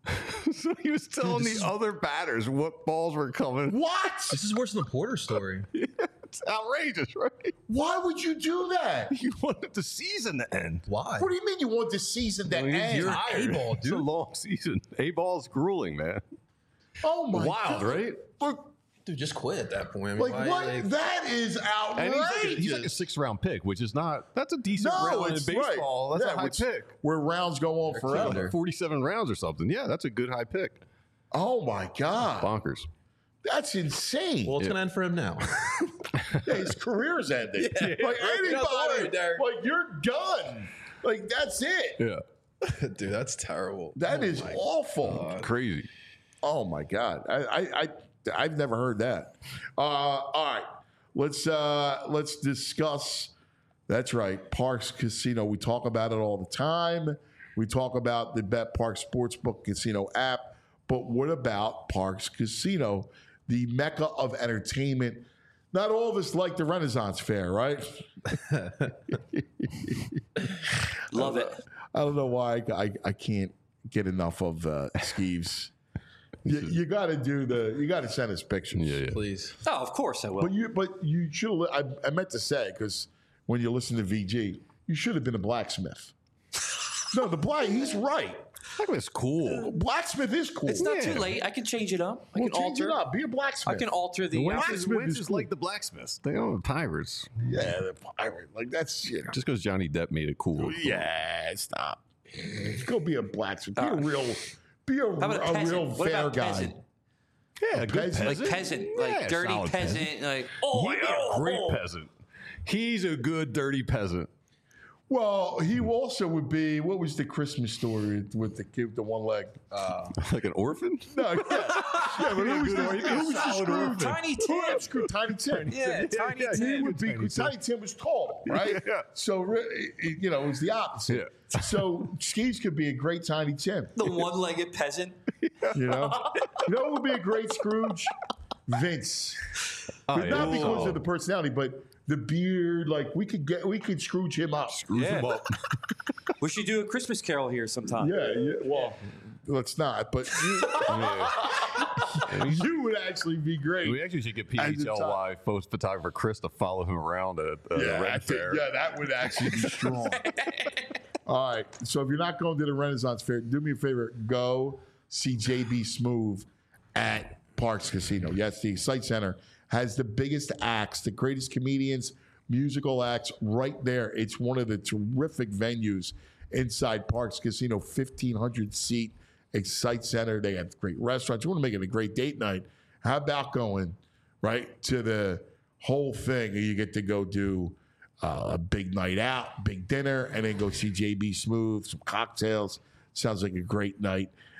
C: So he was telling
E: this
C: the
E: is-
C: other batters what balls were coming.
B: What?
E: This is worse than the Porter story.
C: It's outrageous, right?
B: Why would you do that?
C: He wanted the season to end.
E: Why?
B: What do you mean you want the season to
C: I mean,
B: end?
C: you're
E: tired. A-ball,
C: It's a
E: dude.
C: long season. A ball is grueling, man.
B: Oh my
C: Wild,
B: God.
C: right?
B: Look,
E: Dude, just quit at that point. I mean,
B: like
E: why-
B: what?
E: like-
B: That is
C: And he's like, a,
B: outrageous.
C: he's like a six round pick, which is not, that's a decent
B: No,
C: round in
B: it's
C: baseball.
B: right.
C: That's
B: Yeah,
C: a high
B: which-
C: pick.
B: Where rounds go on forever.
E: Kinder.
C: forty-seven rounds or something. Yeah, that's a good high pick.
B: Oh my God.
C: Bonkers.
B: That's insane.
E: well, it's going to end for him now.
B: Yeah, his career's ended.
E: Yeah.
B: Like
E: You're not
B: anybody,
E: worried, Derek.
B: like you're done. Like that's it.
C: Yeah.
E: Dude, that's terrible.
B: That is awful.
C: Crazy.
B: Oh my God. I, I, I I've never heard that. Uh, all right. Let's uh, let's discuss. That's right. Parks Casino. We talk about it all the time. We talk about the Bet Park Sportsbook Casino app. But what about Parks Casino, the mecca of entertainment? Not all of us like the Renaissance Fair, right?
D: Love it.
B: I don't know why I, I, I can't get enough of uh, Skeeves. you you got to do the. You got to send us pictures.
C: Yeah, yeah.
E: Please.
D: Oh, of course I will.
B: But you, but you should. I, I meant to say because when you listen to V G, you should have been a blacksmith. No, the black. He's right.
C: That's cool.
B: Blacksmith is cool.
D: it's not
C: Yeah.
D: too late. I can change it up. I
B: Well,
D: can
B: change
D: alter.
B: it up. Be a blacksmith.
D: I can alter the.
C: Wentz
D: uh,
C: is,
B: Blacksmith
C: Wentz
B: is
C: is
B: cool.
C: like the blacksmiths. They own pirates.
B: Yeah, the pirate. Like that's you know.
C: Just because Johnny Depp made it cool.
B: Yeah, stop. Go be a blacksmith. Be a real. Be a,
D: How about a
B: a
D: peasant?
B: real
D: What
B: fair
D: about
B: guy.
D: peasant?
C: Yeah, a good
B: peasant.
C: peasant.
D: Like peasant,
C: Yeah,
D: like dirty
C: solid
D: peasant, like oh,
C: He'd be
D: oh,
C: a great
D: oh.
C: peasant. He's a good dirty peasant.
B: Well, he also would be. What was the Christmas story with the kid with the one leg?
C: Like an orphan?
B: No, yeah, yeah, but who was the,
C: He'd be a
B: who was the
C: solid
B: Scrooge?
C: orphan.
D: Tiny
B: Who
D: Tim.
B: was Scrooge? Tiny Tim.
D: Yeah, Tiny
C: yeah,
B: He
D: Tim.
B: would be
C: Tiny
B: Tiny,
C: Tim.
B: Tim was tall, right?
C: Yeah.
B: So re- you know, it was the opposite.
C: Yeah.
B: So Skeeves could be a great Tiny Tim.
D: The one-legged peasant.
B: You know, you know, what would be a great Scrooge? Vince.
C: Oh,
B: But not
C: yeah.
B: because
C: Oh.
B: of the personality, but the beard. Like we could get, we could Scrooge him up.
C: Screws
D: Yeah.
C: him up.
D: We should do a Christmas Carol here sometime.
B: Yeah, yeah. Well, let's not. But you, you would actually be great.
C: We actually should get P
B: As
C: H
B: a
C: L Y photo photographer Chris to follow him around at uh, the
B: Yeah, I
C: Red
B: think,
C: Fair.
B: yeah, that would actually be strong. All right. So if you're not going to the Renaissance Fair, do me a favor. Go see J B Smoove at Parks Casino. Yes, the Excite Center has the biggest acts, the greatest comedians, musical acts right there. It's one of the terrific venues inside Parks Casino, fifteen hundred seat Excite Center. They have great restaurants. You want to make it a great date night. How about going right to the whole thing? You get to go do uh, a big night out, big dinner, and then go see J B Smoove, some cocktails. Sounds like a great night.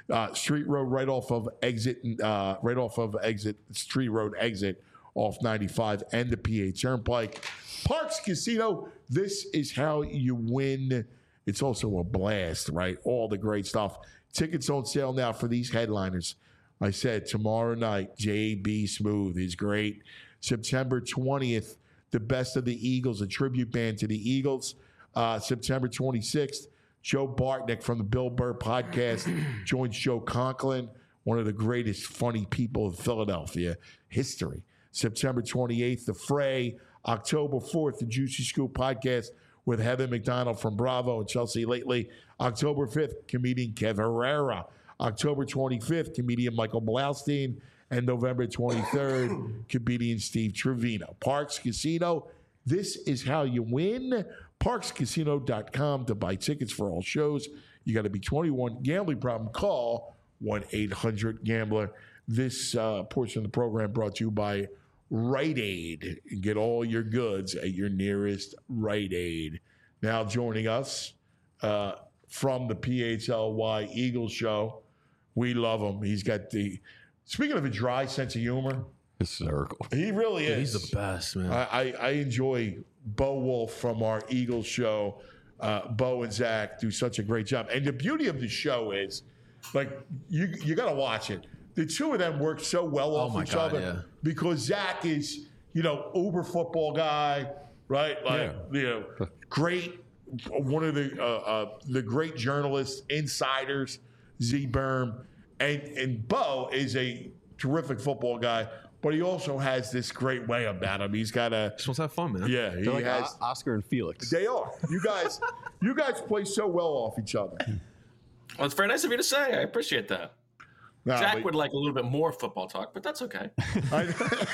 B: Uh, Street Road, right off of exit, uh, right off of exit Street Road exit off ninety-five and the P A Turnpike. Parks Casino. This is how you win. It's also a blast, right? All the great stuff. Tickets on sale now for these headliners. I said tomorrow night, J B Smooth is great. September twentieth, the Best of the Eagles, a tribute band to the Eagles. Uh, September twenty-sixth, Joe Bartnick from the Bill Burr podcast joins Joe Conklin, one of the greatest funny people in Philadelphia history. September twenty-eighth, The Fray. October fourth, the Juicy Scoop podcast with Heather McDonald from Bravo and Chelsea Lately. October fifth, comedian Kev Herrera. October twenty-fifth, comedian Michael Blaustein. And November twenty-third, comedian Steve Trevino. Parks Casino, this is how you win. parks casino dot com to buy tickets for all shows. You got to be twenty-one. Gambling problem, call one eight hundred gambler. This uh, portion of the program brought to you by Rite Aid. Get all your goods at your nearest Rite Aid. Now joining us uh, from the P H L Y Eagles show. We love him. He's got the, speaking of a dry sense of humor.
C: Hysterical.
B: He really
E: Dude,
B: is.
E: he's the best, man.
B: I, I, I enjoy Bo Wolf from our Eagles show. Uh, Bo and Zach do such a great job. And the beauty of the show is, like, you you got to watch it. The two of them work so well
E: Oh
B: off
E: my
B: each
E: God,
B: other
E: yeah.
B: because Zach is, you know, uber football guy, right? Like,
C: Yeah.
B: you know, great, one of the uh, uh, the great journalists, insiders, Z Berm, and and Bo is a terrific football guy, but he also has this great way about him. He's got a
E: Just wants to have fun, man.
B: yeah, he
C: They're like
B: has.
C: O- Oscar and Felix.
B: They are. You guys, you guys play so well off each other.
I: Well, it's very nice of you to say. I appreciate that.
B: Nah,
I: Jack
B: but-
I: would like a little bit more football talk, but that's okay.
B: I,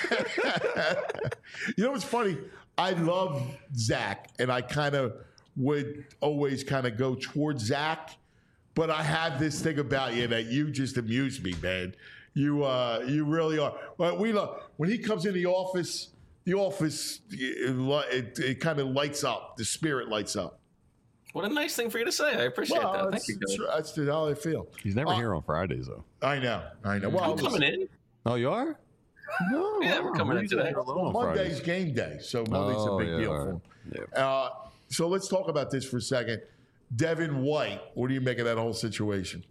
B: you know what's funny? I love Zach, and I kind of would always kind of go towards Zach, but I have this thing about you that you just amuse me, man. You uh, you really are. But we love when he comes in the office. The office it, it, it kind of lights up. The spirit lights up.
I: What a nice thing for you to say. I appreciate
B: Well,
I: that.
B: that's,
I: Thank you,
B: that's,
I: Billy.
B: that's the- how I feel.
C: He's never
B: Uh,
C: here on Fridays, though.
B: I know. I know. Well,
I: I'm coming in.
C: Oh, you are? No.
I: Yeah, we're coming in
C: usually
I: today.
C: here alone on
B: Monday's
C: Fridays.
B: game day, so Monday's
C: Oh,
B: a big
C: yeah,
B: deal
C: all
B: for
C: right.
B: him.
C: Yeah.
B: Uh, so let's talk about this for a second. Devin White, what do you make of that whole situation?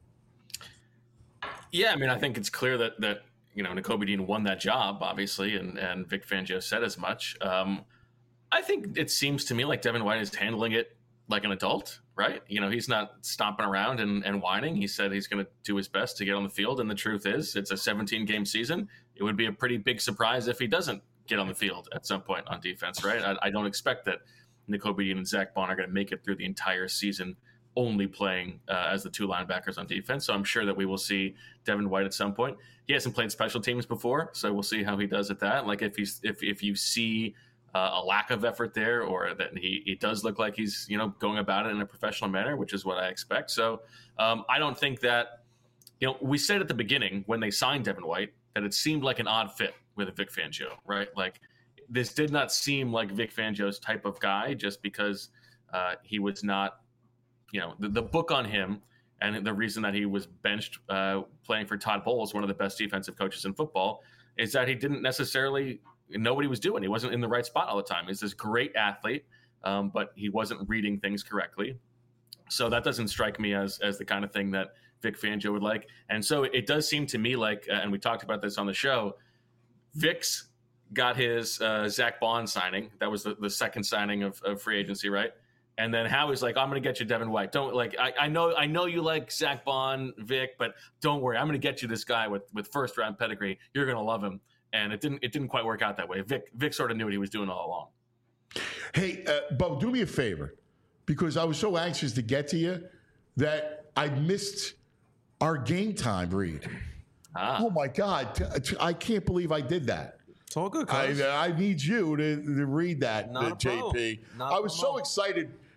I: Yeah, I mean, I think it's clear that that you know Nakobe Dean won that job, obviously, and and Vic Fangio said as much. Um, I think it seems to me like Devin White is handling it like an adult, right? You know, he's not stomping around and, and whining. He said he's going to do his best to get on the field, and the truth is, it's a seventeen game season. It would be a pretty big surprise if he doesn't get on the field at some point on defense, right? I, I don't expect that Nakobe Dean and Zach Bond are going to make it through the entire season only playing uh, as the two linebackers on defense. So I'm sure that we will see Devin White at some point. He hasn't played special teams before, so we'll see how he does at that. Like if he's if if you see uh, a lack of effort there, or that he it does look like he's you know going about it in a professional manner, which is what I expect. So um, I don't think that you know we said at the beginning when they signed Devin White that it seemed like an odd fit with Vic Fangio, right? Like this did not seem like Vic Fangio's type of guy, just because uh, he was not. You know, the, the book on him and the reason that he was benched uh, playing for Todd Bowles, one of the best defensive coaches in football, is that he didn't necessarily know what he was doing. He wasn't in the right spot all the time. He's this great athlete, um, but he wasn't reading things correctly. So that doesn't strike me as as the kind of thing that Vic Fangio would like. And so it does seem to me like, uh, and we talked about this on the show, Vic's got his uh, Zach Bond signing. That was the, the second signing of, of free agency, right? And then Howie's like, I'm going to get you Devin White. Don't like, I, I know, I know you like Zach Bond, Vic, but don't worry. I'm going to get you this guy with, with first round pedigree. You're going to love him. And it didn't, it didn't quite work out that way. Vic, Vic sort of knew what he was doing all along.
B: Hey, uh, Bo, do me a favor, because I was so anxious to get to you that I missed our game time read.
I: Ah.
B: Oh my God, T- t- I can't believe I did that.
E: It's all good,
B: I,
E: cuz.
B: I need you to, to read that,
E: Not
B: uh,
E: a
B: J P.
E: problem. Not
B: I
E: a
B: was so
E: problem.
B: excited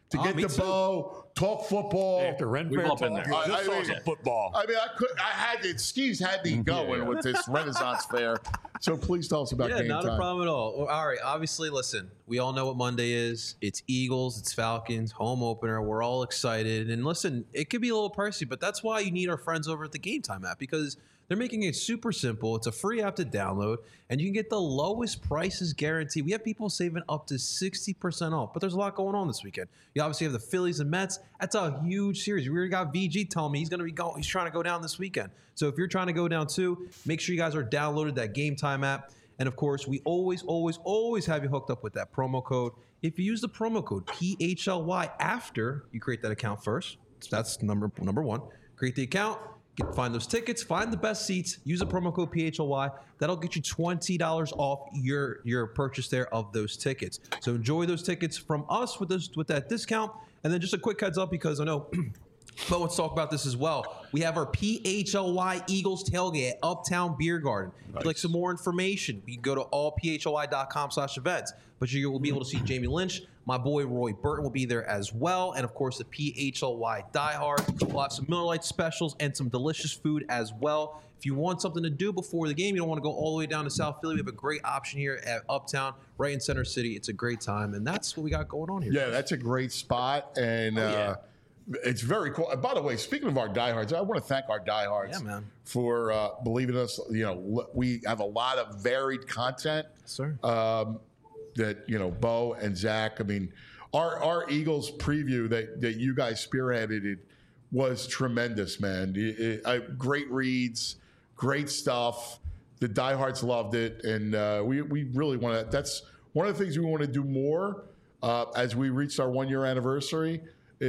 B: to
E: Oh,
B: get
E: me
B: the
E: too.
B: bow, talk football.
C: After Ren
I: We've
C: Fair
I: all been
C: talk,
I: there.
B: I-
C: this
B: I
C: was
B: mean-
C: a football.
B: I mean, I could. I had it. Skis had me going
C: yeah.
B: with this Renaissance fair. So please tell us about
E: Yeah,
B: game
E: not
B: time.
E: a problem at all. Well, all right, obviously, listen, we all know what Monday is. It's Eagles, it's Falcons, home opener. We're all excited. And listen, it could be a little pricey, but that's why you need our friends over at the Game Time app because they're making it super simple. It's a free app to download, and you can get the lowest prices guaranteed. We have people saving up to sixty percent off, but there's a lot going on this weekend. You obviously have the Phillies and Mets. That's a huge series. We already got V G telling me he's going to be going. He's trying to go down this weekend. So if you're trying to go down too, make sure you guys are downloaded that Game Time app. And of course, we always, always, always have you hooked up with that promo code. If you use the promo code P H L Y after you create that account first, that's number number one. Create the account, get, find those tickets, find the best seats, use the promo code P H L Y. That'll get you twenty dollars off your, your purchase there of those tickets. So enjoy those tickets from us with this with that discount. And then just a quick heads up because I know but let's talk about this as well. We have our P H L Y Eagles tailgate at Uptown Beer Garden. If you'd like some more information, you can go to all p h l y dot com slash events. But you will be able to see Jamie Lynch. My boy Roy Burton will be there as well. And of course, the P H L Y diehard. We'll have some Miller Lite specials and some delicious food as well. If you want something to do before the game, you don't want to go all the way down to South Philly, we have a great option here at Uptown, right in Center City. It's a great time. And that's what we got going on here.
B: Yeah, that's a great spot, and
E: Oh, yeah.
B: uh, it's very cool. And by the way, speaking of our diehards, I want to thank our diehards
E: Yeah, man.
B: for uh, believing us. You know, l- we have a lot of varied content.
E: Sir.
B: Um, that you know, Bo and Zach. I mean, our our Eagles preview that that you guys spearheaded it was tremendous, man. It- it- I- great reads, great stuff. The diehards loved it, and uh, we we really want to. That's one of the things we want to do more uh, as we reached our one year anniversary.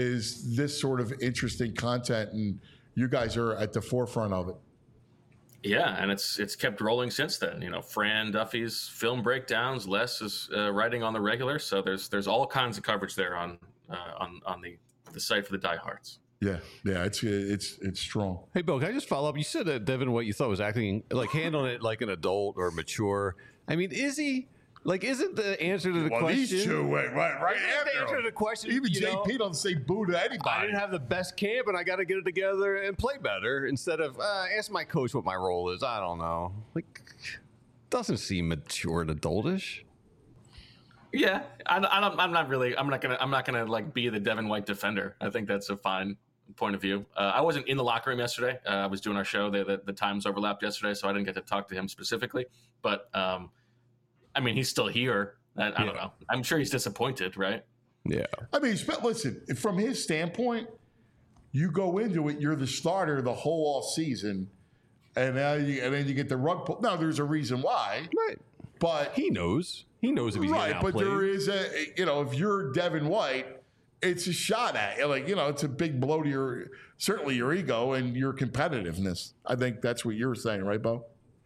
B: Is this sort of interesting content, and you guys are at the forefront of it.
I: Yeah, and it's it's kept rolling since then. You know, Fran Duffy's film breakdowns, Les is uh, writing on the regular, so there's there's all kinds of coverage there on uh, on on the the site for the diehards.
B: Yeah, yeah, it's it's it's strong.
C: Hey, Bill, can I just follow up? You said that Devin White, you thought was acting like handling it like an adult or mature. I mean, is he? Like, isn't the answer to the
B: Well,
C: question?
B: these two went right, right
C: Isn't
B: after
C: the answer
B: him.
C: to the question?
B: Even
C: you
B: J P
C: know,
B: doesn't say boo to anybody.
C: I didn't have the best camp, and I got to get it together and play better instead of uh, ask my coach what my role is. I don't know. Like, doesn't seem mature and adultish.
I: Yeah, I, I don't, I'm not really. I'm not gonna. I'm not gonna like be the Devin White defender. I think that's a fine point of view. Uh, I wasn't in the locker room yesterday. Uh, I was doing our show. The, the, the times overlapped yesterday, so I didn't get to talk to him specifically. But um, I mean, he's still here. I, I don't know. I'm sure he's disappointed, right?
C: Yeah.
B: I mean, but listen, from his standpoint, you go into it, you're the starter the whole off season, and now you, and then you get the rug pull. Now, there's a reason why,
C: Right.
B: but
C: He knows. He knows if he's
B: right,
C: getting
B: but
C: outplayed.
B: there is a you know, if you're Devin White, it's a shot at you. Like you know, it's a big blow to your certainly your ego and your competitiveness. I think that's what you're saying, right, Bo?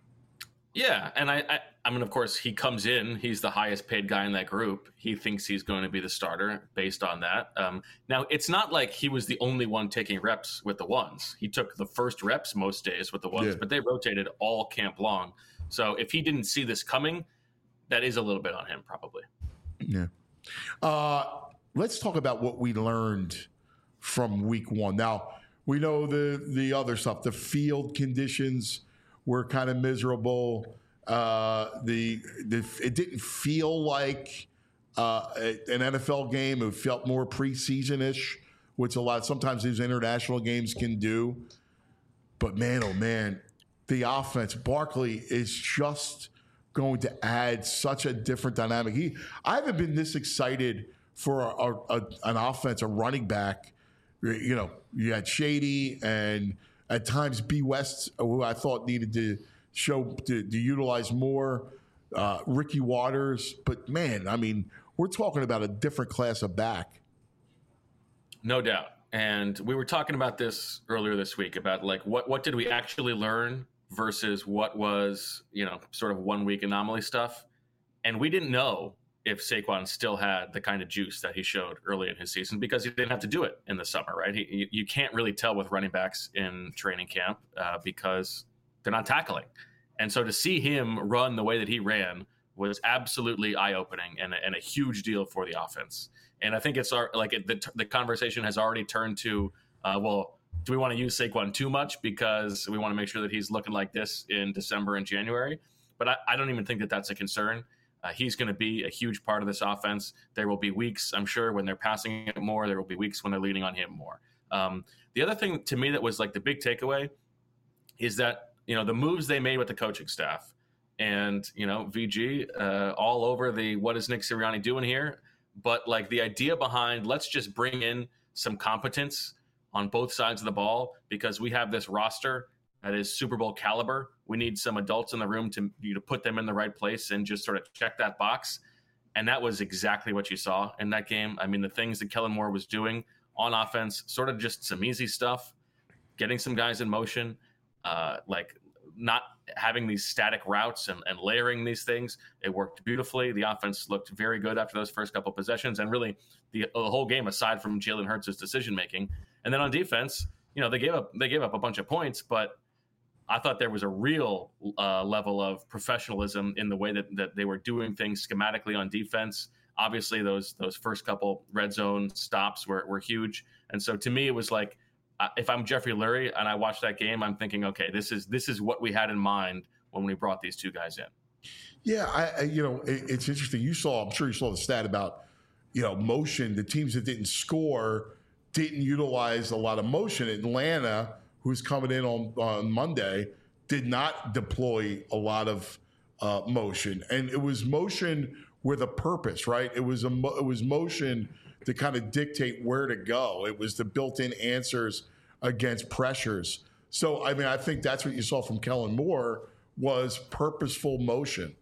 I: Yeah, and I, I, I mean, of course, he comes in. He's the highest paid guy in that group. He thinks he's going to be the starter based on that. Um, now, it's not like he was the only one taking reps with the ones. He took the first reps most days with the ones,
B: Yeah.
I: but they rotated all camp long. So if he didn't see this coming, that is a little bit on him, probably.
B: Yeah. Uh, let's talk about what we learned from week one. Now, we know the the other stuff. The field conditions were kind of miserable. Uh, the, the it didn't feel like uh, an N F L game. It felt more preseason-ish, which a lot sometimes these international games can do. But man, oh man, the offense, Barkley is just going to add such a different dynamic. He, I haven't been this excited for a, a, a, an offense, a running back. You know, you had Shady and at times B. West, who I thought needed to show to, to utilize more. Uh, Ricky Waters, but man, I mean, we're talking about a different class of back.
I: No doubt. And we were talking about this earlier this week about like what what did we actually learn versus what was, you know, sort of one week anomaly stuff. And we didn't know if Saquon still had the kind of juice that he showed early in his season because he didn't have to do it in the summer, right? He, you, you can't really tell with running backs in training camp uh, because they're not tackling. And so to see him run the way that he ran was absolutely eye-opening and, and a huge deal for the offense. And I think it's our, like it, the, the conversation has already turned to, uh, well, do we want to use Saquon too much because we want to make sure that he's looking like this in December and January? But I, I don't even think that that's a concern. Uh, he's going to be a huge part of this offense. There will be weeks, I'm sure, when they're passing it more. There will be weeks when they're leaning on him more. Um, the other thing to me that was like the big takeaway is that, you know, the moves they made with the coaching staff and, you know, V G uh, all over the what is Nick Sirianni doing here? But like the idea behind let's just bring in some competence on both sides of the ball because we have this roster that is Super Bowl caliber. We need some adults in the room to, you know, put them in the right place and just sort of check that box. And that was exactly what you saw in that game. I mean, the things that Kellen Moore was doing on offense, sort of just some easy stuff, getting some guys in motion, uh, like not having these static routes and, and layering these things. It worked beautifully. The offense looked very good after those first couple possessions, and really the, the whole game, aside from Jalen Hurts' decision making. And then on defense, you know, they gave up they gave up a bunch of points, but I thought there was a real uh, level of professionalism in the way that, that they were doing things schematically on defense. Obviously, those those first couple red zone stops were, were huge. And so to me, it was like, uh, if I'm Jeffrey Lurie and I watch that game, I'm thinking, okay, this is this is what we had in mind when we brought these two guys in.
B: Yeah, I, I you know, it, it's interesting. You saw, I'm sure you saw the stat about, you know, motion. The teams that didn't score didn't utilize a lot of motion. Atlanta, who's coming in on, on Monday, did not deploy a lot of uh, motion. And it was motion with a purpose, right? It was a mo- it was motion to kind of dictate where to go. It was the built-in answers against pressures. So, I mean, I think that's what you saw from Kellen Moore was purposeful motion.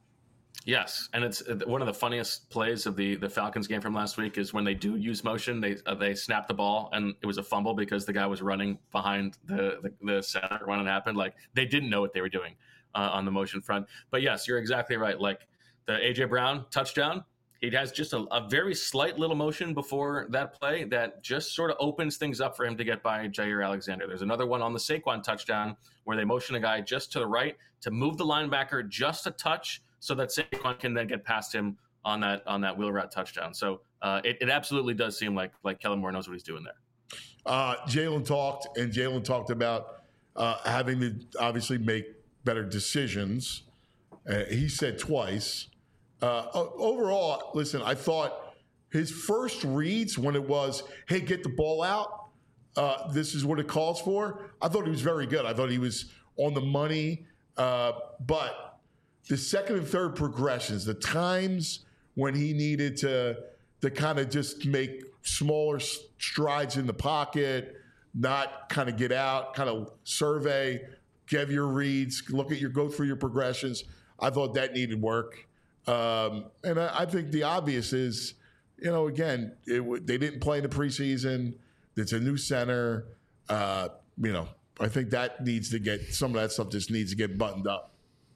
I: Yes, and it's one of the funniest plays of the, the Falcons game from last week is when they do use motion, they uh, they snap the ball, and it was a fumble because the guy was running behind the, the, the center when it happened. Like, they didn't know what they were doing uh, on the motion front. But yes, you're exactly right. Like, the A J Brown touchdown, he has just a, a very slight little motion before that play that just sort of opens things up for him to get by Jair Alexander. There's another one on the Saquon touchdown where they motion a guy just to the right to move the linebacker just a touch so that Saquon can then get past him on that on that wheel route touchdown. So uh, it, it absolutely does seem like like Kellen Moore knows what he's doing there.
B: Uh, Jalen talked, and Jalen talked about uh, having to obviously make better decisions. Uh, he said twice. Uh, overall, listen, I thought his first reads when it was, hey, get the ball out, uh, this is what it calls for, I thought he was very good. I thought he was on the money. Uh, but the second and third progressions, the times when he needed to, to kind of just make smaller strides in the pocket, not kind of get out, kind of survey, give your reads, look at your, go through your progressions, I thought that needed work. Um, and I, I think the obvious is, you know, again, it, they didn't play in the preseason. It's a new center. Uh, you know, I think that needs to get, some of that stuff just needs to get buttoned up.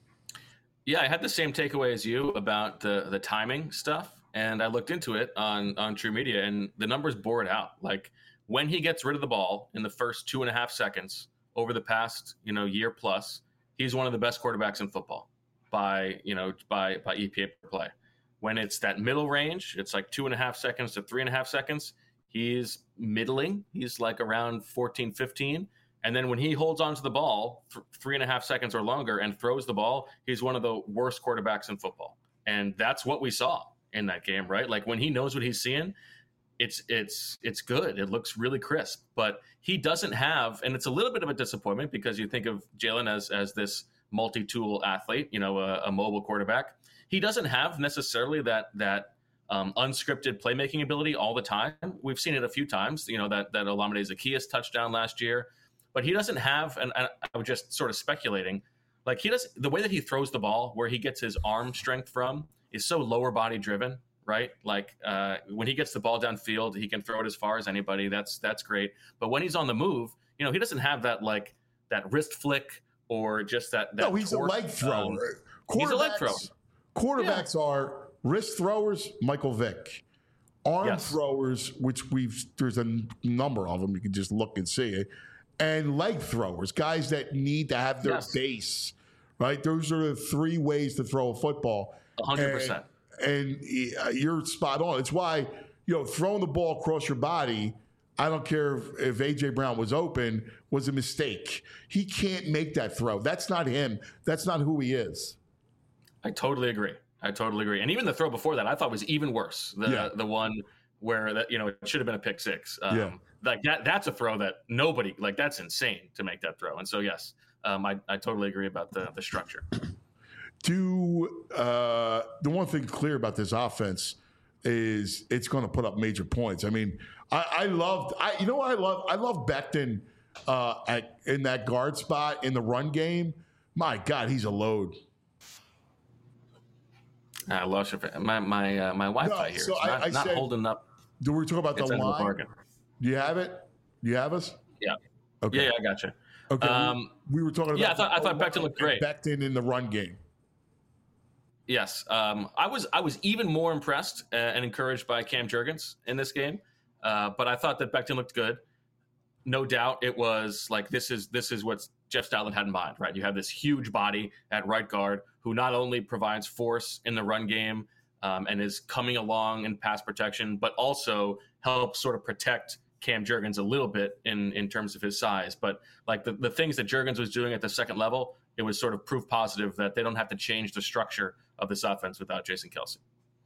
I: Yeah, I had the same takeaway as you about the the timing stuff. And I looked into it on, on True Media, and the numbers bore it out. Like, when he gets rid of the ball in the first two and a half seconds over the past, you know, year plus, he's one of the best quarterbacks in football. By you know by by E P A per play. When it's that middle range, it's like two and a half seconds to three and a half seconds. He's middling. He's like around fourteen, fifteen. And then when he holds onto the ball for three and a half seconds or longer and throws the ball, he's one of the worst quarterbacks in football. And that's what we saw in that game, right? Like, when he knows what he's seeing, it's it's it's good. It looks really crisp. But he doesn't have, and it's a little bit of a disappointment because you think of Jalen as as this multi-tool athlete, you know, a, a mobile quarterback. He doesn't have necessarily that that um, unscripted playmaking ability all the time. We've seen it a few times, you know, that that Olamide Zaccheaus touchdown last year, but he doesn't have, and I, I was just sort of speculating, like he does, the way that he throws the ball, where he gets his arm strength from, is so lower body driven, right? Like uh, when he gets the ball downfield, he can throw it as far as anybody. That's that's great. But when he's on the move, you know, he doesn't have that like that wrist flick. Or just that, that
B: no, he's torque. a leg thrower. Um,
I: he's a leg thrower.
B: Quarterbacks yeah. are wrist throwers, Michael Vick. Arm
I: yes.
B: throwers, which we've, there's a number of them. You can just look and see it. And leg throwers, guys that need to have their yes. base, right? Those are the three ways to throw a football.
I: A hundred percent.
B: And you're spot on. It's why, you know, throwing the ball across your body, I don't care if, if A J Brown was open, was a mistake. He can't make that throw. That's not him. That's not who he is.
I: I totally agree. I totally agree. And even the throw before that, I thought was even worse. The yeah. the one where that, you know, it should have been a pick six. Um, yeah. Like that, that's a throw that nobody, like that's insane to make that throw. And so, yes, um, I, I totally agree about the, the structure.
B: Do uh, the one thing clear about this offense is it's going to put up major points. I mean, I, I loved, I you know what I love? I love Becton uh, at, in that guard spot in the run game. My God, he's a load.
I: I lost your, my my uh, my Wi-Fi
B: no,
I: here.
B: So
I: it's
B: I,
I: not,
B: I
I: not
B: said,
I: holding up.
B: Do we talk about the line? Do you have it? Do you have us?
I: Yeah.
B: Okay.
I: Yeah, yeah I got you.
B: Okay.
I: Um,
B: we, we were talking about.
I: Yeah, I thought I thought Becton looked great.
B: Becton in the run game.
I: Yes, um, I was I was even more impressed uh, and encouraged by Cam Jurgens in this game, uh, but I thought that Becton looked good. No doubt, it was like this is this is what Jeff Stoutland had in mind, right? You have this huge body at right guard who not only provides force in the run game um, and is coming along in pass protection, but also helps sort of protect Cam Jurgens a little bit in in terms of his size. But like the, the things that Jurgens was doing at the second level, it was sort of proof positive that they don't have to change the structure of this offense without Jason Kelce.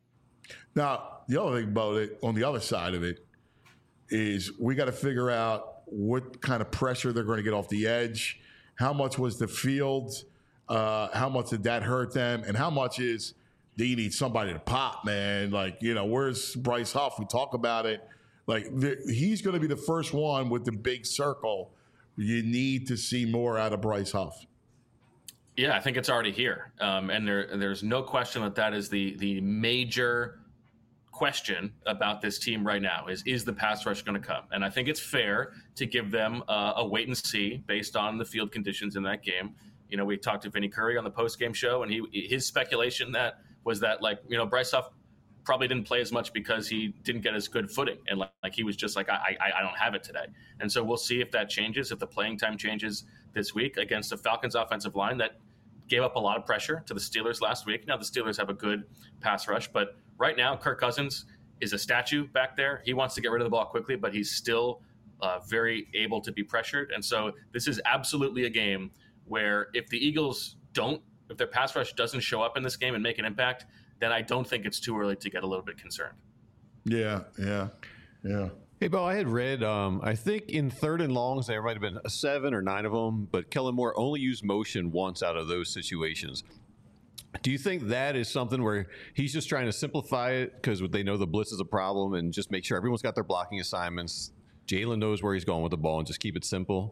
B: Now, the other thing about it, on the other side of it, is we got to figure out what kind of pressure they're going to get off the edge. How much was the field? Uh, how much did that hurt them? And how much is do you need somebody to pop, man? Like, you know, where's Bryce Huff? We talk about it. Like, the, he's going to be the first one with the big circle. You need to see more out of Bryce Huff.
I: Yeah, I think it's already here, um, and there, there's no question that that is the the major question about this team right now is is the pass rush going to come? And I think it's fair to give them uh, a wait and see based on the field conditions in that game. You know, we talked to Vinny Curry on the post game show, and he his speculation that was that like you know Bryce Huff probably didn't play as much because he didn't get as good footing, and like, like he was just like I, I I don't have it today. And so we'll see if that changes, if the playing time changes this week against the Falcons offensive line that gave up a lot of pressure to the Steelers last week. Now the Steelers have a good pass rush, but right now Kirk Cousins is a statue back there. He wants to get rid of the ball quickly, but he's still uh, very able to be pressured. And so this is absolutely a game where if the Eagles don't, if their pass rush doesn't show up in this game and make an impact, then I don't think it's too early to get a little bit concerned.
B: Yeah, yeah, yeah.
C: Hey, Bo, I had read, um, I think in third and longs, there might have been a seven or nine of them, but Kellen Moore only used motion once out of those situations. Do you think that is something where he's just trying to simplify it because they know the blitz is a problem and just make sure everyone's got their blocking assignments? Jalen knows where he's going with the ball and just keep it simple?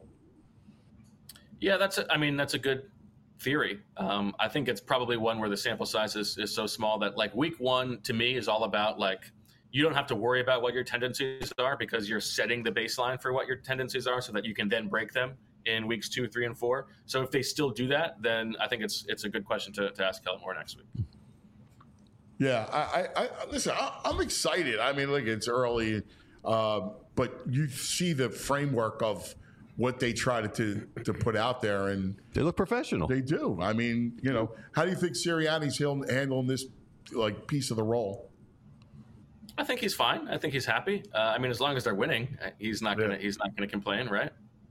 I: Yeah, that's a, I mean, that's a good theory. Um, I think it's probably one where the sample size is, is so small that like week one to me is all about like, you don't have to worry about what your tendencies are because you're setting the baseline for what your tendencies are so that you can then break them in weeks two, three, and four. So if they still do that, then I think it's it's a good question to, to ask Kellen Moore next week.
B: Yeah, I, I, I listen, I, I'm excited. I mean, look, it's early, uh, but you see the framework of what they try to, to to put out there, and
C: they look professional.
B: They do. I mean, you know, how do you think Sirianni's handling this like piece of the role?
I: I think he's fine. I think he's happy. Uh, I mean, as long as they're winning, he's not gonna yeah. he's not gonna complain, right?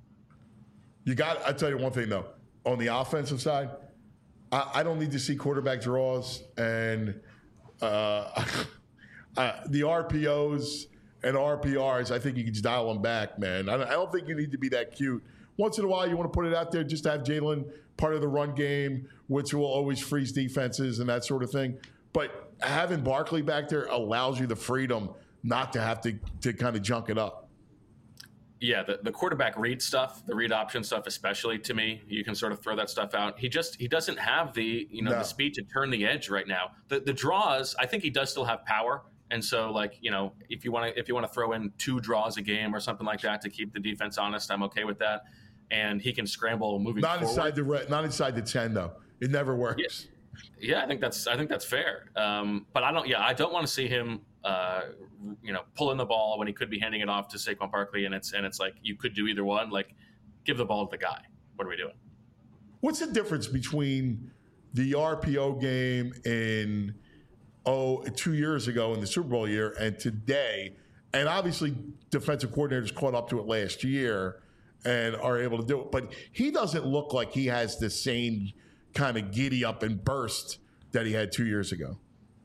B: You got. I tell you one thing though. On the offensive side, I, I don't need to see quarterback draws and uh, uh, the R P Os and R P Rs. I think you can just dial them back, man. I, I don't think you need to be that cute. Once in a while, you want to put it out there just to have Jalen part of the run game, which will always freeze defenses and that sort of thing. But having Barkley back there allows you the freedom not to have to, to kind of junk it up.
I: Yeah, the, the quarterback read stuff, the read option stuff, especially to me, you can sort of throw that stuff out. He just he doesn't have the you know no. the speed to turn the edge right now. The the draws, I think he does still have power, and so like you know if you want to if you want to throw in two draws a game or something like that to keep the defense honest, I'm okay with that. And he can scramble moving
B: not
I: forward.
B: inside the not inside the ten though. It never works.
I: Yeah. Yeah, I think that's I think that's fair. Um, but I don't. Yeah, I don't want to see him, uh, you know, pulling the ball when he could be handing it off to Saquon Barkley, and it's and it's like you could do either one. Like, give the ball to the guy. What are we doing?
B: What's the difference between the R P O game in oh two years ago in the Super Bowl year, and today, and obviously defensive coordinators caught up to it last year and are able to do it. But he doesn't look like he has the same kind of giddy up and burst that he had two years ago.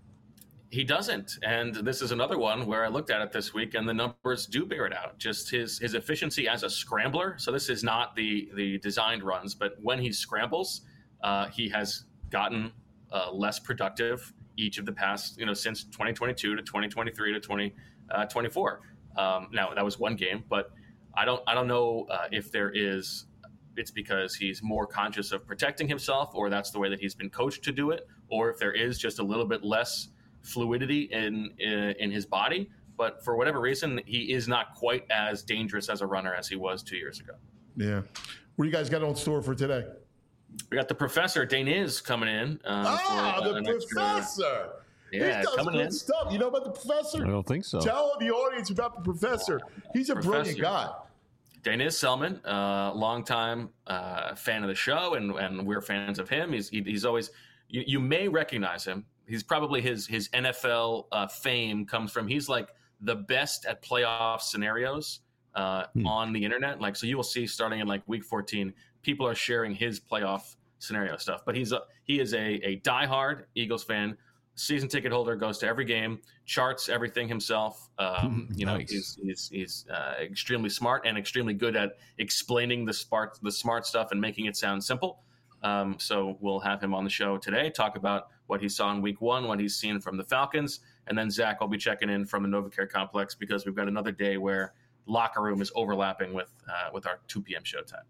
I: He doesn't. And this is another one where I looked at it this week and the numbers do bear it out. Just his his efficiency as a scrambler. So this is not the the designed runs, but when he scrambles, uh, he has gotten uh, less productive each of the past, you know, since twenty twenty-two to twenty twenty-three to twenty twenty-four. Um, now that was one game, but I don't I don't know uh, if there is it's because he's more conscious of protecting himself, or that's the way that he's been coached to do it, or if there is just a little bit less fluidity in, in in his body. But for whatever reason, he is not quite as dangerous as a runner as he was two years ago.
B: Yeah. What do you guys got on store for today?
I: We got the professor Daniz coming in. Um,
B: ah,
I: for, uh,
B: the
I: extra,
B: professor.
I: yeah,
B: he does
I: coming
B: good
I: in.
B: stuff. You know about the professor?
C: I don't think so.
B: Tell the audience about the professor. He's a
I: Professor.
B: brilliant guy.
I: Daniz Selman, uh, longtime uh, fan of the show, and, and we're fans of him. He's he, he's always you, you may recognize him. He's probably his his N F L uh, fame comes from he's like the best at playoff scenarios uh, hmm. on the internet. Like so, you will see starting in like week fourteen, people are sharing his playoff scenario stuff. But he's a, he is a a diehard Eagles fan, season ticket holder, goes to every game, charts everything himself. Um, you know,
C: Nice.
I: he's he's, he's uh, extremely smart and extremely good at explaining the smart the smart stuff and making it sound simple. Um, so we'll have him on the show today, talk about what he saw in week one, what he's seen from the Falcons. And then Zach will be checking in from the NovaCare complex because we've got another day where locker room is overlapping with uh, with our two p.m. showtime.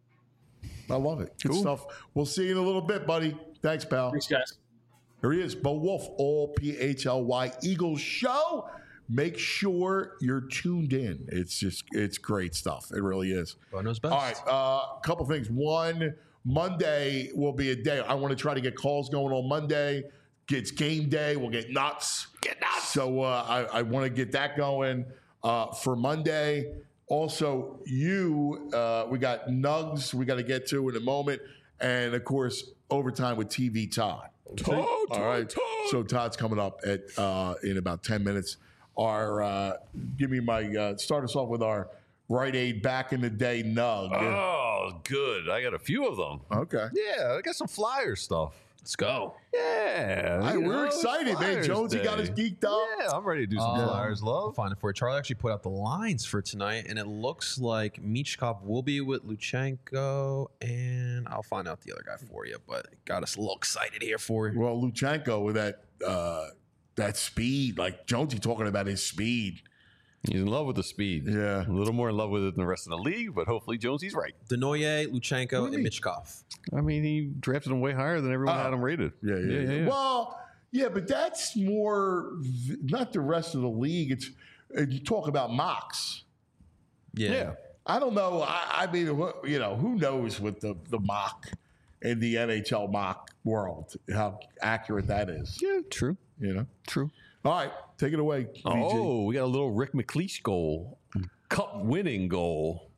B: I love it. Good
C: Cool.
B: stuff. We'll see you in a little bit, buddy. Thanks, pal.
I: Thanks, guys.
B: Here he is, Bo Wolf, all P H L Y Eagles show. Make sure you're tuned in. It's just, it's great stuff. It really is.
E: Bo knows best.
B: All right, a uh, couple things. One, Monday will be a day. I want to try to get calls going on Monday. It's game day. We'll get nuts. Get nuts. So uh, I, I want to get that going uh, for Monday. Also, you, uh, we got Nugs we got to get to in a moment. And, of course, overtime with T V Todd.
C: Todd,
B: All
C: Todd,
B: right.
C: Todd.
B: So Todd's coming up at uh, in about ten minutes. Our uh, give me my uh, start us off with our Rite Aid back in the day Nug.
C: Oh, good. I got a few of them.
B: Okay.
C: Yeah, I got some flyer stuff.
E: Let's go.
C: Yeah.
B: Hey,
C: you
B: we're
C: know,
B: excited, man.
C: Flyers
B: Jonesy got us
C: Day.
B: geeked up.
C: Yeah, I'm ready to do some
E: Um,
C: flyers,
E: I'll
C: love.
E: find it for you. Charlie actually put out the lines for tonight, and it looks like Michkov will be with Luchenko, and I'll find out the other guy for you. But it got us a little excited here for you.
B: Well, Luchenko with that uh, that speed, like Jonesy talking about his speed.
C: He's in love with the speed.
B: Yeah.
C: A little more in love with it than the rest of the league, but hopefully Jonesy's right.
E: Denoye, Luchenko, and
B: Really?
E: Michkov.
C: I mean, he drafted him way higher than everyone
B: Oh.
C: had him rated.
B: Yeah, yeah, yeah. Well, yeah, but that's more v- not the rest of the league. It's uh, you talk about mocks.
E: Yeah.
C: Yeah.
B: I don't know. I, I mean, wh- you know, who knows with the the mock in the N H L mock world how accurate that is.
C: Yeah, true.
B: You know.
C: True.
B: All right, take it away. V G.
C: Oh, we got a little Rick McLeish goal. Cup winning goal.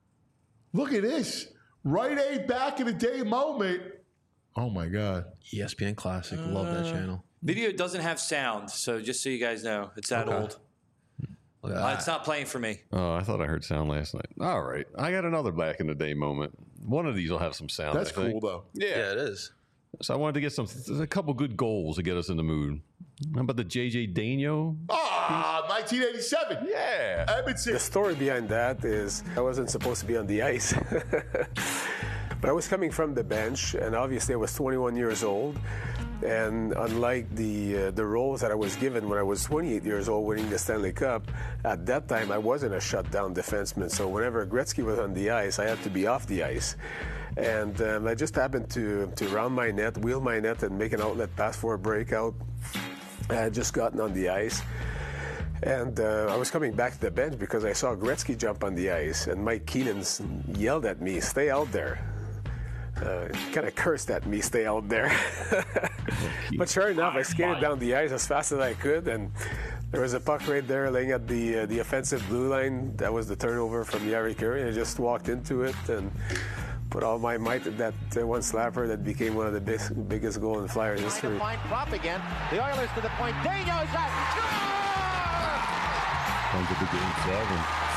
B: Look at this. Rite Aid back in the day moment. Oh my God.
E: E S P N Classic. Love that channel.
D: Video doesn't have sound, so just so you guys know, it's that
E: Okay.
D: old.
E: Look at
D: Uh,
E: that.
D: it's not playing for me.
C: Oh, I thought I heard sound last night. All right. I got another back in the day moment. One of these will have some sound.
B: That's
C: I think.
B: cool though.
C: Yeah.
E: Yeah, it is.
C: So I wanted to get some, a couple good goals to get us in the mood. How about the J J Daigneault?
B: Ah, nineteen eighty-seven.
C: Yeah.
B: Edmondson.
J: The story behind that is I wasn't supposed to be on the ice. But I was coming from the bench, and obviously I was twenty-one years old. And unlike the uh, the roles that I was given when I was twenty-eight years old winning the Stanley Cup, at that time I wasn't a shutdown defenseman. So whenever Gretzky was on the ice, I had to be off the ice. And um, I just happened to, to round my net, wheel my net, and make an outlet pass for a breakout. I had just gotten on the ice. And uh, I was coming back to the bench because I saw Gretzky jump on the ice, and Mike Keenan yelled at me, "Stay out there." Uh, kind of cursed at me, "Stay out there." But sure enough, I skated down the ice as fast as I could, and there was a puck right there laying at the uh, the offensive blue line. That was the turnover from Yari Curry, and I just walked into it and put all my might at that uh, one slapper that became one of the big, biggest goal in Flyers history.
K: Trying to find Propp again. The Oilers to the point. Daniel shot. Score!
C: Comes to the game seven.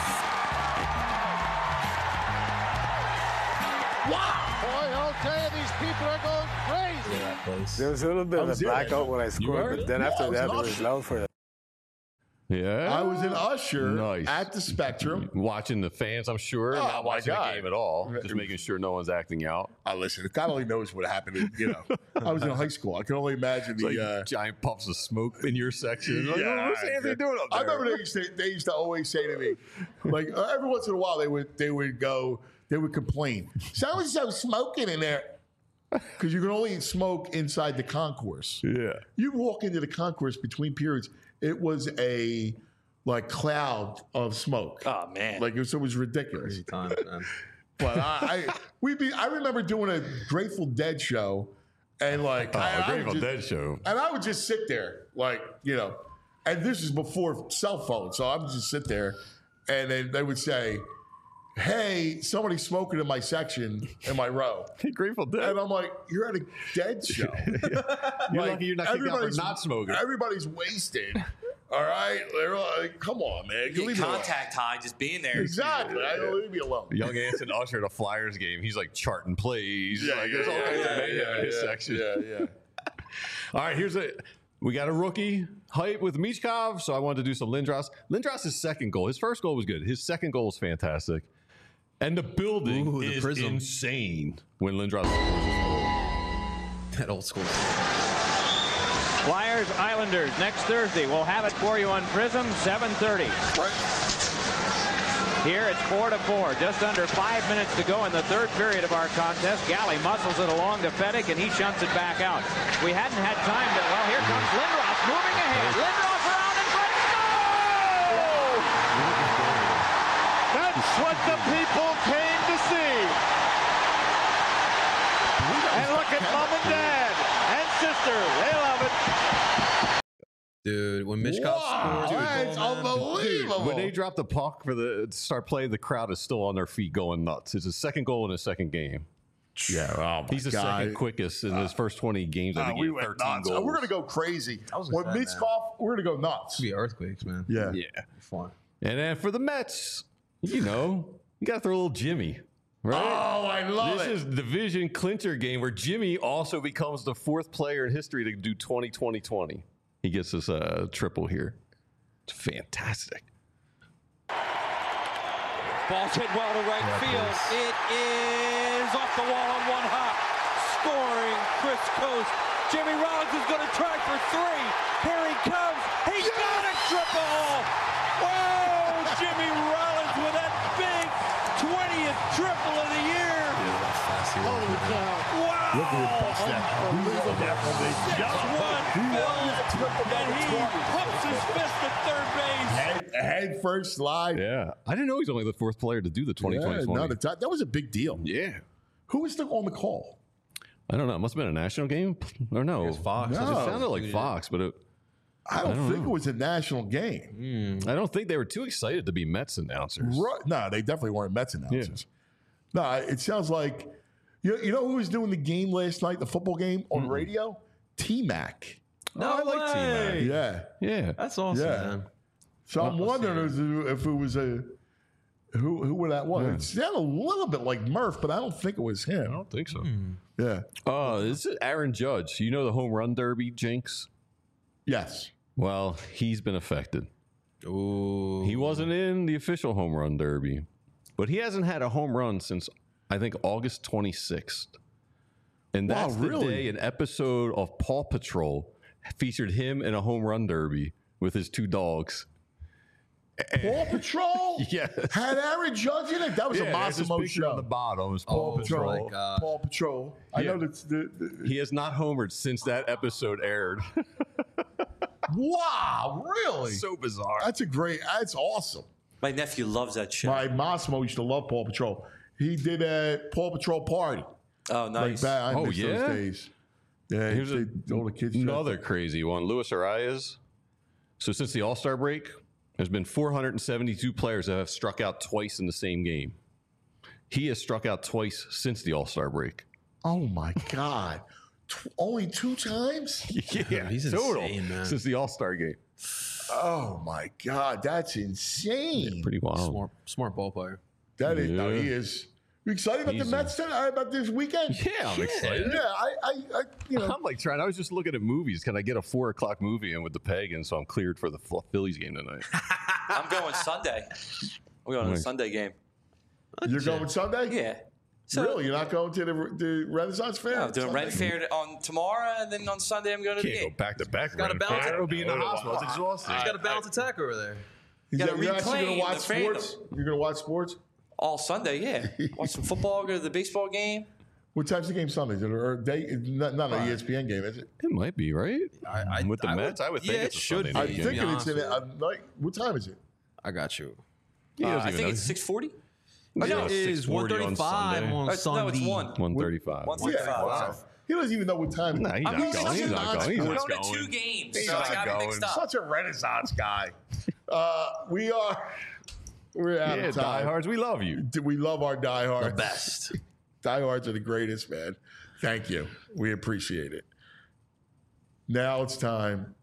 K: Wow! Boy, I'll tell you, these people are going crazy.
E: Place.
J: There was a little bit of a
B: there.
J: blackout when I scored, but then
B: Yeah,
J: after
B: I was
J: that,
B: an
J: it was
B: usher.
J: loud for that.
C: Yeah.
B: I was an usher
C: Nice.
B: at the Spectrum.
C: Watching the fans, I'm sure.
B: Oh,
C: not
B: my
C: watching
B: God.
C: the game at all. Just making sure no one's acting out.
B: I listen. God only knows what happened. You know, I was in high school. I can only imagine the.
C: Like
B: uh,
C: giant puffs of smoke in your section. Like,
B: Yeah,
C: what's Anthony doing up
B: I
C: there?
B: remember they used, to, they used to always say to me, like uh, every once in a while they would they would go they would complain. So and so smoking in there because you can only smoke inside the concourse.
C: Yeah.
B: You walk into the concourse between periods, it was a like cloud of smoke.
D: Oh man.
B: Like it was, it was ridiculous.
E: Crazy times, man.
B: But I, I we be I remember doing a Grateful Dead show, and like
C: Oh,
B: I, I would
C: Grateful
B: just-
C: Dead show.
B: and I would just sit there, like, you know, and this is before cell phones. So I would just sit there and then they would say, hey, somebody's smoking in my section, in my row.
C: Grateful Dead.
B: And I'm like, you're at a Dead show.
C: You're lucky you're not kicked out for
B: everybody's-
C: not smoking.
B: Everybody's wasted. All right? They're like, come on, man.
D: Get
B: Leave me alone.
D: contact high, just being there.
B: Exactly. I don't leave me alone.
C: Young Anson Usher at a Flyers game. He's like charting plays. like, there's all kinds of mayhem in his section.
B: Yeah, yeah.
C: All right, here's a. We got a rookie hype with Michkov, so I wanted to do some Lindros. Lindros' second goal. His first goal was good. His second goal was fantastic. And the building
E: Ooh, the
C: is
E: prism.
C: insane when Lindros scores his goal.
E: That old school.
K: Flyers, Islanders, next Thursday. We'll have it for you on Prism, seven thirty. Here it's four to four. Just under five minutes to go in the third period of our contest. Galley muscles it along to Fedek, and he shunts it back out. We hadn't had time to, well, here comes Lindros moving ahead. Lindros around and front. Goal! That's what the people came to see. And look at mom and dad and sister. They love it.
E: Dude, when Michkov
B: Wow,
E: scores,
B: that's unbelievable.
C: When they drop the puck for the to start play, the crowd is still on their feet going nuts. It's his second goal in his second game.
B: Yeah, oh my
C: He's the
B: God.
C: second quickest in his first twenty games. I
B: Uh,
C: think
B: we
C: he had
B: went
C: thirteen
B: nuts.
C: goals.
B: We're gonna go crazy.
E: was
B: When
E: bad, man.
B: Michkov, we're gonna go nuts.
E: be earthquakes, man.
B: Yeah.
C: Yeah.
E: Fun.
C: And then for the Mets, you know, you got to throw a little Jimmy, right?
B: Oh, I love
C: this
B: it.
C: is division clincher game where Jimmy also becomes the fourth player in history to do twenty twenty twenty. He gets us a triple here. It's fantastic.
L: Ball's hit well to right field. It is off the wall on one hop. Scoring Chris Coast. Jimmy Rollins is going to try for three. Here he comes. He's got a triple. Whoa! Jimmy Rollins with that big twentieth triple of the year.
K: Holy cow.
L: Wow!
B: Look at him bust that.
L: Just one fill, and he pumps his fist at third base.
B: Head, head first slide.
C: Yeah. I didn't know he's only the fourth player to do the twenty twenty.
B: Yeah, no, the t- that was a big deal.
C: Yeah.
B: Who was the, on the call?
C: I don't know. It must have been a national game. Or no.
E: It's Fox.
C: It
B: No.
C: sounded like Fox, but it,
B: I don't,
C: don't
B: think
C: know.
B: it was a national game.
C: I don't think they were too excited to be Mets announcers.
B: Right. No, they definitely weren't Mets announcers. No, it sounds like you, you know who was doing the game last night, the football game on radio? T-Mac.
E: No,
C: I like
E: way.
C: T-Mac.
B: Yeah.
C: Yeah.
E: That's awesome,
B: Yeah.
E: man.
B: So I'm wondering if, if it was a who who that was. It sounded a little bit like Murph, but I don't think it was
C: I
B: him.
C: don't think so.
B: Yeah.
C: Oh, this is Aaron Judge. You know the home run derby jinx?
B: Yes.
C: Well, he's been affected.
E: Ooh.
C: He wasn't in the official home run derby, but he hasn't had a home run since I think August twenty-sixth. And
B: Wow,
C: that's the
B: really?
C: day an episode of Paw Patrol featured him in a home run derby with his two dogs.
B: Paw Patrol
C: Yes.
B: had Aaron Judge in it. That was
C: Yeah,
B: a
C: there's this
B: Massimo
C: picture on
B: show.
C: the bottom. It's
B: Paw
C: Paw
B: Patrol.
C: Patrol.
E: my God.
B: Paw Patrol. I
C: Yeah.
B: know that's the, the
C: He has not homered since that episode aired.
B: wow, really?
C: So bizarre.
B: That's a great. That's awesome.
D: My nephew loves that show.
B: My Massimo used to love Paw Patrol. He did a Paw Patrol party.
D: oh,
B: Like
D: nice.
B: back, I
C: Oh,
B: miss
C: yeah?
B: those days. Yeah,
C: Here's
B: they,
C: a-
B: all the kids.
C: Another crazy one. Luis Arias. So since the All-Star break, there's been four hundred seventy-two players that have struck out twice in the same game. He has struck out twice since the All-Star break.
B: Oh my God! T- only two times?
C: Yeah,
E: he's
C: total
E: insane, man.
C: since the All-Star game.
B: Oh my God, that's insane!
C: Yeah, pretty wild.
E: Smart, smart ball player.
B: That is, no,
C: Yeah.
B: he is. You excited about
C: He's
B: the Mets tonight? About this weekend?
C: Yeah, I'm excited.
B: Yeah, I, I, I you know,
C: I'm like trying. I was just looking at movies. Can I get a four o'clock movie in with the Pagans so I'm cleared for the Phillies game tonight?
D: I'm going Sunday. We're going to the
C: Nice.
D: Sunday game.
B: you're going Sunday?
D: Yeah. So,
B: Really? You're not going to the, the Renaissance Fair?
D: No, I'm doing
B: Sunday?
D: Ren Fair on tomorrow, and then on Sunday I'm going to the
C: Can't go
D: game.
C: back to back.
E: Gotta
C: Ren
E: balance
C: Fair.
E: it.
C: It'll be in the hospital. It's exhausting.
E: He's got a balanced attack over there.
B: Is
D: Gotta
B: that- You're actually going
D: reclaim
B: to watch
D: the fandom.
B: sports? You're going to watch sports?
D: All Sunday, yeah. Watch some football, go to the baseball game.
B: What time's the game Sunday? Is it or day? Not, not an E S P N game, is it?
C: It might be right.
E: I, I,
C: With the
E: I
C: Mets, I would think
E: yeah,
C: it's
E: it
C: a
E: should
C: Sunday
E: be.
B: I'm
C: night
E: to be
B: thinking it's
E: honest
B: in.
E: with you.
B: I'm like, what time is it?
E: I got you.
C: He
D: Uh,
C: doesn't
D: I
C: even
D: think
C: know.
D: it's six forty.
C: No,
E: It is one thirty-five on
D: Uh,
E: Sunday.
D: no, it's one.
C: one thirty-five.
D: One
B: Yeah,
D: thirty-five.
B: wow. He doesn't even know what time.
C: Nah, he's
D: I'm
C: not
D: going
C: going.
D: to
C: He's not going. He's
D: I'm
C: not
D: going to two
C: going.
D: games,
B: He's
D: so I
B: not
D: got it
C: going.
D: mixed up.
B: Such a Renaissance guy. Uh, we are. We're out
C: Yeah,
B: of time.
C: diehards, we love you.
B: We love our diehards.
E: The best.
B: Diehards are the greatest, man. Thank you. We appreciate it. Now it's time.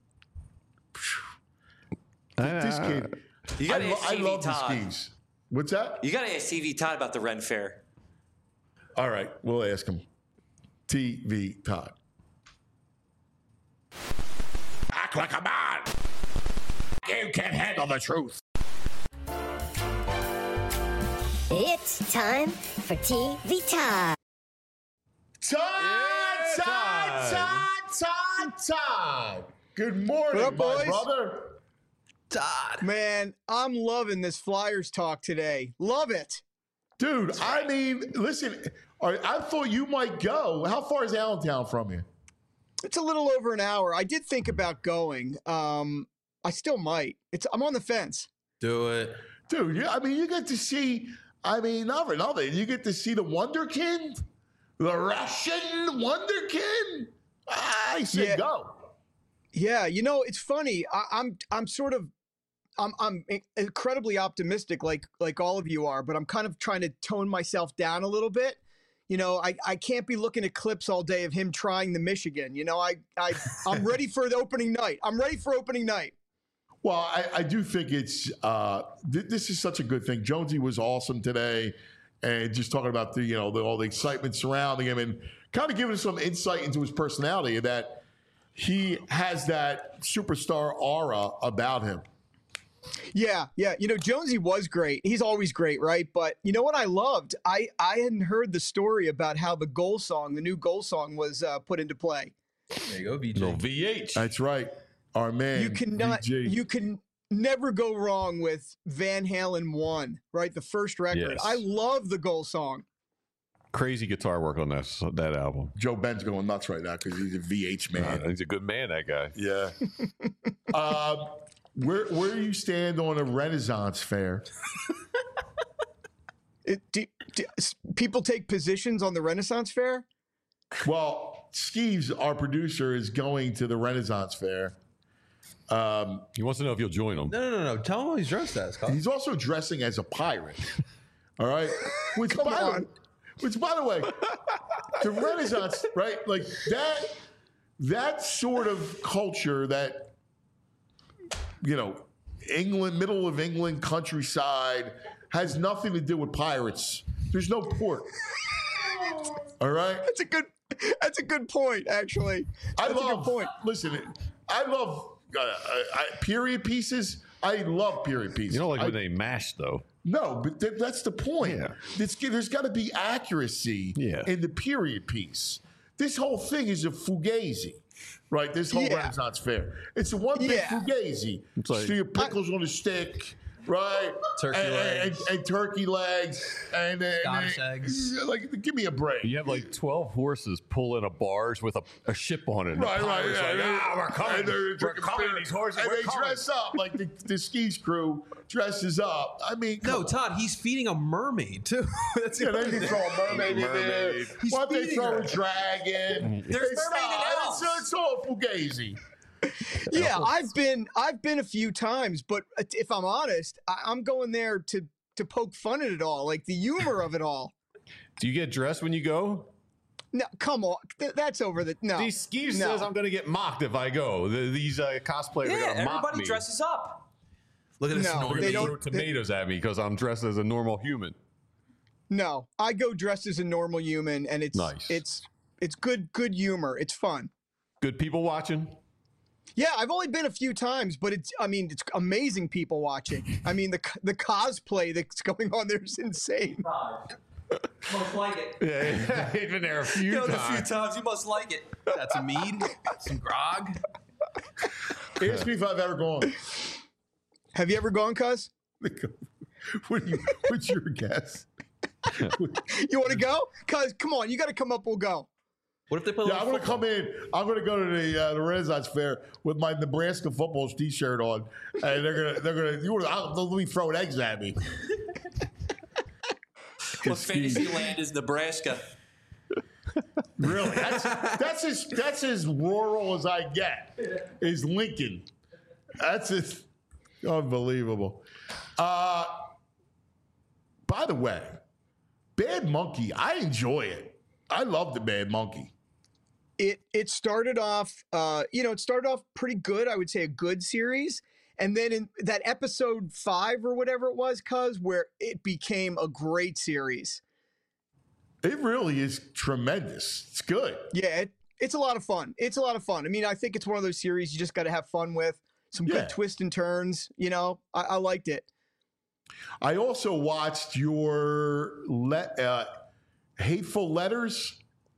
B: This kid.
D: You got
B: I,
D: to
B: lo-
D: ask
B: I
D: Stevie
B: love the
D: Todd.
B: skis. What's that?
D: You got to ask T V Todd about the Ren Fair.
B: All right, we'll ask him. T V Todd.
A: Act like a man. You can't handle the truth.
M: It's time for T V Todd.
B: Todd, Todd, Todd, Todd, Todd. Good morning,
N: What up,
B: my
N: boys?
B: brother.
E: Todd.
N: Man, I'm loving this Flyers talk today. Love it.
B: Dude, I mean, listen, all right, I thought you might go. How far is Allentown from you?
N: It's a little over an hour. I did think about going. Um, I still might. It's I'm on the fence.
E: Do it.
B: Dude, yeah, I mean, you get to see, I mean, not for nothing, you get to see the Wonderkind, the Russian Wonderkind. I say
N: Yeah.
B: go.
N: Yeah, you know, it's funny. I, I'm I'm sort of I'm I'm incredibly optimistic, like like all of you are, but I'm kind of trying to tone myself down a little bit. You know, I, I can't be looking at clips all day of him trying the Michigan. You know, I I I'm ready for the opening night. I'm ready for opening night.
B: Well, I, I do think it's uh, th- this is such a good thing. Jonesy was awesome today, and just talking about the you know the, all the excitement surrounding him, and kind of giving us some insight into his personality. That he has that superstar aura about him.
N: Yeah, yeah. You know, Jonesy was great. He's always great, right? But you know what I loved? I I hadn't heard the story about how the goal song, the new goal song, was uh, put into play.
E: There you go, V J.
C: No V H.
B: That's right, our man.
N: You cannot.
B: V G.
N: You can never go wrong with Van Halen one, right? The first record.
C: Yes.
N: I love the goal song.
C: Crazy guitar work on that that album.
B: Joe Ben's going nuts right now because he's a V H man.
C: Uh, he's a good man, that guy.
B: Yeah. um, where where do you stand on a Renaissance fair?
N: It, do, do, s- people take positions on the Renaissance Fair.
B: Well, Skeeves, our producer, is going to the Renaissance fair. Um,
C: He wants to know if you'll join him.
E: No, no, no, no. Tell him what he's dressed as. Kyle.
B: he's also dressing as a pirate. All right. Which,
N: Come
B: by the,
N: on.
B: which, by the way, the Renaissance, right? Like that, that sort of culture, that, you know, England, middle of England countryside, has nothing to do with pirates. There's no port. All right.
N: That's a good. That's a good point, actually.
B: I
N: That's a
B: love.
N: good point.
B: Listen, I love uh, I, period pieces. I love period pieces.
C: You don't like
B: I,
C: when they mash, though.
B: No, but th- that's the point.
C: Yeah.
B: It's, there's got to be accuracy
C: Yeah.
B: in the period piece. This whole thing is a fugazi, right? This whole
N: Yeah.
B: Renaissance fair. It's a one big
N: Yeah.
B: fugazi.
C: It's like-
B: so your pickles on a stick, right?
E: Turkey
B: and,
E: legs.
B: And, and turkey legs. And, and
E: Scottish
B: and-
E: eggs.
B: Like, give me a break.
C: You have like twelve horses pulling a barge with a, a ship on it. And
B: Right,
C: the
B: right,
C: pirate's
B: yeah,
C: like,
B: yeah.
C: ah, we're coming.
B: And they're
C: We're
B: drinking
C: coming,
B: beer.
C: these horses.
B: And
C: we're
B: they
C: coming.
B: dress up like the, the skis crew dresses up. I mean, come
E: No,
B: on.
E: Todd, he's feeding a mermaid too. That's the
B: Yeah,
E: other
B: they can
E: thing.
B: throw a mermaid in there.
C: Mermaid.
E: He's
B: What they
E: feeding
B: throw
E: her.
B: a dragon.
D: There's
B: It's
D: mermaid
B: not-
D: in
B: it's,
D: Elves.
B: it's all fugazi.
N: Yeah, I've been I've been a few times, but if I'm honest, I, I'm going there to to poke fun at it all, like the humor of it all.
C: Do you get dressed when you go?
N: No, come on, Th- that's over the no.
C: These Steve
N: no.
C: says I'm going to get mocked if I go. The, these uh, cosplayers
D: Yeah,
C: are going to mock
D: everybody
C: me.
D: dresses up.
E: Look at this.
N: No,
E: Normie.
N: they
C: Throw
N: don't-
C: tomatoes at me because I'm dressed as a normal human.
N: No, I go dressed as a normal human, and it's
C: Nice.
N: it's it's good good humor. It's fun.
C: Good people watching.
N: Yeah, I've only been a few times, but it's I mean it's amazing people watching. I mean the the cosplay that's going on there is insane.
D: Most like it.
C: Yeah, he's been there a few
D: You know, a few
C: times.
D: times. You must like it.
E: That's a mead, some grog.
B: Ask me if I've ever gone.
N: Have you ever gone, cuz?
B: What do you, what's your guess?
N: You want to go? Cuz come on, you got to come up. We'll go.
E: What if they play?
B: Yeah, I'm going to come in. I'm going to go to the uh, the Renaissance Fair with my Nebraska football T-shirt on, and they're gonna they're gonna you wanna, they'll be throwing eggs at me.
D: What fantasy land is Nebraska?
B: Really, that's that's as that's as rural as I get. Is Lincoln? That's just unbelievable. Uh, by the way, Bad Monkey, I enjoy it. I love the Bad Monkey.
N: It it started off, uh, you know, it started off pretty good. I would say a good series, and then in that episode five or whatever it was, cuz where it became a great series.
B: It really is tremendous. It's good.
N: Yeah, it, it's a lot of fun. It's a lot of fun. I mean, I think it's one of those series you just got to have fun with. Some
B: Yeah.
N: good twists and turns. You know, I, I liked it.
B: I also watched your le- uh, Hateful Letters.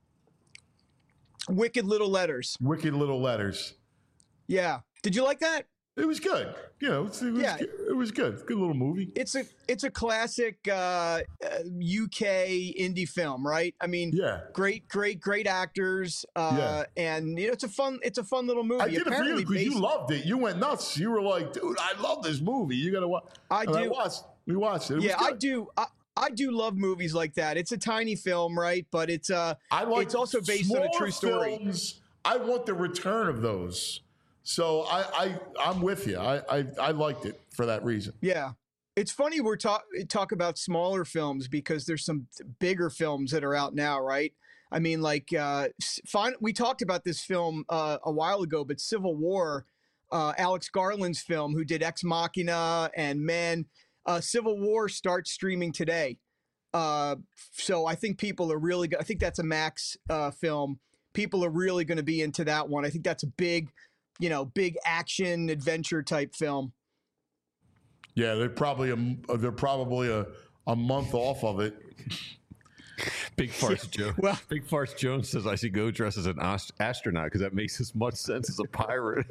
N: Wicked Little Letters.
B: Wicked Little Letters.
N: Yeah. Did you like that?
B: It was good. You know, it was,
N: Yeah.
B: it was good. Good little movie.
N: It's a it's a classic uh, uh, U K indie film, right? I mean,
B: Yeah.
N: great, great, great actors, uh,
B: Yeah.
N: and you know, it's a fun it's a fun little movie.
B: I did it for you
N: Apparently
B: because you
N: based-
B: loved it. You went nuts. You were like, dude, I love this movie. You got to watch.
N: I
B: And I
N: do.
B: watched. We watched it. It
N: yeah,
B: was
N: I
B: good.
N: do. I, I do love movies like that. It's a tiny film, right? But it's uh,
B: I like
N: it's also based on a
B: smaller
N: true story.
B: films. I want the return of those. So I, I I'm with you. I, I I liked it for that reason.
N: Yeah. It's funny we're talk talk about smaller films because there's some bigger films that are out now, right? I mean, like, uh, s- fin- we talked about this film uh, a while ago, but Civil War, uh, Alex Garland's film, who did Ex Machina and Man, uh, Civil War starts streaming today. Uh, so I think people are really, go- I think that's a Max uh, film. People are really going to be into that one. I think that's a big, you know, big action adventure type film.
B: Yeah, they're probably a they're probably a, a month off of it.
C: Big Farce Jones.
N: Well-
C: Big Farce Jones says I should go dress as an ast- astronaut because that makes as much sense as a pirate.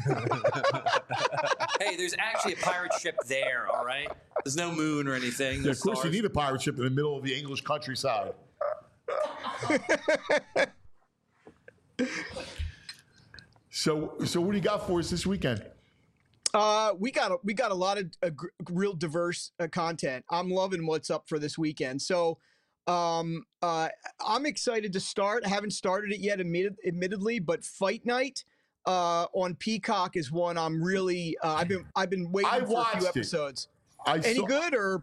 D: Hey, there's actually a pirate ship there, all right? There's no moon or anything.
B: Yeah,
D: There's
B: of course,
D: stars.
B: you need a pirate ship in the middle of the English countryside. so, so what do you got for us this weekend?
N: Uh, we got a, we got a lot of uh, gr- real diverse uh, content. I'm loving what's up for this weekend. So, um, uh, I'm excited to start. I haven't started it yet, admitted, admittedly, but Fight Night uh, on Peacock is one I'm really. Uh, I've been I've been waiting
B: I
N: for a
B: watched
N: few
B: it.
N: episodes.
B: I
N: Any
B: saw-
N: good or?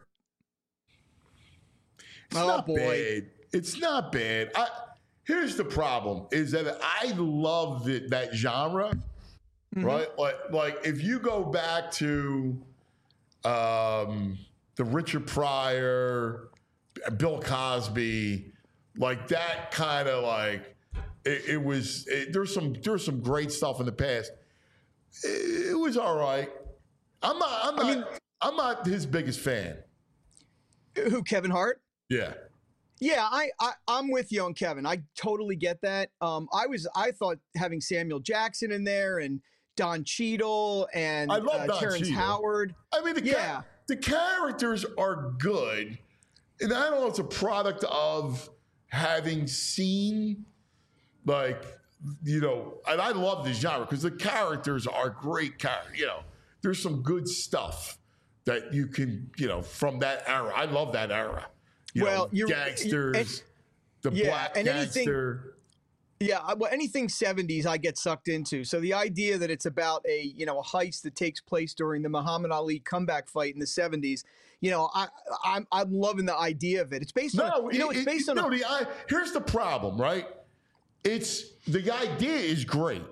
B: It's
N: Oh,
B: not
N: boy.
B: bad. It's not bad. I, here's the problem: is that I love the, that genre,
N: Mm-hmm.
B: right? Like, like if you go back to um, the Richard Pryor, Bill Cosby, like that kind of like it, it was. It, there's some there's some great stuff in the past. It, it was all right. I'm not. I'm not. I mean, I'm not his biggest fan.
N: Who, Kevin Hart?
B: Yeah.
N: Yeah, I, I I'm with you on Kevin. I totally get that. Um, I was I thought having Samuel Jackson in there and Don Cheadle and
B: I love
N: uh,
B: Don
N: Terrence
B: Cheadle.
N: Howard.
B: I mean, the,
N: Yeah.
B: cha- the characters are good. And I don't know, it's a product of having seen, like, you know, and I love this genre because the characters are great characters. You know, there's some good stuff that you can, you know, from that era. I love that era. You
N: Well,
B: know,
N: you're-
B: gangsters,
N: and-
B: the
N: yeah,
B: black
N: and anything-
B: gangster.
N: Yeah, well, anything seventies I get sucked into. So the idea that it's about a, you know, a heist that takes place during the Muhammad Ali comeback fight in the seventies, you know, I, I'm I'm loving the idea of it. It's based
B: no,
N: on, you know, it's based
B: it,
N: on.
B: No,
N: a,
B: the, I, here's the problem, right? It's the idea is great,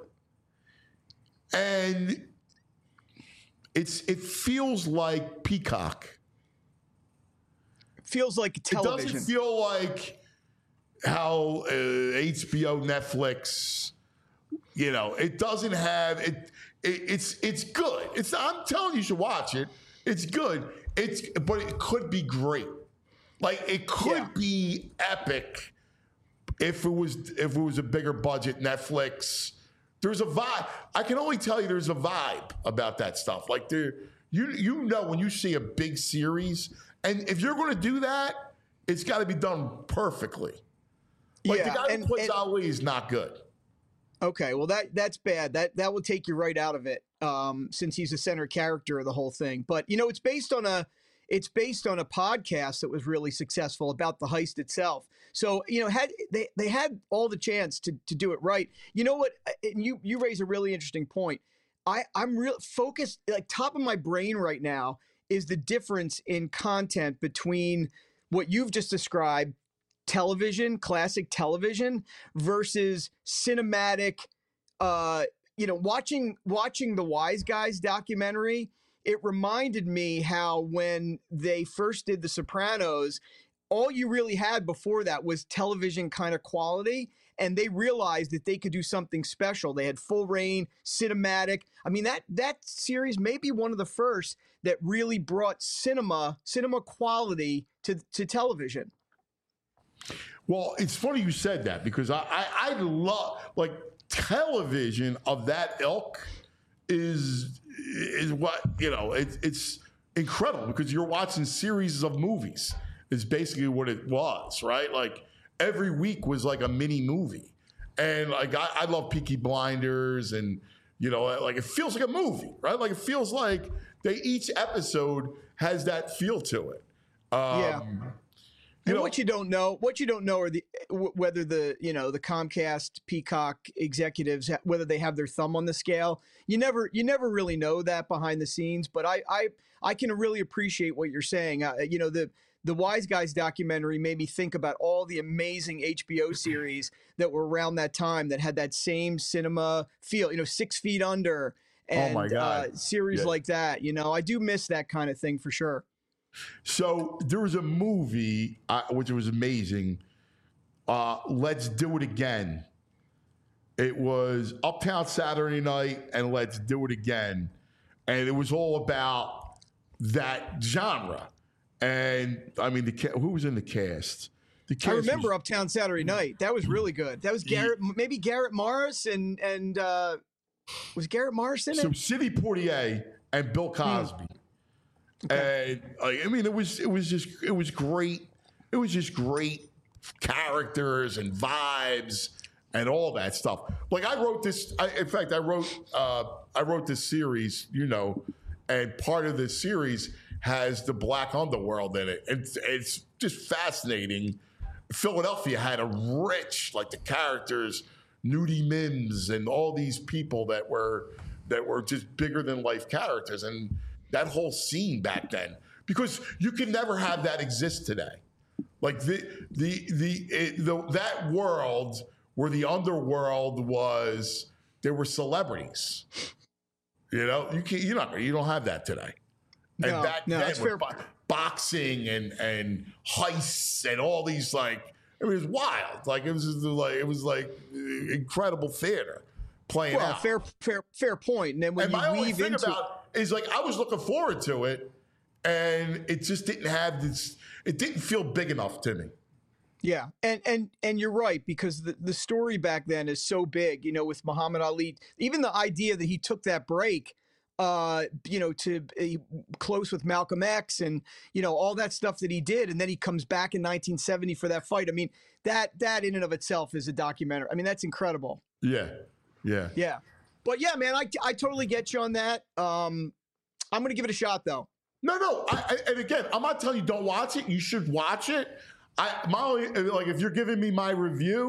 B: and it's it feels like Peacock.
N: Feels like television.
B: It doesn't feel like how uh, H B O, Netflix, you know, it doesn't have it, it. It's it's good. It's I'm telling you, you should watch it. It's good. It's but it could be great. Like it could yeah. be epic if it was if it was a bigger budget. Netflix. There's a vibe. I can only tell you there's a vibe about that stuff. Like there, you you know when you see a big series, and if you're going to do that, it's got to be done perfectly. Like
N: yeah,
B: the guy
N: and,
B: who puts
N: and,
B: Ali is not good.
N: Okay, well that that's bad. That that will take you right out of it, um, since he's the center character of the whole thing. But you know, it's based on a it's based on a podcast that was really successful about the heist itself. So you know, had they they had all the chance to to do it right. You know what? And you you raise a really interesting point. I I'm real focused. Like top of my brain right now is the difference in content between what you've just described. Television, classic television versus cinematic, uh, you know, watching watching the Wise Guys documentary, it reminded me how when they first did The Sopranos, all you really had before that was television kind of quality, and they realized that they could do something special. They had full reign, cinematic. I mean, that that series may be one of the first that really brought cinema, cinema quality to, to television.
B: Well, it's funny you said that because I, I, I love like television of that ilk is is what you know. It, it's incredible because you're watching series of movies. Is basically what it was, right? Like every week was like a mini movie, and like I, I love Peaky Blinders, and you know, like it feels like a movie, right? Like it feels like they each episode has that feel to it. Um,
N: yeah.
B: You
N: and
B: know,
N: what you don't know, what you don't know are the whether the you know the Comcast, Peacock executives whether they have their thumb on the scale. You never you never really know that behind the scenes. But I I, I can really appreciate what you're saying. Uh, you know the the Wise Guys documentary made me think about all the amazing H B O series that were around that time that had that same cinema feel. You know, Six Feet Under and
B: oh my God.
N: Uh, series
B: yeah.
N: like that. You know, I do miss that kind of thing for sure.
B: So there was a movie uh, which was amazing. Uh, Let's Do It Again. It was Uptown Saturday Night and Let's Do It Again, and it was all about that genre. And I mean, the ca- who was in the cast? The cast
N: I remember
B: was,
N: Uptown Saturday Night. That was really good. That was Garrett, maybe Garrett Morris, and and uh, was Garrett Morris in it?
B: So Sidney Poitier and Bill Cosby. Hmm. Okay. And like, I mean, it was it was just it was great. It was just great characters and vibes and all that stuff. Like I wrote this. I, in fact, I wrote uh, I wrote this series. You know, and part of this series has the Black Underworld in it. It's it's just fascinating. Philadelphia had a rich like the characters, Nudie Mims, and all these people that were that were just bigger than life characters and. That whole scene back then, because you can never have that exist today. Like the the the, it, the that world where the underworld was, there were celebrities. You know, you can't. You know, you don't have that today. And
N: no,
B: back
N: no,
B: then,
N: that's
B: with
N: fair.
B: bo- boxing and and heists and all these like, I mean, it was wild. Like it was just like it was like incredible theater playing
N: well,
B: out.
N: fair, fair, fair point. And then when
B: and
N: you
B: my only
N: weave
B: thing
N: into
B: about is like I was looking forward to it, and it just didn't have this. It didn't feel big enough to me.
N: Yeah, and and and you're right because the, the story back then is so big. You know, with Muhammad Ali, even the idea that he took that break, uh, you know, to uh, close with Malcolm X, and you know all that stuff that he did, and then he comes back in nineteen seventy for that fight. I mean, that that in and of itself is a documentary. I mean, that's incredible.
B: Yeah, yeah,
N: yeah. But yeah, man, I, I totally get you on that. Um, I'm going to give it a shot, though.
B: No, no. I, I, and again, I'm not telling you don't watch it. You should watch it. I my only, like if you're giving me my review,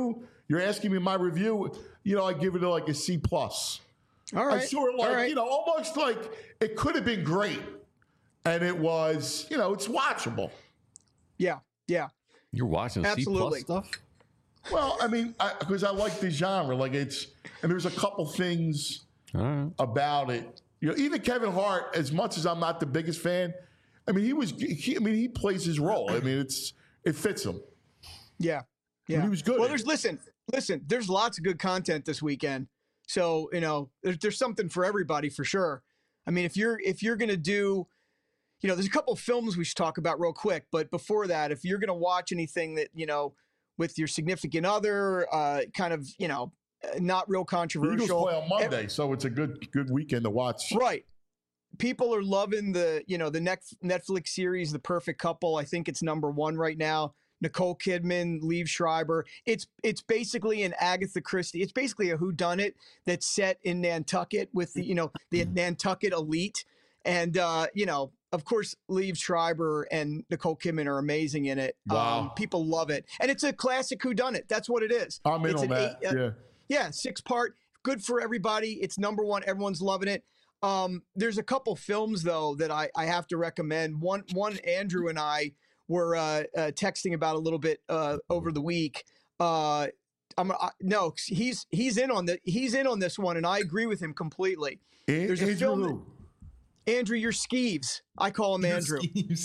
B: you're asking me my review, you know, I give it like a C plus.
N: All right.
B: I sort of like,
N: right.
B: you know, almost like it could have been great. And it was, you know, it's watchable.
N: Yeah, yeah.
C: You're watching
N: Absolutely.
C: C plus stuff?
B: Well, I mean, because I, I like the genre. Like it's, and there's a couple things
C: right.
B: about it. You know, even Kevin Hart, as much as I'm not the biggest fan, I mean, he was, he, I mean, he plays his role. I mean, it's, it fits him.
N: Yeah. Yeah.
B: And he was good.
N: Well, there's, listen, listen, there's lots of good content this weekend. So, you know, there's, there's something for everybody for sure. I mean, if you're, if you're going to do, you know, there's a couple of films we should talk about real quick. But before that, if you're going to watch anything that, you know, with your significant other, uh, kind of, you know, not real controversial.
B: The Eagles play on Monday, so it's a good good weekend to watch.
N: Right. People are loving the, you know, the next Netflix series, The Perfect Couple. I think it's number one right now. Nicole Kidman, Liev Schreiber. It's it's basically an Agatha Christie. It's basically a whodunit that's set in Nantucket with the, you know, the Nantucket elite. And, uh, you know, of course, Liev Schreiber and Nicole Kidman are amazing in it.
B: Wow.
N: Um, people love it. And it's a classic whodunit. That's what it is.
B: I'm in
N: it's
B: on that,
N: eight, uh,
B: yeah.
N: Yeah, six part. Good for everybody. It's number one. Everyone's loving it. Um, there's a couple films, though, that I, I have to recommend. One, one Andrew and I were uh, uh, texting about a little bit uh, over the week. Uh, I'm I, no, he's he's in on the he's in on this one, and I agree with him completely.
B: A-
N: There's a
B: Andrew
N: film.
B: who?
N: Andrew, you're Skeeves. I call him Andrew.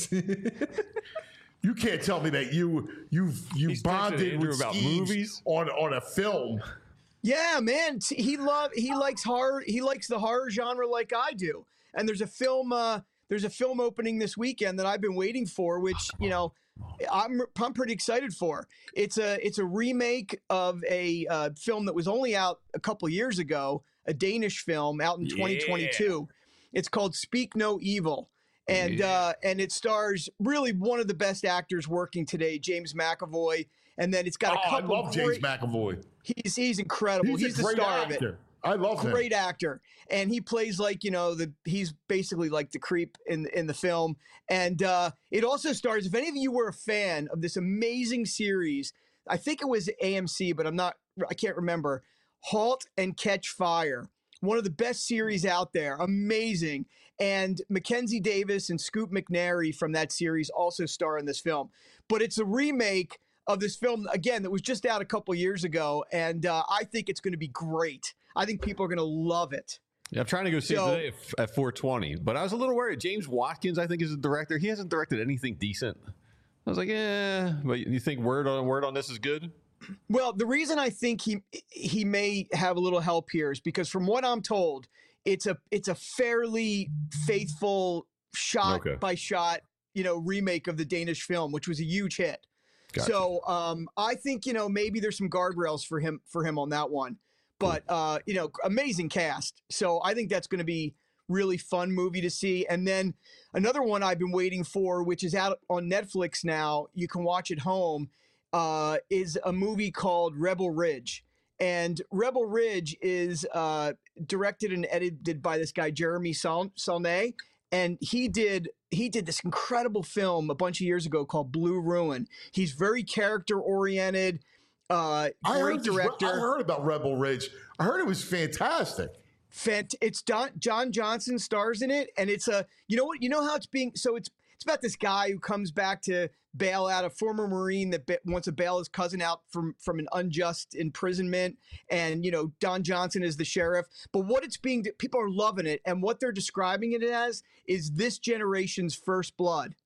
B: You can't tell me that you you you
C: He's texting
B: bonded
C: Andrew
B: with
C: about
B: Skeeves
C: movies?
B: on on a film.
N: Yeah, man. See, He love he likes horror. He likes the horror genre like I do. And there's a film. Uh, there's a film opening this weekend that I've been waiting for, which you know, I'm I'm pretty excited for. It's a it's a remake of a uh, film that was only out a couple years ago, a Danish film out in twenty twenty-two. It's called Speak No Evil. And
C: Yeah.
N: uh, and it stars really one of the best actors working today, James McAvoy. And then it's got
B: Oh,
N: a
B: I
N: couple
B: love James
N: great,
B: McAvoy.
N: He's he's incredible.
B: He's,
N: He's,
B: a
N: the
B: great
N: star
B: actor.
N: of it.
B: I love him.
N: Great actor, and he plays like you know the he's basically like the creep in in the film. And uh, it also stars. If any of you were a fan of this amazing series, I think it was A M C, but I'm not. I can't remember. Halt and Catch Fire, one of the best series out there. Amazing. And Mackenzie Davis and Scoop McNairy from that series also star in this film. But it's a remake of this film, again, that was just out a couple years ago. And uh, I think it's going to be great. I think people are going to love it.
C: Yeah, I'm trying to go see
N: So-
C: it today at, at four twenty, but I was a little worried. James Watkins, I think, is the director. He hasn't directed anything decent. I was like, yeah, but you think word on word on this is good?
N: Well, the reason I think he he may have a little help here is because from what I'm told, it's a it's a fairly faithful shot
C: Okay.
N: by shot, you know, remake of the Danish film, which was a huge hit.
C: Gotcha.
N: So um, I think you know maybe there's some guardrails for him for him on that one. But uh, you know, amazing cast. So I think that's going to be really fun movie to see. And then another one I've been waiting for, which is out on Netflix now. You can watch at home. Uh, is a movie called Rebel Ridge. And Rebel Ridge is uh, directed and edited by this guy Jeremy Saul- Saulnier, and he did he did this incredible film a bunch of years ago called Blue Ruin. He's very character oriented, uh,
B: I
N: great
B: heard this-
N: director.
B: I heard about Rebel Ridge. I heard it was fantastic.
N: Fant- it's Don- John Johnson stars in it, and it's a you know what you know how it's being so it's it's about this guy who comes back to bail out a former Marine that ba- wants to bail his cousin out from from an unjust imprisonment, and you know Don Johnson is the sheriff. But what it's being people are loving it, and what they're describing it as is this generation's First Blood.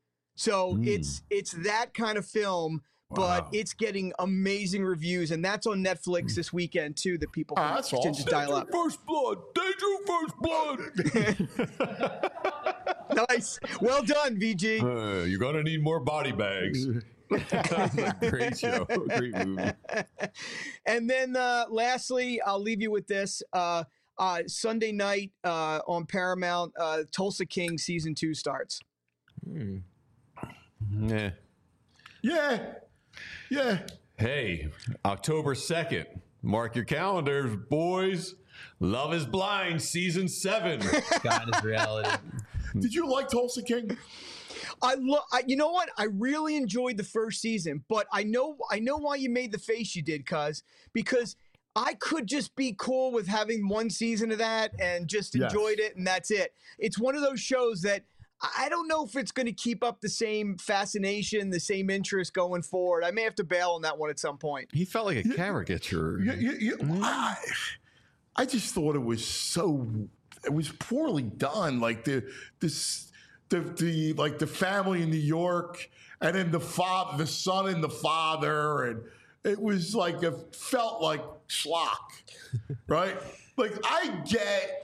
N: So
B: Hmm.
N: it's it's that kind of film. But
B: Wow.
N: it's getting amazing reviews, and that's on Netflix this weekend too. That people
B: Ah,
N: can,
B: that's
N: can
B: awesome.
N: just dial up.
C: First blood. Danger first blood.
N: Nice. Well done, V G.
C: Uh, you're going to need more body bags. Great show. Great movie.
N: And then uh, lastly, I'll leave you with this. Uh, uh, Sunday night uh, on Paramount, uh, Tulsa King season two starts.
C: Yeah.
B: Yeah. Yeah.
C: Hey, October second. Mark your calendars, boys. Love is Blind, season seven.
E: God is reality.
B: Did you like Tulsa King?
N: I look. You know what? I really enjoyed the first season, but I know I know why you made the face you did, cuz because I could just be cool with having one season of that and just
B: Yes.
N: enjoyed it, and that's it. It's one of those shows that I don't know if it's going to keep up the same fascination, the same interest going forward. I may have to bail on that one at some point.
C: He felt like a caricature.
B: You, you, you, I, I just thought it was so, it was poorly done. Like the, this, the, the, like the family in New York, and then the father, the son and the father, and it was like it felt like schlock, right? Like I get.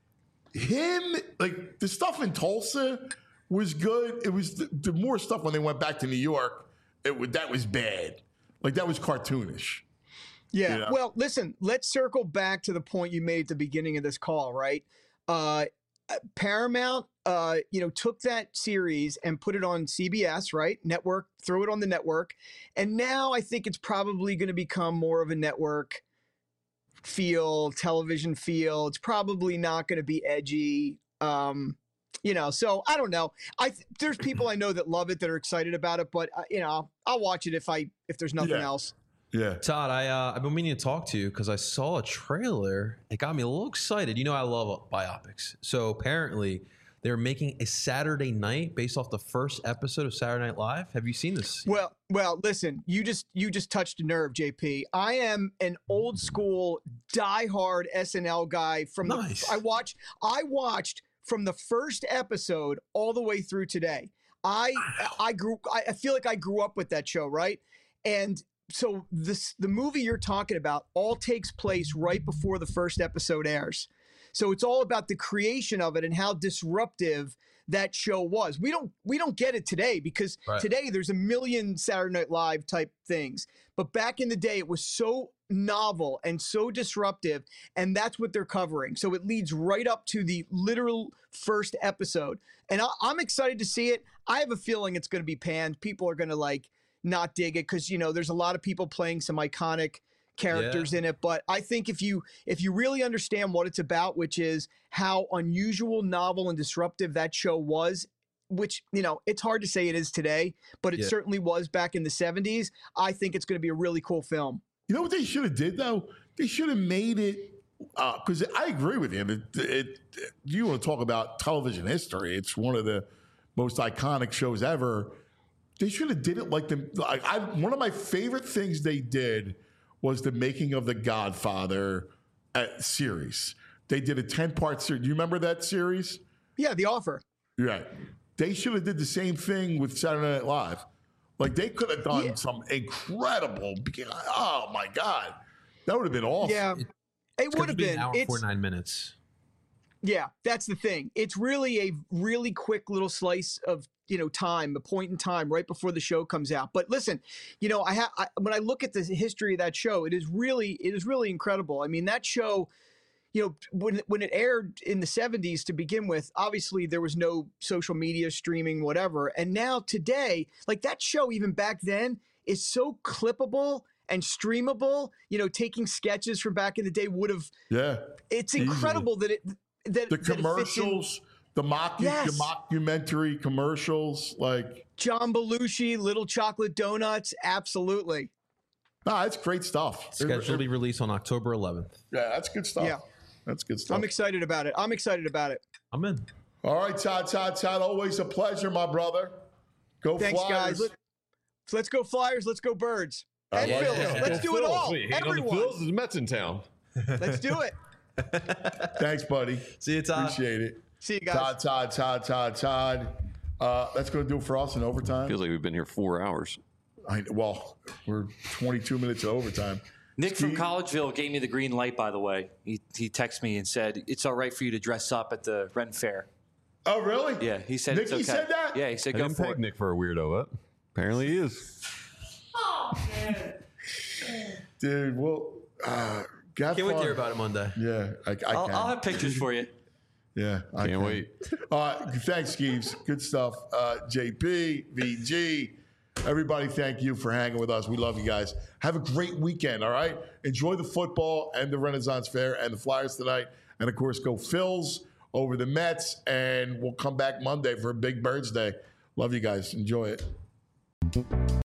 B: Him, like the stuff in Tulsa was good. It was the, the more stuff when they went back to New York, it would, that was bad. Like that was cartoonish.
N: Yeah.
B: You know?
N: Well, listen, let's circle back to the point you made at the beginning of this call, right? Uh, Paramount, uh, you know, took that series and put it on C B S, right? Network, throw it on the network. And now I think it's probably going to become more of a network feel, television feel. It's probably not going to be edgy. Um, you know, so I don't know. I th- there's people I know that love it, that are excited about it, but uh, you know, I'll watch it if I if there's nothing
B: Yeah.
N: else.
B: Yeah.
E: Todd, I uh, I've been meaning to talk to you because I saw a trailer. It got me a little excited. You know, I love biopics. So apparently, they're making a Saturday Night based off the first episode of Saturday Night Live. Have you seen this?
N: Well, well, listen, you just you just touched a nerve, J P. I am an old school, diehard S N L guy. From
E: Nice.
N: the I watched I watched from the first episode all the way through today. I I grew I I feel like I grew up with that show, right? And so this the movie you're talking about all takes place right before the first episode airs. So it's all about the creation of it and how disruptive that show was. We don't we don't get it today because
E: Right.
N: today there's a million Saturday Night Live type things. But back in the day, it was so novel and so disruptive, and that's what they're covering. So it leads right up to the literal first episode. And I, I'm excited to see it. I have a feeling it's going to be panned. People are going to like not dig it because, you know, there's a lot of people playing some iconic characters
E: Yeah.
N: in it, but I think if you if you really understand what it's about, which is how unusual, novel, and disruptive that show was, which, you know, it's hard to say it is today, but it
E: Yeah.
N: certainly was back in the seventies. I think it's going to be a really cool film.
B: You know what they should have did though? They should have made it because I agree with you. It, it, you want to talk about television history? It's one of the most iconic shows ever. They should have did it like the like I. One of my favorite things they did was the making of the Godfather uh, series. They did a ten-part series. Do you remember that series?
N: Yeah, The Offer.
B: Right. They should have did the same thing with Saturday Night Live. Like they could have done
N: Yeah.
B: some incredible. Oh my God, that would have been awesome.
N: Yeah, it
E: It's
N: would
E: going to
N: have
E: be
N: been.
E: an hour
N: It's,
E: forty-nine minutes.
N: Yeah, that's the thing. It's really a really quick little slice of, you know, time, a point in time right before the show comes out. But listen, you know, I have when I look at the history of that show, it is really it is really incredible. I mean, that show, you know, when when it aired in the seventies to begin with, obviously there was no social media, streaming, whatever. And now today, like that show even back then is so clippable and streamable. You know, taking sketches from back in the day would have
B: Yeah.
N: it's
B: Easily.
N: incredible that it that
B: The
N: that it fits in.
B: commercials, the mock,
N: Yes.
B: the mockumentary commercials, like
N: John Belushi, Little Chocolate Donuts, absolutely.
B: nah, it's great stuff.
E: Scheduled to be released on October eleventh.
B: Yeah, that's good stuff.
N: Yeah.
B: That's good stuff.
N: I'm excited about it. I'm excited about it.
E: I'm in.
B: All right, Todd, Todd, Todd. Always a pleasure, my brother. Go
N: Thanks,
B: Flyers.
N: guys. Let, so let's go Flyers. Let's go Birds.
B: I
N: And
B: like
N: Phillies.
B: that.
N: Let's do it all.
C: Wait, hate on the
N: Everyone.
C: Phils? There's Mets in town.
N: Let's do it.
B: Thanks, buddy.
E: See you, Todd.
B: Appreciate it.
N: See you guys.
B: Todd, Todd, Todd, Todd, Todd. Uh, that's going to do it for us in overtime.
C: Feels like we've been here four hours.
B: I, well, we're twenty-two minutes of overtime.
D: Nick from
B: Steve?
D: Collegeville gave me the green light, by the way. He, he texted me and said, it's all right for you to dress up at the Ren Fair.
B: Oh, really?
D: Yeah, he said
B: Nicky
D: it's okay.
B: said that?
D: Yeah, he said
C: I
D: go
C: didn't
D: for
C: peg
D: it.
C: Nick for a weirdo, but apparently he is.
B: Dude, well, uh, got
E: Can't wait to
B: fun.
E: hear about it Monday.
B: Yeah, I, I
D: I'll,
B: can.
D: I'll have pictures for you.
B: Yeah, I
C: Can't
B: can.
C: wait.
B: Uh, thanks, Skeeves. Good stuff. Uh, J P, V G, everybody, thank you for hanging with us. We love you guys. Have a great weekend, all right? Enjoy the football and the Renaissance Fair and the Flyers tonight. And, of course, go Phils over the Mets. And we'll come back Monday for a Big Birds Day. Love you guys. Enjoy it.